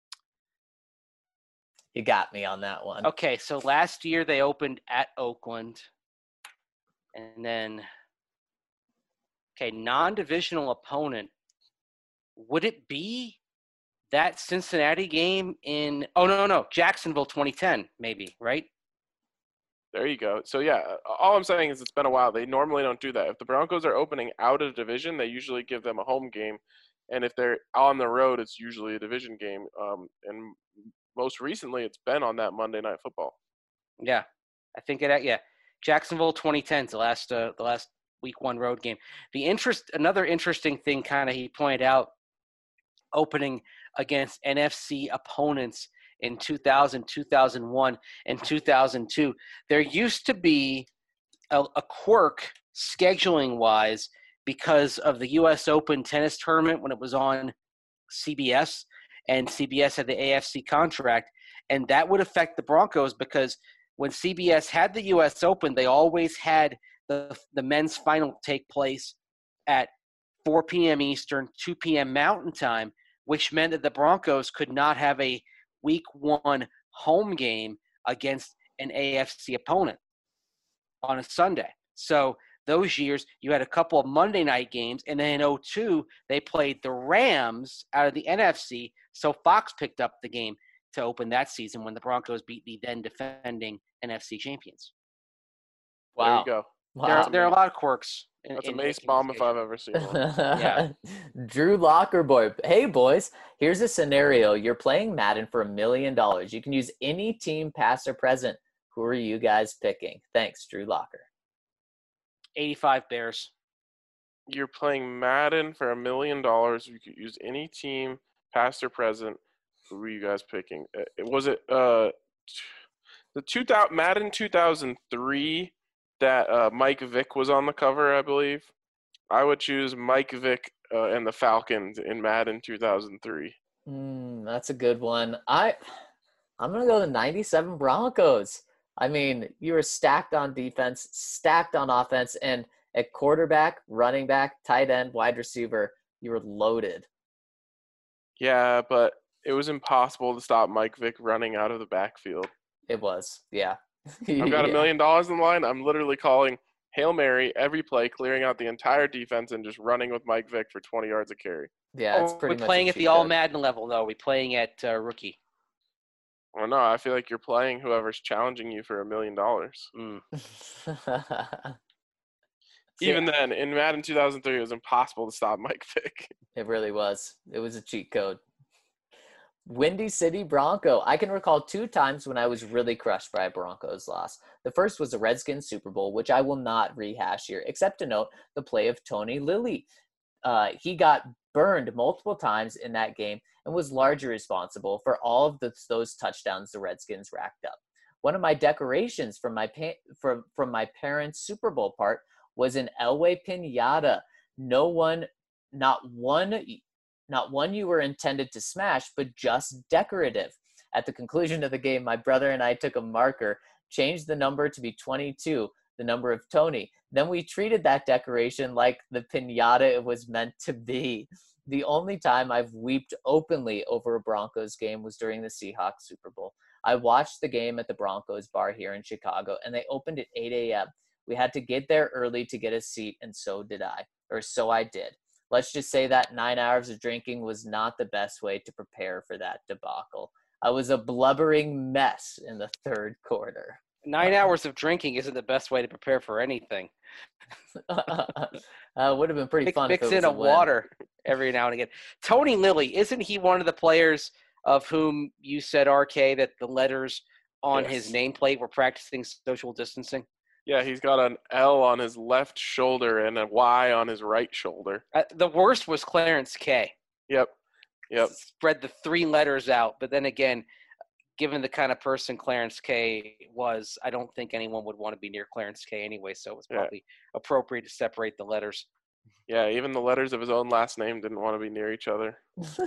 Speaker 3: You got me on that one.
Speaker 4: Okay, so last year they opened at Oakland. And then, non-divisional opponent. Would it be that Cincinnati game in – no, Jacksonville 2010 maybe, right?
Speaker 1: There you go. So, yeah, all I'm saying is it's been a while. They normally don't do that. If the Broncos are opening out of division, they usually give them a home game. And if they're on the road, it's usually a division game. And most recently, it's been on that Monday Night Football.
Speaker 4: Yeah, I think Jacksonville 2010 is the last week 1 road game. Another interesting thing kind of he pointed out, opening against NFC opponents in 2000, 2001, and 2002. There used to be a quirk scheduling-wise because of the U.S. Open tennis tournament when it was on CBS, and CBS had the AFC contract, and that would affect the Broncos because when CBS had the U.S. Open, they always had the men's final take place at 4 p.m. Eastern, 2 p.m. Mountain Time, which meant that the Broncos could not have a Week 1 home game against an AFC opponent on a Sunday. So those years, you had a couple of Monday night games, and then in 2002, they played the Rams out of the NFC, so Fox picked up the game to open that season when the Broncos beat the then defending NFC champions.
Speaker 1: There
Speaker 3: Wow.
Speaker 1: you go.
Speaker 3: Wow.
Speaker 4: There are a lot of quirks.
Speaker 1: That's a Mace bomb if I've ever seen one.
Speaker 4: Yeah.
Speaker 3: Drew Locker Boy. Hey, boys. Here's a scenario. You're playing Madden for $1 million. You can use any team, past or present. Who are you guys picking? Thanks, Drew Locker.
Speaker 4: 85 Bears.
Speaker 1: You're playing Madden for $1 million. You could use any team, past or present. Who were you guys picking? Was it the Madden 2003 that Mike Vick was on the cover, I believe? I would choose Mike Vick and the Falcons in Madden 2003.
Speaker 3: That's a good one. I'm going to go the 97 Broncos. I mean, you were stacked on defense, stacked on offense, and at quarterback, running back, tight end, wide receiver, you were loaded.
Speaker 1: Yeah, but it was impossible to stop Mike Vick running out of the backfield.
Speaker 3: It was, yeah.
Speaker 1: I've got $1 million in the line. I'm literally calling Hail Mary every play, clearing out the entire defense and just running with Mike Vick for 20 yards a carry.
Speaker 3: Yeah, it's pretty much
Speaker 4: playing
Speaker 3: a
Speaker 4: at the
Speaker 3: cheat
Speaker 4: All
Speaker 3: code.
Speaker 4: Madden level, though. We're playing at rookie.
Speaker 1: Well, no, I feel like you're playing whoever's challenging you for $1 million. Even then, in Madden 2003, it was impossible to stop Mike Vick.
Speaker 3: It really was. It was a cheat code. Windy City Bronco. I can recall 2 times when I was really crushed by a Broncos loss. The first was the Redskins Super Bowl, which I will not rehash here, except to note the play of Tony Lilly. He got burned multiple times in that game and was largely responsible for all of those touchdowns the Redskins racked up. One of my decorations from my parents' Super Bowl part was an Elway Pinata. Not one you were intended to smash, but just decorative. At the conclusion of the game, my brother and I took a marker, changed the number to be 22, the number of Tony. Then we treated that decoration like the pinata it was meant to be. The only time I've wept openly over a Broncos game was during the Seahawks Super Bowl. I watched the game at the Broncos bar here in Chicago, and they opened at 8 a.m. We had to get there early to get a seat, and so I did. Let's just say that 9 hours of drinking was not the best way to prepare for that debacle. I was a blubbering mess in the third quarter.
Speaker 4: 9 hours of drinking isn't the best way to prepare for anything.
Speaker 3: Would have been pretty fun.
Speaker 4: Mix in a water every now and again. Tony Lilly, isn't he one of the players of whom you said, RK, that the letters on his nameplate were practicing social distancing?
Speaker 1: Yeah, he's got an L on his left shoulder and a Y on his right shoulder.
Speaker 4: The worst was Clarence K.
Speaker 1: Yep.
Speaker 4: Spread the 3 letters out, but then again, given the kind of person Clarence K was, I don't think anyone would want to be near Clarence K anyway, so it was probably appropriate to separate the letters.
Speaker 1: Yeah, even the letters of his own last name didn't want to be near each other.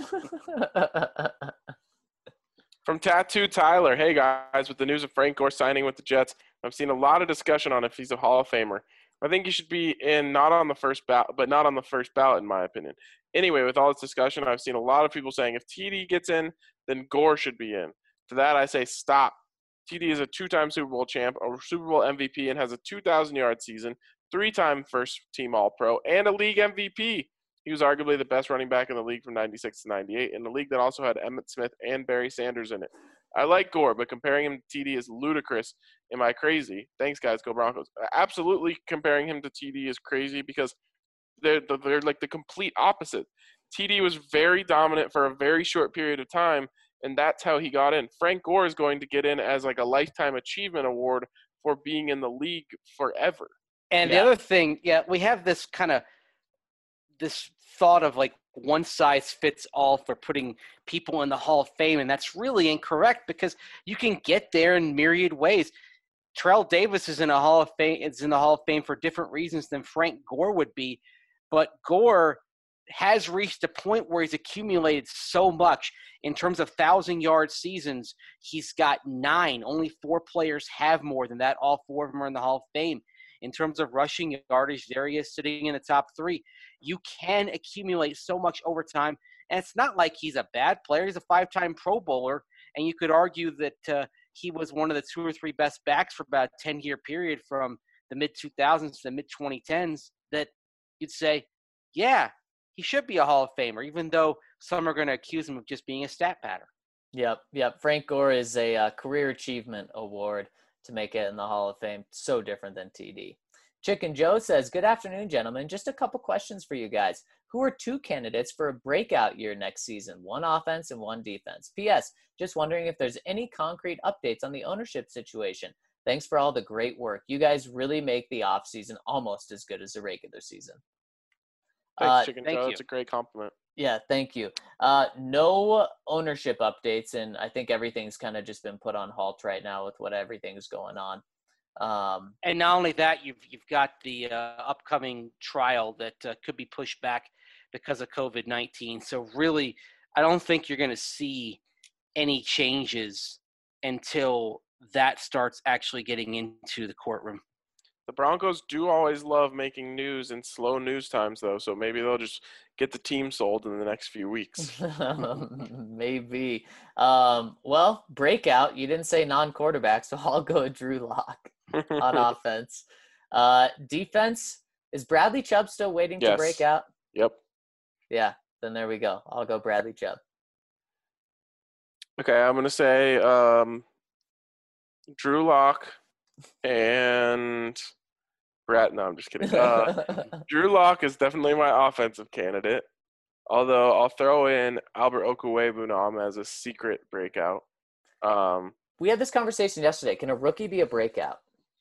Speaker 1: From Tattoo Tyler, hey guys, with the news of Frank Gore signing with the Jets, I've seen a lot of discussion on if he's a Hall of Famer. I think he should be in, not on the first ballot, but not on the first ballot in my opinion. Anyway, with all this discussion, I've seen a lot of people saying if TD gets in, then Gore should be in. To that, I say stop. TD is a 2-time Super Bowl champ, a Super Bowl MVP, and has a 2,000-yard season, 3-time first-team All-Pro, and a league MVP. He was arguably the best running back in the league from 96 to 98, in the league that also had Emmitt Smith and Barry Sanders in it. I like Gore, but comparing him to TD is ludicrous. Am I crazy? Thanks, guys. Go Broncos. Absolutely comparing him to TD is crazy because they're like the complete opposite. TD was very dominant for a very short period of time, and that's how he got in. Frank Gore is going to get in as like a lifetime achievement award for being in the league forever.
Speaker 4: And the other thing, we have this kind of this thought of like one size fits all for putting people in the Hall of Fame, and that's really incorrect because you can get there in myriad ways. Terrell Davis is in the Hall of Fame for different reasons than Frank Gore would be, but Gore has reached a point where he's accumulated so much in terms of 1,000-yard seasons. He's got 9. Only 4 players have more than that. All 4 of them are in the Hall of Fame. In terms of rushing yardage, there he is sitting in the top 3. You can accumulate so much over time, and it's not like he's a bad player. He's a 5-time Pro Bowler, and you could argue that he was one of the 2 or 3 best backs for about a 10-year period from the mid-2000s to the mid-2010s that you'd say, yeah, he should be a Hall of Famer, even though some are going to accuse him of just being a stat patter.
Speaker 3: Yep. Frank Gore is a career achievement award to make it in the Hall of Fame. So different than TD. Chicken Joe says, good afternoon, gentlemen. Just a couple questions for you guys. Who are 2 candidates for a breakout year next season? 1 offense and 1 defense. P.S. Just wondering if there's any concrete updates on the ownership situation. Thanks for all the great work. You guys really make the offseason almost as good as the regular season.
Speaker 1: Thanks, Chicken
Speaker 4: thank
Speaker 1: Joe.
Speaker 4: you.
Speaker 1: That's a great compliment.
Speaker 3: Yeah, thank you. No ownership updates, and I think everything's kind of just been put on halt right now with what everything's going on.
Speaker 4: And not only that, you've got the upcoming trial that could be pushed back because of COVID-19. So really, I don't think you're going to see any changes until that starts actually getting into the courtroom.
Speaker 1: The Broncos do always love making news in slow news times, though, so maybe they'll just get the team sold in the next few weeks.
Speaker 3: Maybe. Well, breakout. You didn't say non-quarterback, so I'll go Drew Lock on offense. Defense, is Bradley Chubb still waiting to break out?
Speaker 1: Yep.
Speaker 3: Yeah, then there we go. I'll go Bradley Chubb.
Speaker 1: Okay, I'm going to say Drew Lock and Brad. No, I'm just kidding. Drew Lock is definitely my offensive candidate, although I'll throw in Albert Okwuegbunam as a secret breakout.
Speaker 3: We had this conversation yesterday. Can a rookie be a breakout?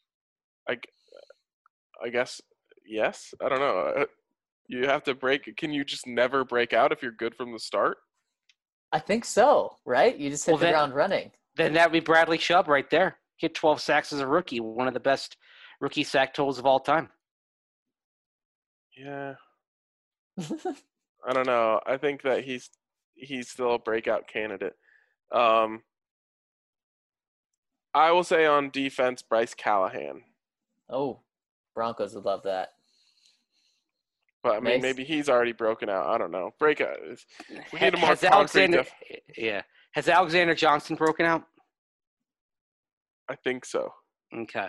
Speaker 1: I guess yes. I don't know. You have to break. Can you just never break out if you're good from the start?
Speaker 3: I think so, right? You just hit the ground running.
Speaker 4: Then that would be Bradley Chubb right there. Hit 12 sacks as a rookie, one of the best rookie sack totals of all time.
Speaker 1: Yeah. I don't know. I think that he's still a breakout candidate. I will say on defense, Bryce Callahan.
Speaker 3: Oh, Broncos would love that.
Speaker 1: But I mean,
Speaker 3: Nice.
Speaker 1: maybe he's already broken out. I don't know. Breakout. We need a more
Speaker 4: Has
Speaker 1: concrete.
Speaker 4: Has Alexander Johnson broken out?
Speaker 1: I think so.
Speaker 4: Okay.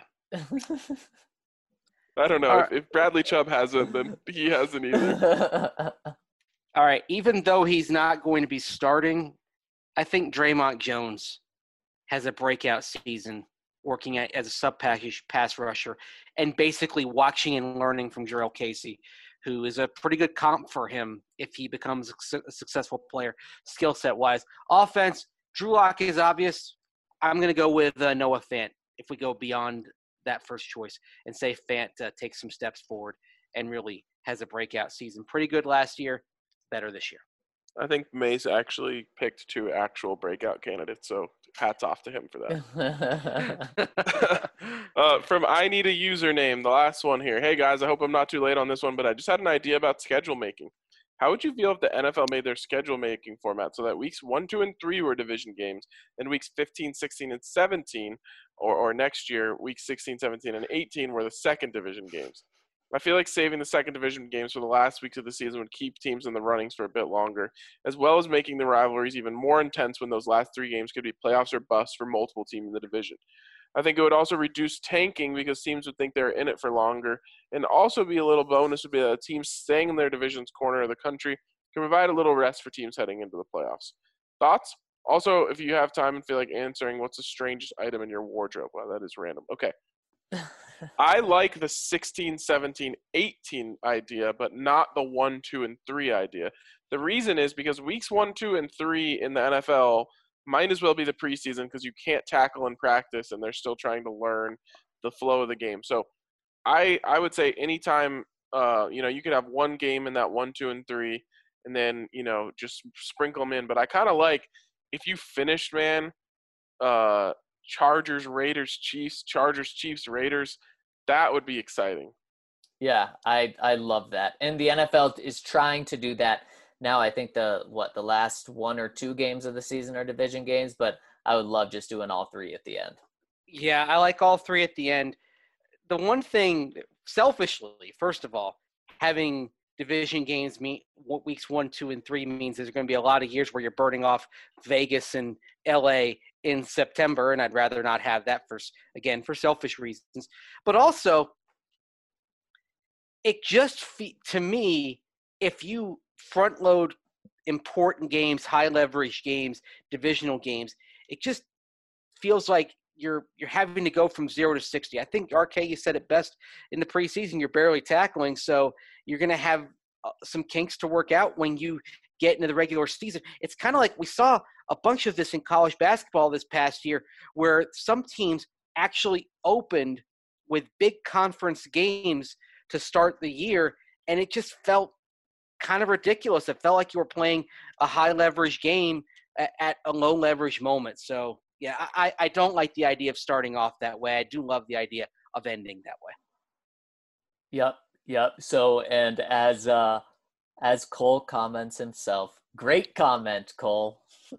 Speaker 1: I don't know.
Speaker 4: All right.
Speaker 1: If Bradley Chubb hasn't, then he hasn't either.
Speaker 4: All right. Even though he's not going to be starting, I think Draymond Jones has a breakout season working as a sub-package pass rusher and basically watching and learning from Jarrell Casey, who is a pretty good comp for him if he becomes a successful player, skill set-wise. Offense, Drew Lock is obvious. I'm going to go with Noah Fant if we go beyond that first choice and say Fant takes some steps forward and really has a breakout season. Pretty good last year, better this year.
Speaker 1: I think Mace actually picked 2 actual breakout candidates, so hats off to him for that. From I Need a Username, the last one here. Hey, guys, I hope I'm not too late on this one, but I just had an idea about schedule making. How would you feel if the NFL made their schedule making format so that weeks 1, 2, and 3 were division games, and weeks 15, 16, and 17, or next year, weeks 16, 17, and 18 were the second division games? I feel like saving the second division games for the last weeks of the season would keep teams in the runnings for a bit longer, as well as making the rivalries even more intense when those last 3 games could be playoffs or busts for multiple teams in the division. I think it would also reduce tanking because teams would think they're in it for longer, and also be a little bonus would be that teams staying in their division's corner of the country can provide a little rest for teams heading into the playoffs. Thoughts? Also, if you have time and feel like answering, what's the strangest item in your wardrobe? Wow, that is random. Okay. I like the 16, 17, 18 idea, but not the 1, 2, and 3 idea. The reason is because weeks 1, 2, and 3 in the NFL might as well be the preseason because you can't tackle in practice and they're still trying to learn the flow of the game. So I would say anytime, you could have one game in that 1, 2, and 3 and then, just sprinkle them in. But I kind of like if you finished, man, Chargers, Raiders, Chiefs, Chargers, Chiefs, Raiders, that would be exciting.
Speaker 3: Yeah, I love that. And the NFL is trying to do that now. I think the last 1 or 2 games of the season are division games, but I would love just doing all 3 at the end.
Speaker 4: Yeah, I like all 3 at the end. The one thing, selfishly, first of all, having division games mean what weeks 1, 2, and 3 means there's going to be a lot of years where you're burning off Vegas and LA in September, and I'd rather not have that for selfish reasons. But also, it just to me, if you front load important games, high leverage games, divisional games, it just feels like you're having to go from 0 to 60. I think RK, you said it best in the preseason. You're barely tackling, so you're going to have some kinks to work out when you get into the regular season. It's kind of like we saw a bunch of this in college basketball this past year, where some teams actually opened with big conference games to start the year, and it just felt kind of ridiculous. It felt like you were playing a high leverage game at a low leverage moment. So yeah, I don't like the idea of starting off that way. I do love the idea of ending that way.
Speaker 3: Yep. So, and as Cole comments himself, great comment, Cole.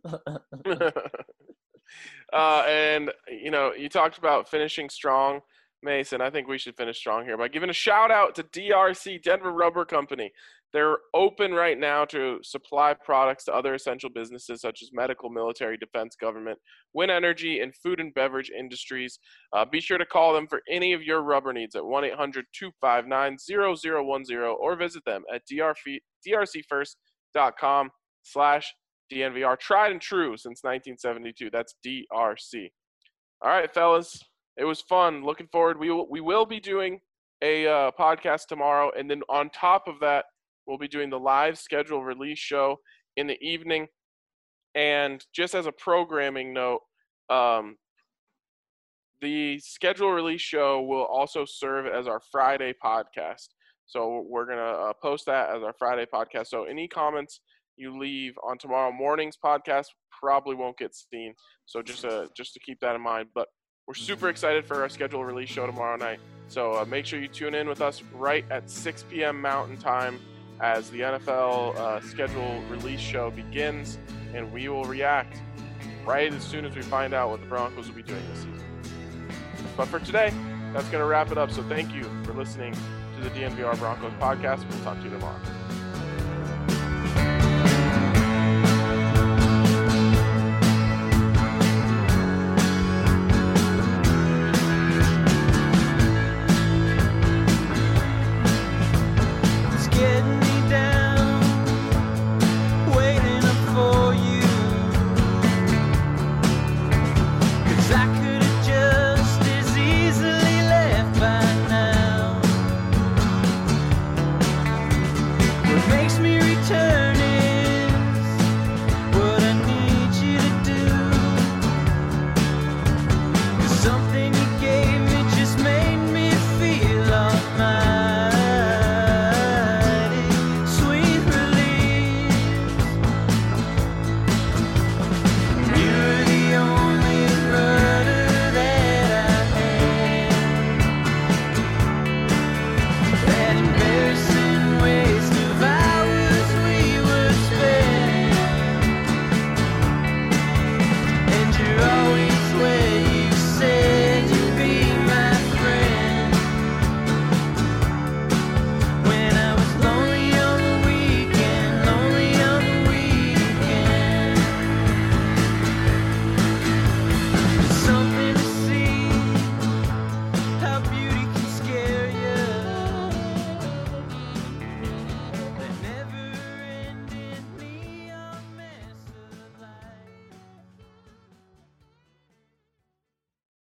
Speaker 1: And you talked about finishing strong, Mason. I think we should finish strong here by giving a shout out to DRC, Denver Rubber Company. They're open right now to supply products to other essential businesses such as medical, military, defense, government, wind energy, and food and beverage industries. Be sure to call them for any of your rubber needs at 1-800-259-0010 or visit them at drcfirst.com/DNVR. Tried and true since 1972. That's DRC. All right, fellas. It was fun. Looking forward. We will be doing a podcast tomorrow, and then on top of that, we'll be doing the live schedule release show in the evening. And just as a programming note, the schedule release show will also serve as our Friday podcast. So we're going to post that as our Friday podcast. So any comments you leave on tomorrow morning's podcast probably won't get seen. So just to keep that in mind. But we're super excited for our schedule release show tomorrow night. So make sure you tune in with us right at 6 p.m. Mountain Time as the NFL schedule release show begins, and we will react right as soon as we find out what the Broncos will be doing this season. But for today, that's going to wrap it up. So thank you for listening to the DNVR Broncos podcast. We'll talk to you tomorrow.
Speaker 2: Makes